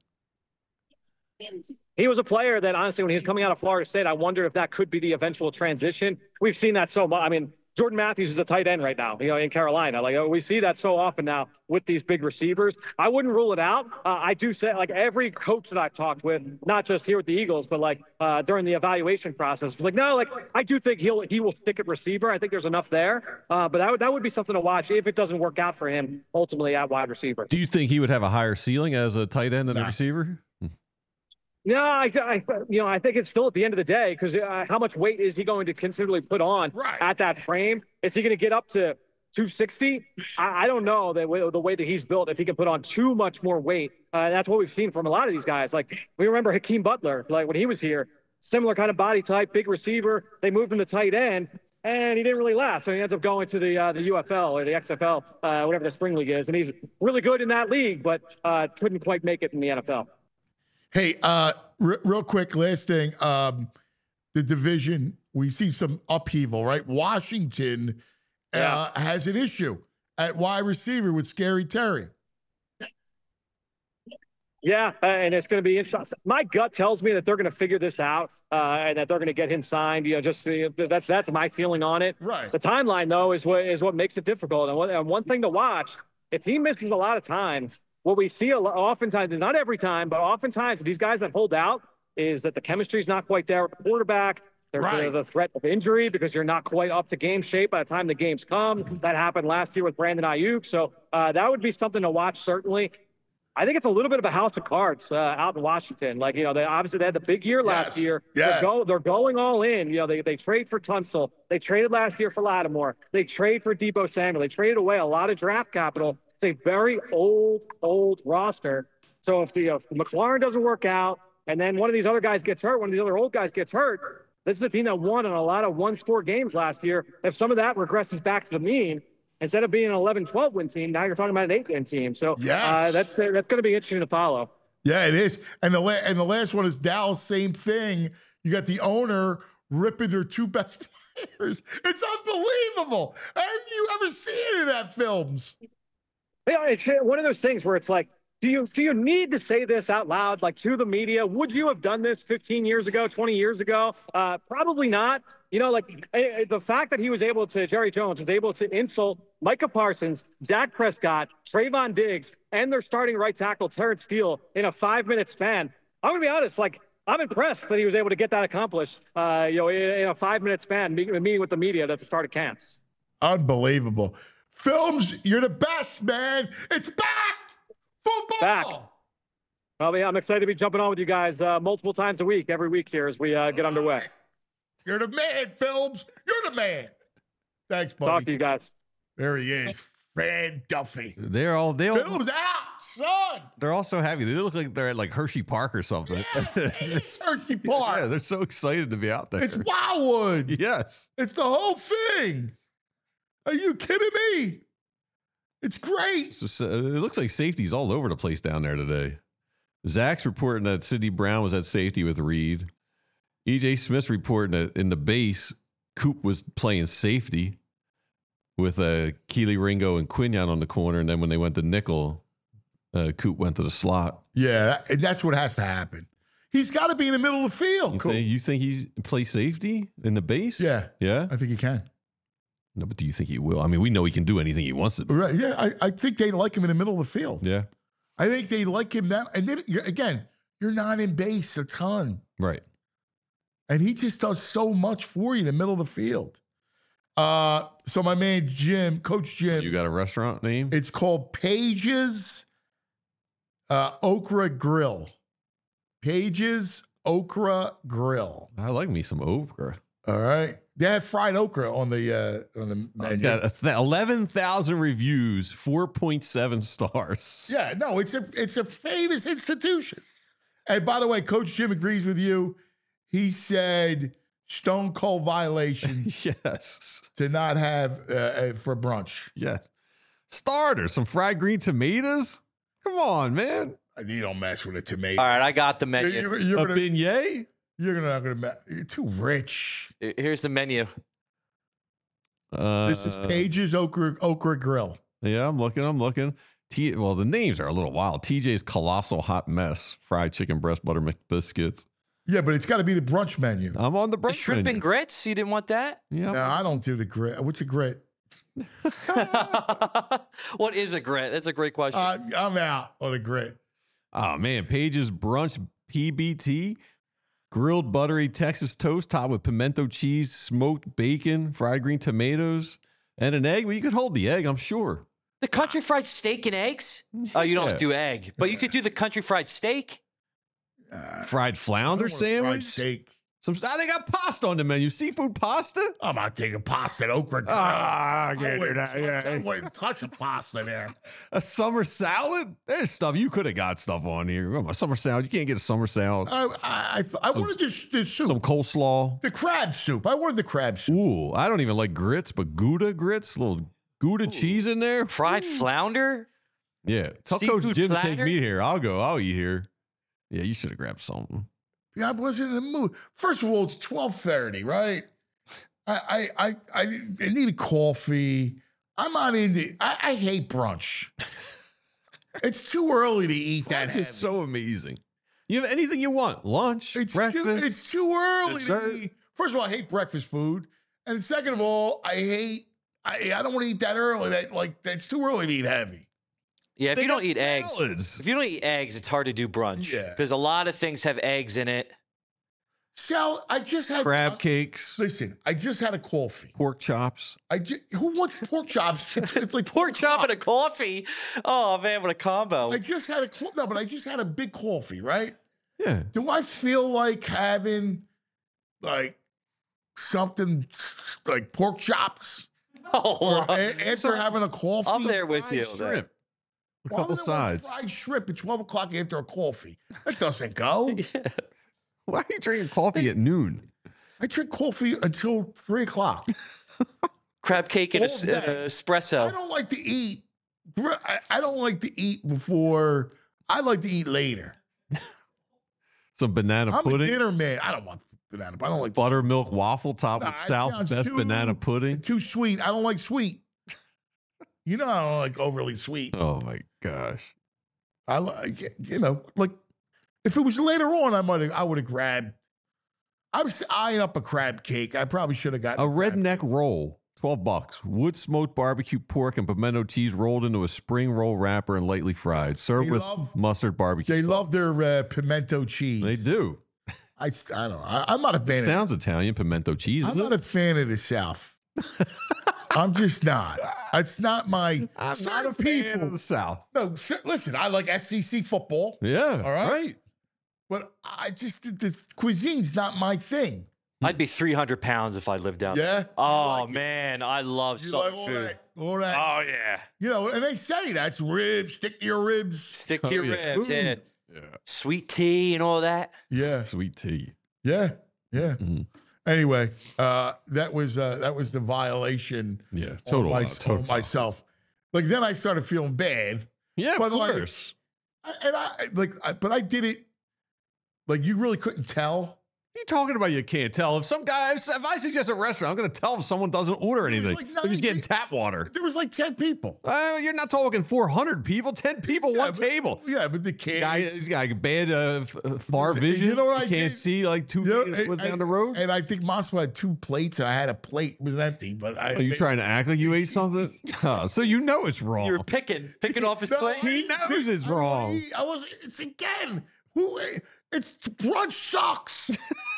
He was a player that, honestly, when he was coming out of Florida State, I wondered if that could be the eventual transition. We've seen that so much. I mean, Jordan Matthews is a tight end right now, you know, in Carolina. Like, we see that so often now with these big receivers. I wouldn't rule it out. Uh, I do say, like, every coach that I've talked with, not just here with the Eagles, but like uh, during the evaluation process, was like, no, like, I do think he'll he will stick at receiver. I think there's enough there. Uh, but that would that would be something to watch if it doesn't work out for him ultimately at wide receiver. Do you think he would have a higher ceiling as a tight end than a receiver? No, I, I, you know, I think it's still at the end of the day, because uh, how much weight is he going to considerably put on Right. at that frame? Is he going to get up to two sixty? I, I don't know that way, the way that he's built, if he can put on too much more weight. Uh, that's what we've seen from a lot of these guys. Like, we remember Hakeem Butler, like when he was here, similar kind of body type, big receiver. They moved him to tight end, and he didn't really last. So he ends up going to the uh, the U F L or the X F L, uh, whatever the spring league is, and he's really good in that league, but uh, couldn't quite make it in the N F L. Hey, uh, r- real quick, last thing. Um, the division, we see some upheaval, right? Washington uh, has an issue at wide receiver with Scary Terry. Yeah, uh, and it's going to be interesting. My gut tells me that they're going to figure this out uh, and that they're going to get him signed. You know, just uh, that's that's my feeling on it. Right. The timeline, though, is what is what makes it difficult. And one, and one thing to watch: if he misses a lot of times, what we see a lot, oftentimes, not every time, but oftentimes, with these guys that hold out, is that the chemistry is not quite there with the quarterback. There's Right. the, the threat of injury because you're not quite up to game shape by the time the games come. That happened last year with Brandon Ayuk. So uh, that would be something to watch, certainly. I think it's a little bit of a house of cards uh, out in Washington. Like, you know, they obviously they had the big year last Yes. year. Yeah. They're, go, they're going all in. You know, they, they trade for Tunsil. They traded last year for Lattimore. They trade for Deebo Samuel. They traded away a lot of draft capital. It's a very old, old roster. So if the if McLaurin doesn't work out, and then one of these other guys gets hurt, one of these other old guys gets hurt, this is a team that won in a lot of one-score games last year. If some of that regresses back to the mean, instead of being an eleven twelve win team, now you're talking about an eight-win team. So Yes. uh, that's uh, that's going to be interesting to follow. Yeah, it is. And the la- and the last one is Dallas. Same thing. You got the owner ripping their two best players. It's unbelievable. Have you ever seen any of that films? Yeah, it's one of those things where it's like, do you do you need to say this out loud, like to the media? Would you have done this fifteen years ago, twenty years ago? Uh, probably not. You know, like eh, the fact that he was able to, Jerry Jones was able to insult Micah Parsons, Dak Prescott, Trayvon Diggs, and their starting right tackle, Terrence Steele, in a five-minute span. I'm going to be honest, like, I'm impressed that he was able to get that accomplished, uh, you know, in, in a five-minute span, meeting, meeting with the media at the start of camps. Unbelievable. Films, you're the best, man. It's back. Football. Back. Well, yeah, I'm excited to be jumping on with you guys uh, multiple times a week, every week here as we uh, get underway. You're the man, Films. You're the man. Thanks, buddy. Talk to you guys. There he is. Fran Duffy. They're all they all, Films out, son. They're all so happy. They look like they're at like Hershey Park or something. Yeah, it's Hershey Park. Yeah, they're so excited to be out there. It's Wildwood. Yes. It's the whole thing. Are you kidding me? It's great. So, so it looks like safety's all over the place down there today. Zach's reporting that Sidney Brown was at safety with Reed. E J Smith's reporting that in the base, Coop was playing safety with uh, Keely Ringo and Quinion on the corner. And then when they went to nickel, uh, Coop went to the slot. Yeah, and that's what has to happen. He's got to be in the middle of the field. You, Cool. think, you think he's play safety in the base? Yeah. Yeah? I think he can. No, but do you think he will? I mean, we know he can do anything he wants to do. Right. Yeah, I, I think they like him in the middle of the field. Yeah. I think they like him now. And then, you're, again, you're not in base a ton. Right. And he just does so much for you in the middle of the field. Uh, so my man Jim, Coach Jim. You got a restaurant name? It's called Page's uh, Okra Grill. Page's Okra Grill. I like me some okra. All right. They have fried okra on the uh, on the menu. It's got a th- eleven thousand reviews, four point seven stars. Yeah, no, it's a it's a famous institution. And by the way, Coach Jim agrees with you. He said stone cold violation. Yes. To not have uh, uh, for brunch. Yes. Starter, some fried green tomatoes. Come on, man. You don't mess with a tomato. All right, I got the menu. You're, you're a gonna, beignet? You're not going to. You're too rich. Here's the menu. Uh, This is Page's Okra Okra Grill. Yeah, I'm looking. I'm looking. T- well, the names are a little wild. T J's Colossal Hot Mess, fried chicken breast butter McBiscuits. Yeah, but it's got to be the brunch menu. I'm on the brunch The shrimp menu. and grits? You didn't want that? Yeah. No, I don't do the grit. What's a grit? What is a grit? That's a great question. Uh, I'm out on a grit. Oh, man. Page's Brunch P B T. Grilled buttery Texas toast topped with pimento cheese, smoked bacon, fried green tomatoes, and an egg. Well, you could hold the egg, I'm sure. The country fried steak and eggs? Oh, you don't Yeah. do egg, but you could do the country fried steak. Uh, Fried flounder I don't want a fried sandwich. steak. Some, ah, they got pasta on the menu. Seafood pasta? I'm not taking pasta and okra. Ah, I I can't do wouldn't, that. Yeah. touch, I wouldn't touch a pasta there. A summer salad? There's stuff. You could have got stuff on here. Oh, a summer salad. You can't get a summer salad. I I, I, I Some- wanted this, this soup. Some coleslaw. the crab soup. I wanted the crab soup. Ooh, I don't even like grits, but Gouda grits, little Gouda cheese in there. Fried Ooh. flounder? Yeah. Tell Seafood Coach Jim to take platter? me here. I'll go. I'll eat here. Yeah, you should have grabbed something. Yeah, I wasn't in the mood. First of all, it's twelve thirty, right? I I I, I need a coffee. I'm not into. I, I hate brunch. It's too early to eat that. That's just heavy. so amazing. You have anything you want. Lunch, It's breakfast. too, it's too early dessert. to eat. First of all, I hate breakfast food, and second of all, I hate. I, I don't want to eat that early. That like that's too early to eat heavy. Yeah, if They you don't got eat eggs, salads. if you don't eat eggs, it's hard to do brunch. Yeah. Because a lot of things have eggs in it. Sal, I just had Crab uh, cakes, Listen, I just had a coffee. pork chops. I ju- who wants pork chops? It's, it's like Pork chop and a coffee. Oh man, what a combo! I just had a co- no, but I just had a big coffee, right? Yeah. Do I feel like having like something s- like pork chops Oh, a- after having a coffee? I'm there with Fried you. Shrimp. A Why couple would I want sides. fried shrimp at twelve o'clock after a coffee. That doesn't go. Why are you drinking coffee at noon? I drink coffee until three o'clock. Crab cake and a, All s- day. and a I espresso. don't like to eat. I, I don't like to eat before. I like to eat later. Some banana I'm a pudding. dinner man. I don't want banana. I don't like Buttermilk waffle topped Nah, with it South's sounds best too- banana pudding. too sweet. I don't like sweet. You know, I don't like overly sweet. Oh my gosh. I like, you know, like if it was later on, I might have, I would have grabbed. I was eyeing up a crab cake. I probably should have gotten A crab redneck roll, twelve bucks. Wood smoked barbecue pork and pimento cheese rolled into a spring roll wrapper and lightly fried. Served They with love- mustard barbecue. They sauce. love their uh, pimento cheese. They do. I, I don't know. I, I'm not a fan. Sounds Italian, pimento cheese. I'm is not it? a fan of the South. I'm just not. It's not my. I'm not a certain fan of the South. No, cer- listen. I like S E C football. Yeah. All right. Right. But I just the, the cuisine's not my thing. I'd be three hundred pounds if I lived down Yeah? there. Oh, man. I love You salt like all food. that, all that. Oh, yeah. You know, and they say that's ribs. Stick to your ribs. Stick to Oh, your yeah. ribs. Yeah. Yeah. Sweet tea and all that. Yeah. Sweet tea. Yeah. Yeah. Mhm. Anyway, uh, that was uh, that was the violation. Yeah. on Total. my- uh, total on myself. Like then I started feeling bad. Yeah, But of like- course. I- And I like, I, but I did it. Like you really couldn't tell. What are you talking about? You can't tell. If some guy, if I suggest a restaurant, I'm going to tell if someone doesn't order There was anything. like They're just getting ninety tap water. There was like ten people. Uh, you're not talking four hundred people, ten people, Yeah, one but- table. Yeah, but the kids. Guy, he's got a bad uh, f- uh, far You vision. know what I He can't did? see like two You know, feet and- what's down and- the road. And I think Moscow had two plates, and I had a plate. It was empty, but I. Are you trying to act like you ate something? Oh, so you know it's wrong. You were picking, picking off his No, plate. He knows it's I- wrong. I was. It's again. Who? It's brunch sucks.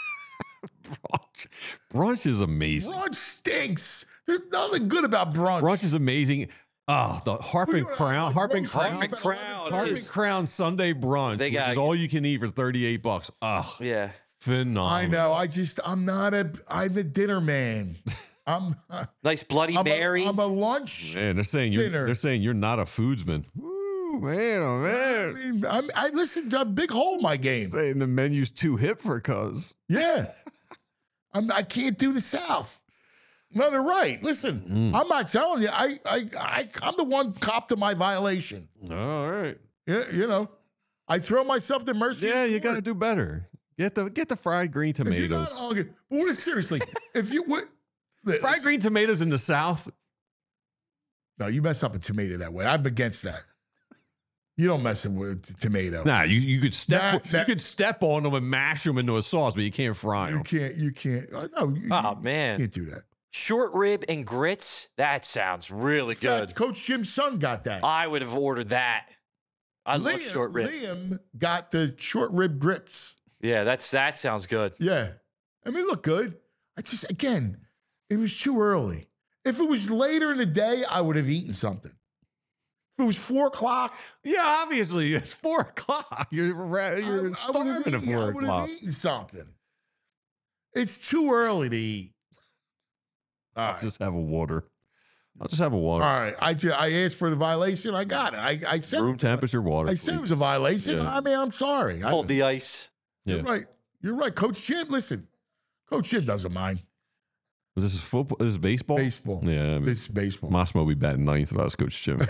brunch. Brunch is amazing. Brunch stinks. There's nothing good about brunch. Brunch is amazing. Oh, the Harp and What do you- Crown, Harp and Crown, Harp and Crown Harp and is- Crown Sunday brunch, They which got- is all you can eat for thirty-eight bucks. Oh, Yeah. phenomenal. I know. I just. I'm not a. I'm a dinner man. I'm. Nice Bloody I'm Mary. A, I'm a lunch. Man, they're saying you're Dinner. they're saying you're not a foodsman. Ooh, man, oh I man. mean, I'm, I listen to a big hole in my game. Saying the menu's too hip for cuz. Yeah. I'm, I can't do the South. No, they're right. Listen, Mm. I'm not telling you. I, I, I, I'm the one cop to my violation. All right. Yeah, you know, I throw myself to mercy. Yeah, of you the got to Lord. do better. Get the get the fried green If you're not tomatoes. arguing- but what is seriously? If you would, Fried green tomatoes in the South. no, you mess up a tomato that way. I'm against that. You don't mess with t- tomato. Nah, you, you could step That- that- you could step on them and mash them into a sauce, but you can't fry You them. can't. You can't. uh, No, you, Oh, you man. can't do that. Short rib and grits. That sounds really In fact, good. Coach Jim's son got that. I would have ordered that. I love Liam- short rib. Liam got the short rib grits. Yeah, that's that sounds good. Yeah. I mean, look good. I just, again, it was too early. If it was later in the day, I would have eaten something. If it was four o'clock, Yeah, obviously it's four o'clock. You're ra- you're I, I would have starving at eaten, I four would o'clock. have eaten something. It's too early to eat. All I'll right. just have a water. I'll just have a water. All right. I, ju- I asked for the violation. I got it. I, I said Room temperature water. I said it please. was a violation. Yeah. I mean, I'm sorry. I, Hold the ice. Yeah. You're right. You're right. Coach Jim, listen. Coach Jim doesn't mind. Was this football? This is baseball? Baseball. Yeah. I mean, It's baseball. Mossmo will be batting ninth if I was Coach Jim.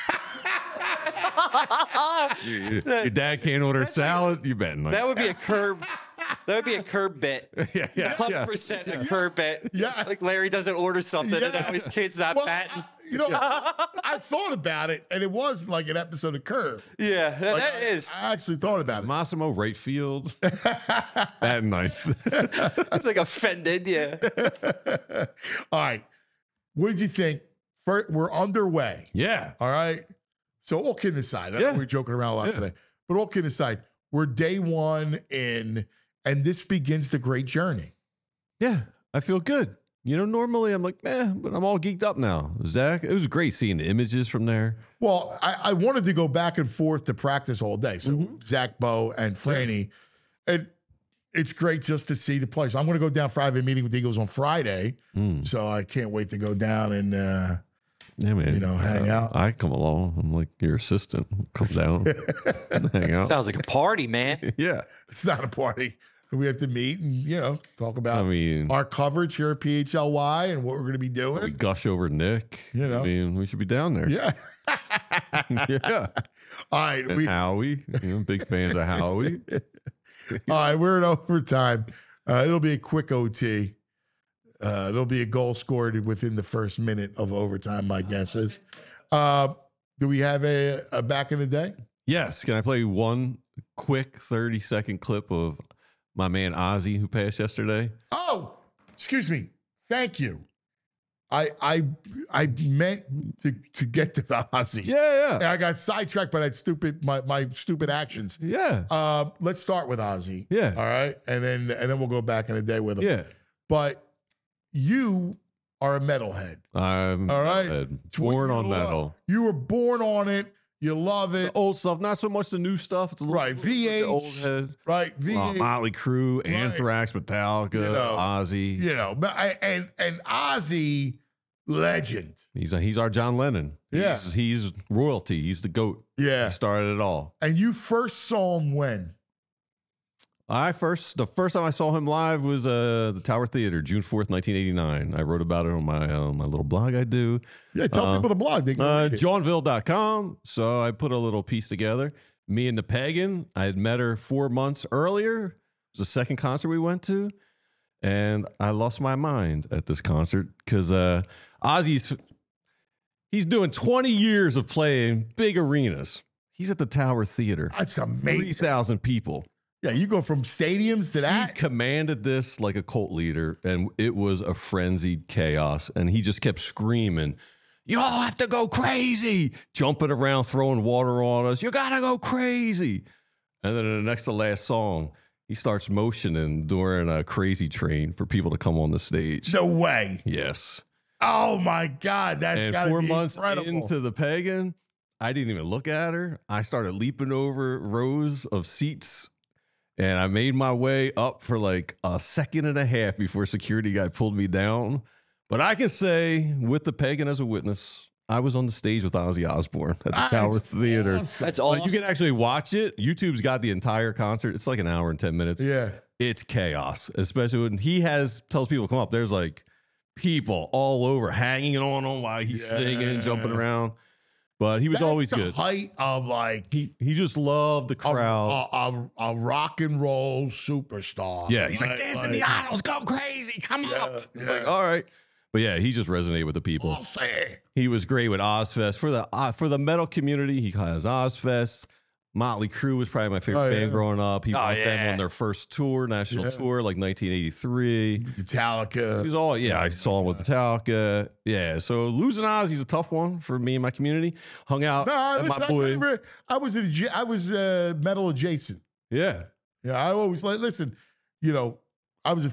your, your dad can't order salad. You batting ninth. That would be a curb. That would be a curb bit. yeah, yeah, Hundred yeah. percent a curb bit. Yes. Like Larry doesn't order something and now his kid's not Well, batting. I- you know, I thought about it, and it was like an episode of Curb. Yeah, that, Like, that I- is. I actually thought about it. Massimo right field. batting ninth. It's like offended. Yeah. All right. What did you think? Fir- We're underway. yeah. All right. So all kidding aside, I know Yeah. we're joking around a lot Yeah. today, but all kidding aside, we're day one in, and this begins the great journey. Yeah. I feel good. You know, normally I'm like, eh, but I'm all geeked up now. Zach, it was great seeing the images from there. Well, I, I wanted to go back and forth to practice all day. So Mm-hmm. Zach, Bo, and Franny, and it's great just to see the players. I'm going to go down for I have a meeting with the Eagles on Friday, Mm. so I can't wait to go down and uh, Yeah, man. You know, hang out. I come along. I'm like your assistant. Come down, hang out. Sounds like a party, man. Yeah. it's not a party. We have to meet and you know talk about I mean, our coverage here at P H L Y and what we're going to be doing. we gush over Nick. You know. I mean, we should be down there. Yeah. yeah. All right. And We, Howie, you know, big fans of Howie. all right. We're in overtime. Uh, it'll be a quick O T. Uh, there'll be a goal scored within the first minute of overtime, my guess is. Uh, do we have a, a back in the day? Yes. Can I play one quick thirty second clip of my man Ozzy who passed yesterday? Oh, excuse me. Thank you. I I I meant to to get to the Ozzy. Yeah, yeah. And I got sidetracked by that stupid my my stupid actions. Yeah. Uh, let's start with Ozzy. Yeah. All right, and then and then we'll go back in the day with him. Yeah. But you are a metalhead. I'm All right. metalhead. Born on You love- metal. You were born on it. You love it. The old stuff, not so much the new stuff. It's a little, Right, V H, the old head. Right, V H. Uh, Motley Crue, Right. Anthrax, Metallica, You know, Ozzy. You know, but I, and and Ozzy, legend. He's a, he's our John Lennon. Yeah. He's, he's royalty. He's the GOAT. Yeah. He started it all. And you first saw him when? I first the first time I saw him live was uh the Tower Theater, June fourth, nineteen eighty-nine. I wrote about it on my uh, my little blog I do. Yeah, tell Uh, people the blog. They can Uh, read it. Johnville dot com. So I put a little piece together. Me and the Pagan. I had met her four months earlier. It was the second concert we went to. And I lost my mind at this concert because uh, Ozzy's he's doing twenty years of playing big arenas. He's at the Tower Theater. That's amazing. three thousand people. Yeah, you go from stadiums to He that. commanded this like a cult leader, and it was a frenzied chaos. And he just kept screaming, "You all have to go crazy!" Jumping around, throwing water on us. You gotta go crazy. And then in the next to last song, he starts motioning during a Crazy Train for people to come on the stage. No way. Yes. Oh my God, that's And got to four be months incredible. into the Pagan, I didn't even look at her. I started leaping over rows of seats. And I made my way up for like a second and a half before security guy pulled me down. But I can say, with the Pagan as a witness, I was on the stage with Ozzy Osbourne at the That's Tower Theater. awesome. That's Like, awesome. you can actually watch it. YouTube's got the entire concert. It's like an hour and ten minutes. Yeah. It's chaos, especially when he has tells people to come up. There's like people all over hanging on him while he's Yeah. singing, jumping around. But he was That's always the good. height of like He he just loved the a, crowd. a, a, a rock and roll superstar. Yeah, he's like, Right? dance in the aisles, go crazy, come Yeah, up. It's yeah. like, all right. But yeah, he just resonated with the people. Ozzy. He was great with Ozfest. For the uh, for the metal community, he has Ozfest. Motley Crue was probably my favorite Oh, band yeah. growing up. He Oh, brought them yeah. on their first tour, national Yeah. tour, like nineteen eighty-three. Metallica. He was all, yeah, I saw him with Metallica. Yeah, so losing Ozzy's a tough one for me and my community. Hung out No, at listen, my I, boy. never, I was adja- I was uh, metal adjacent. Yeah. Yeah, I always like listen. You know, I was a,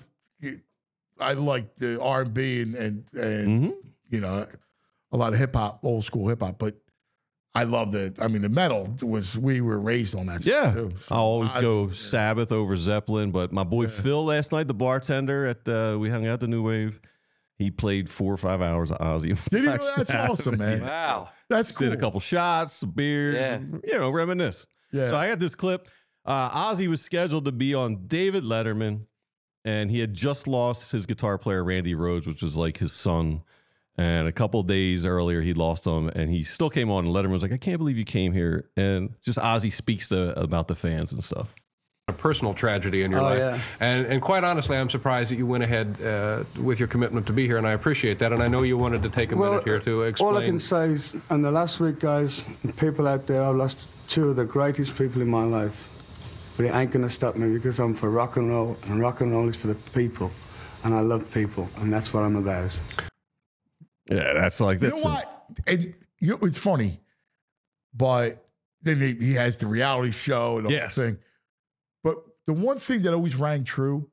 I liked the R and B and and and Mhm. you know a lot of hip hop, old school hip hop, but I love the. I mean, the metal was we were raised on that. Yeah, stuff too. So I'll always I- go Sabbath over Zeppelin, but my boy Phil last night, the bartender at uh, we hung out at the New Wave, he played four or five hours of Ozzy. Did he? Black That's Sabbath. awesome, man. Wow. That's cool. Did a couple shots, some beers, Yeah. you know, reminisce. Yeah. So I got this clip. Uh, Ozzy was scheduled to be on David Letterman, and he had just lost his guitar player Randy Rhoads, which was like his son. And a couple days earlier, he lost him, and he still came on. And Letterman was like, "I can't believe you came here." And just Ozzy speaks to about the fans and stuff. A personal tragedy in your Oh, life. yeah. And and quite honestly, I'm surprised that you went ahead uh, with your commitment to be here, and I appreciate that. And I know you wanted to take a minute here to explain. All I can say is, in the last week, guys, people out there, I've lost two of the greatest people in my life. But it ain't gonna stop me because I'm for rock and roll, and rock and roll is for the people. And I love people, and that's what I'm about. Yeah, that's like You that's know what? And you know, it's funny, but then he, he has the reality show and the Yes. whole thing. But the one thing that always rang true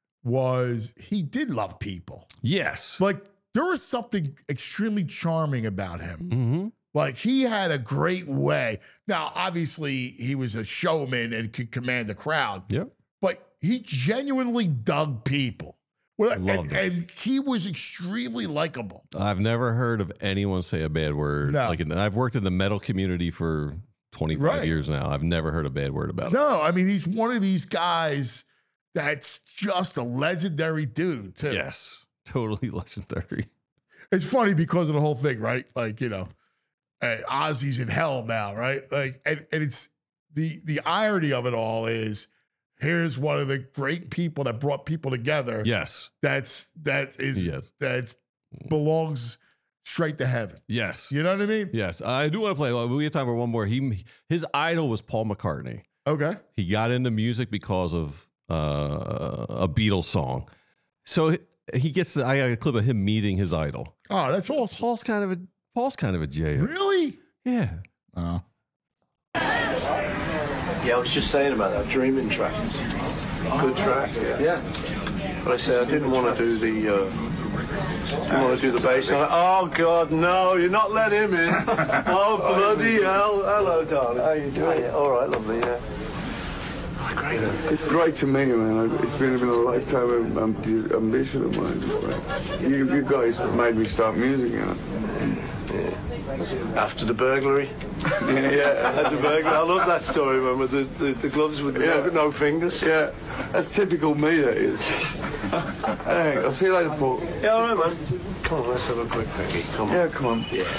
was he did love people. yes. Like there was something extremely charming about him. Mm-hmm. Like he had a great way. Now, obviously, he was a showman and could command the crowd. Yep. But he genuinely dug people. Well, Loved and, and he was extremely likable. I've never heard of anyone say a bad word. No. Like, I've worked in the metal community for twenty-five Right. years now. I've never heard a bad word about it. No, I mean he's one of these guys that's just a legendary dude too. Yes, totally legendary. It's funny because of the whole thing, right? Like you know, uh, Ozzy's in hell now, right? Like, and, and it's the the irony of it all is here's one of the great people that brought people together. Yes, That's that is Yes. that belongs straight to heaven. yes, You know what I mean? yes. I do want to play. well, We have time for one more. He his idol was Paul McCartney. Okay. He got into music because of uh, a Beatles song. So he gets. I got a clip of him meeting his idol. Oh, that's awesome. Paul's kind of a Paul's kind of a J. Really? Yeah. Oh. Yeah, I was just saying about that Dreaming track. Good track. Yeah. yeah. But I said I didn't want to do the. Uh, didn't want to do the bass. I'm like, oh God, no! You're not letting him in. Oh bloody hell! Hello, darling. How you doing? Yeah, all right, lovely. Yeah. Oh, great. It's great to meet you, man. It's been, been a lifetime of um, ambition of mine. You, you guys made me start music, you know. Yeah. After the burglary. yeah, yeah, after the burglary. I love that story, man, with the, the, the gloves with yeah. no, no fingers. Yeah, that's typical me, that is. Hey, I'll see you later, Paul. Yeah, all right, man. Come on, let's have a quick peggy. Come on. Yeah, come on. Yeah.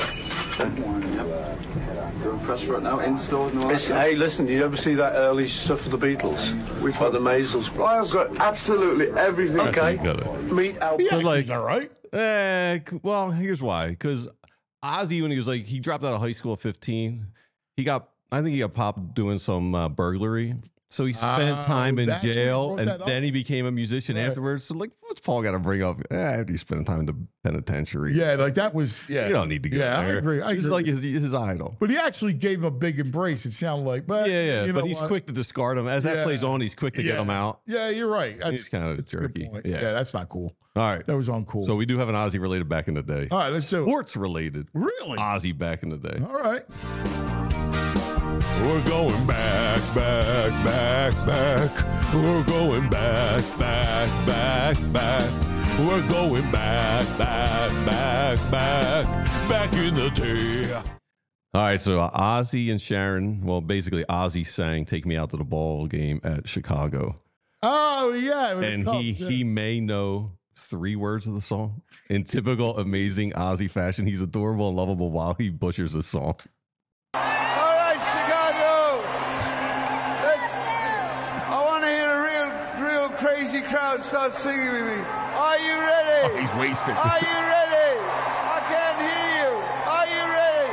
Doing press right now, in stores and all that. Hey, listen, did you ever see that early stuff of the Beatles? Which one? The Maisels. I've got absolutely everything. Okay. Meet Al. Yeah, like, all right. Eh, well, here's why. Because Ozzy, when he was like, he dropped out of high school at fifteen. He got, I think he got popped doing some uh, burglary. So he spent Oh, time in that's when he jail, brought and that up? then he became a musician Right. afterwards. So, like, what's Paul got to bring up? Eh, after you spend time in the penitentiary. Yeah, like that was. Yeah, You don't need to go Yeah, there. I agree. I He's agree. like his, his idol. But he actually gave him a big embrace. It sounded like, but Yeah, yeah. you But know he's what? quick to discard him. As that Yeah. plays on, he's quick to yeah. get him out. Yeah, you're right. That's, He's kind of that's a good jerky. point. Yeah. Yeah, that's not cool. All right. That was uncool. So we do have an Ozzy related back in the day. All right, let's do it. Sports related. Really? Ozzy back in the day. All right. We're going back, back, back, back. We're going back, back, back, back. We're going back, back, back, back, back in the day. All right, so uh, Ozzy and Sharon, well, basically Ozzy sang "Take Me Out to the Ball Game" at Chicago, Oh yeah, with the and Cubs, he yeah. he may know three words of the song in typical amazing Ozzy fashion. He's adorable and lovable while he butchers the song. All right, Chicago. Let's. I want to hear a real, real crazy crowd start singing with me. Are you ready? Oh, he's wasted. Are you ready? I can't hear you. Are you ready?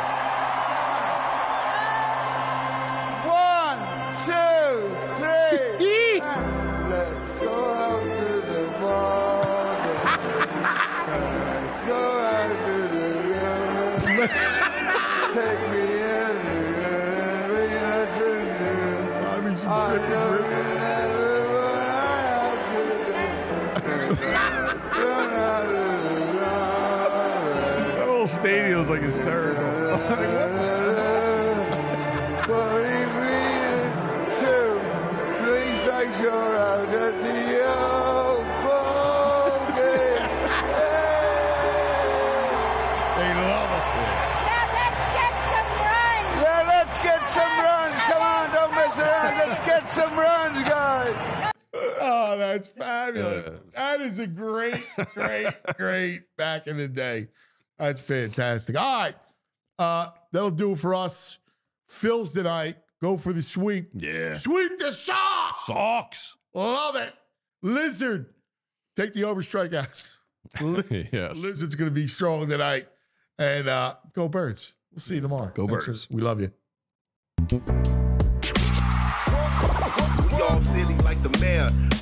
One, two, three. and let's go out to the bar. Let's go out to the river. Take me in. Buy me some I chicken know grits. you never what I have to do. That whole stadium's like hysterical. Two, three strikes, you're out at the old ball game. They love it. Yeah, let's get some runs. Come on, don't mess around. Let's get some runs, guys. Oh, that's fabulous. That is a great, great, great back in the day. That's fantastic. All right. Uh, that'll do it for us. Phil's tonight. Go for the sweep. Yeah. Sweep the socks. Socks. Love it. Lizard. Take the over strikeouts. Li- Yes. Lizard's going to be strong tonight. And uh, go Birds. We'll see you tomorrow. Go Thanks Birds. for- we love you. We all silly like the mayor.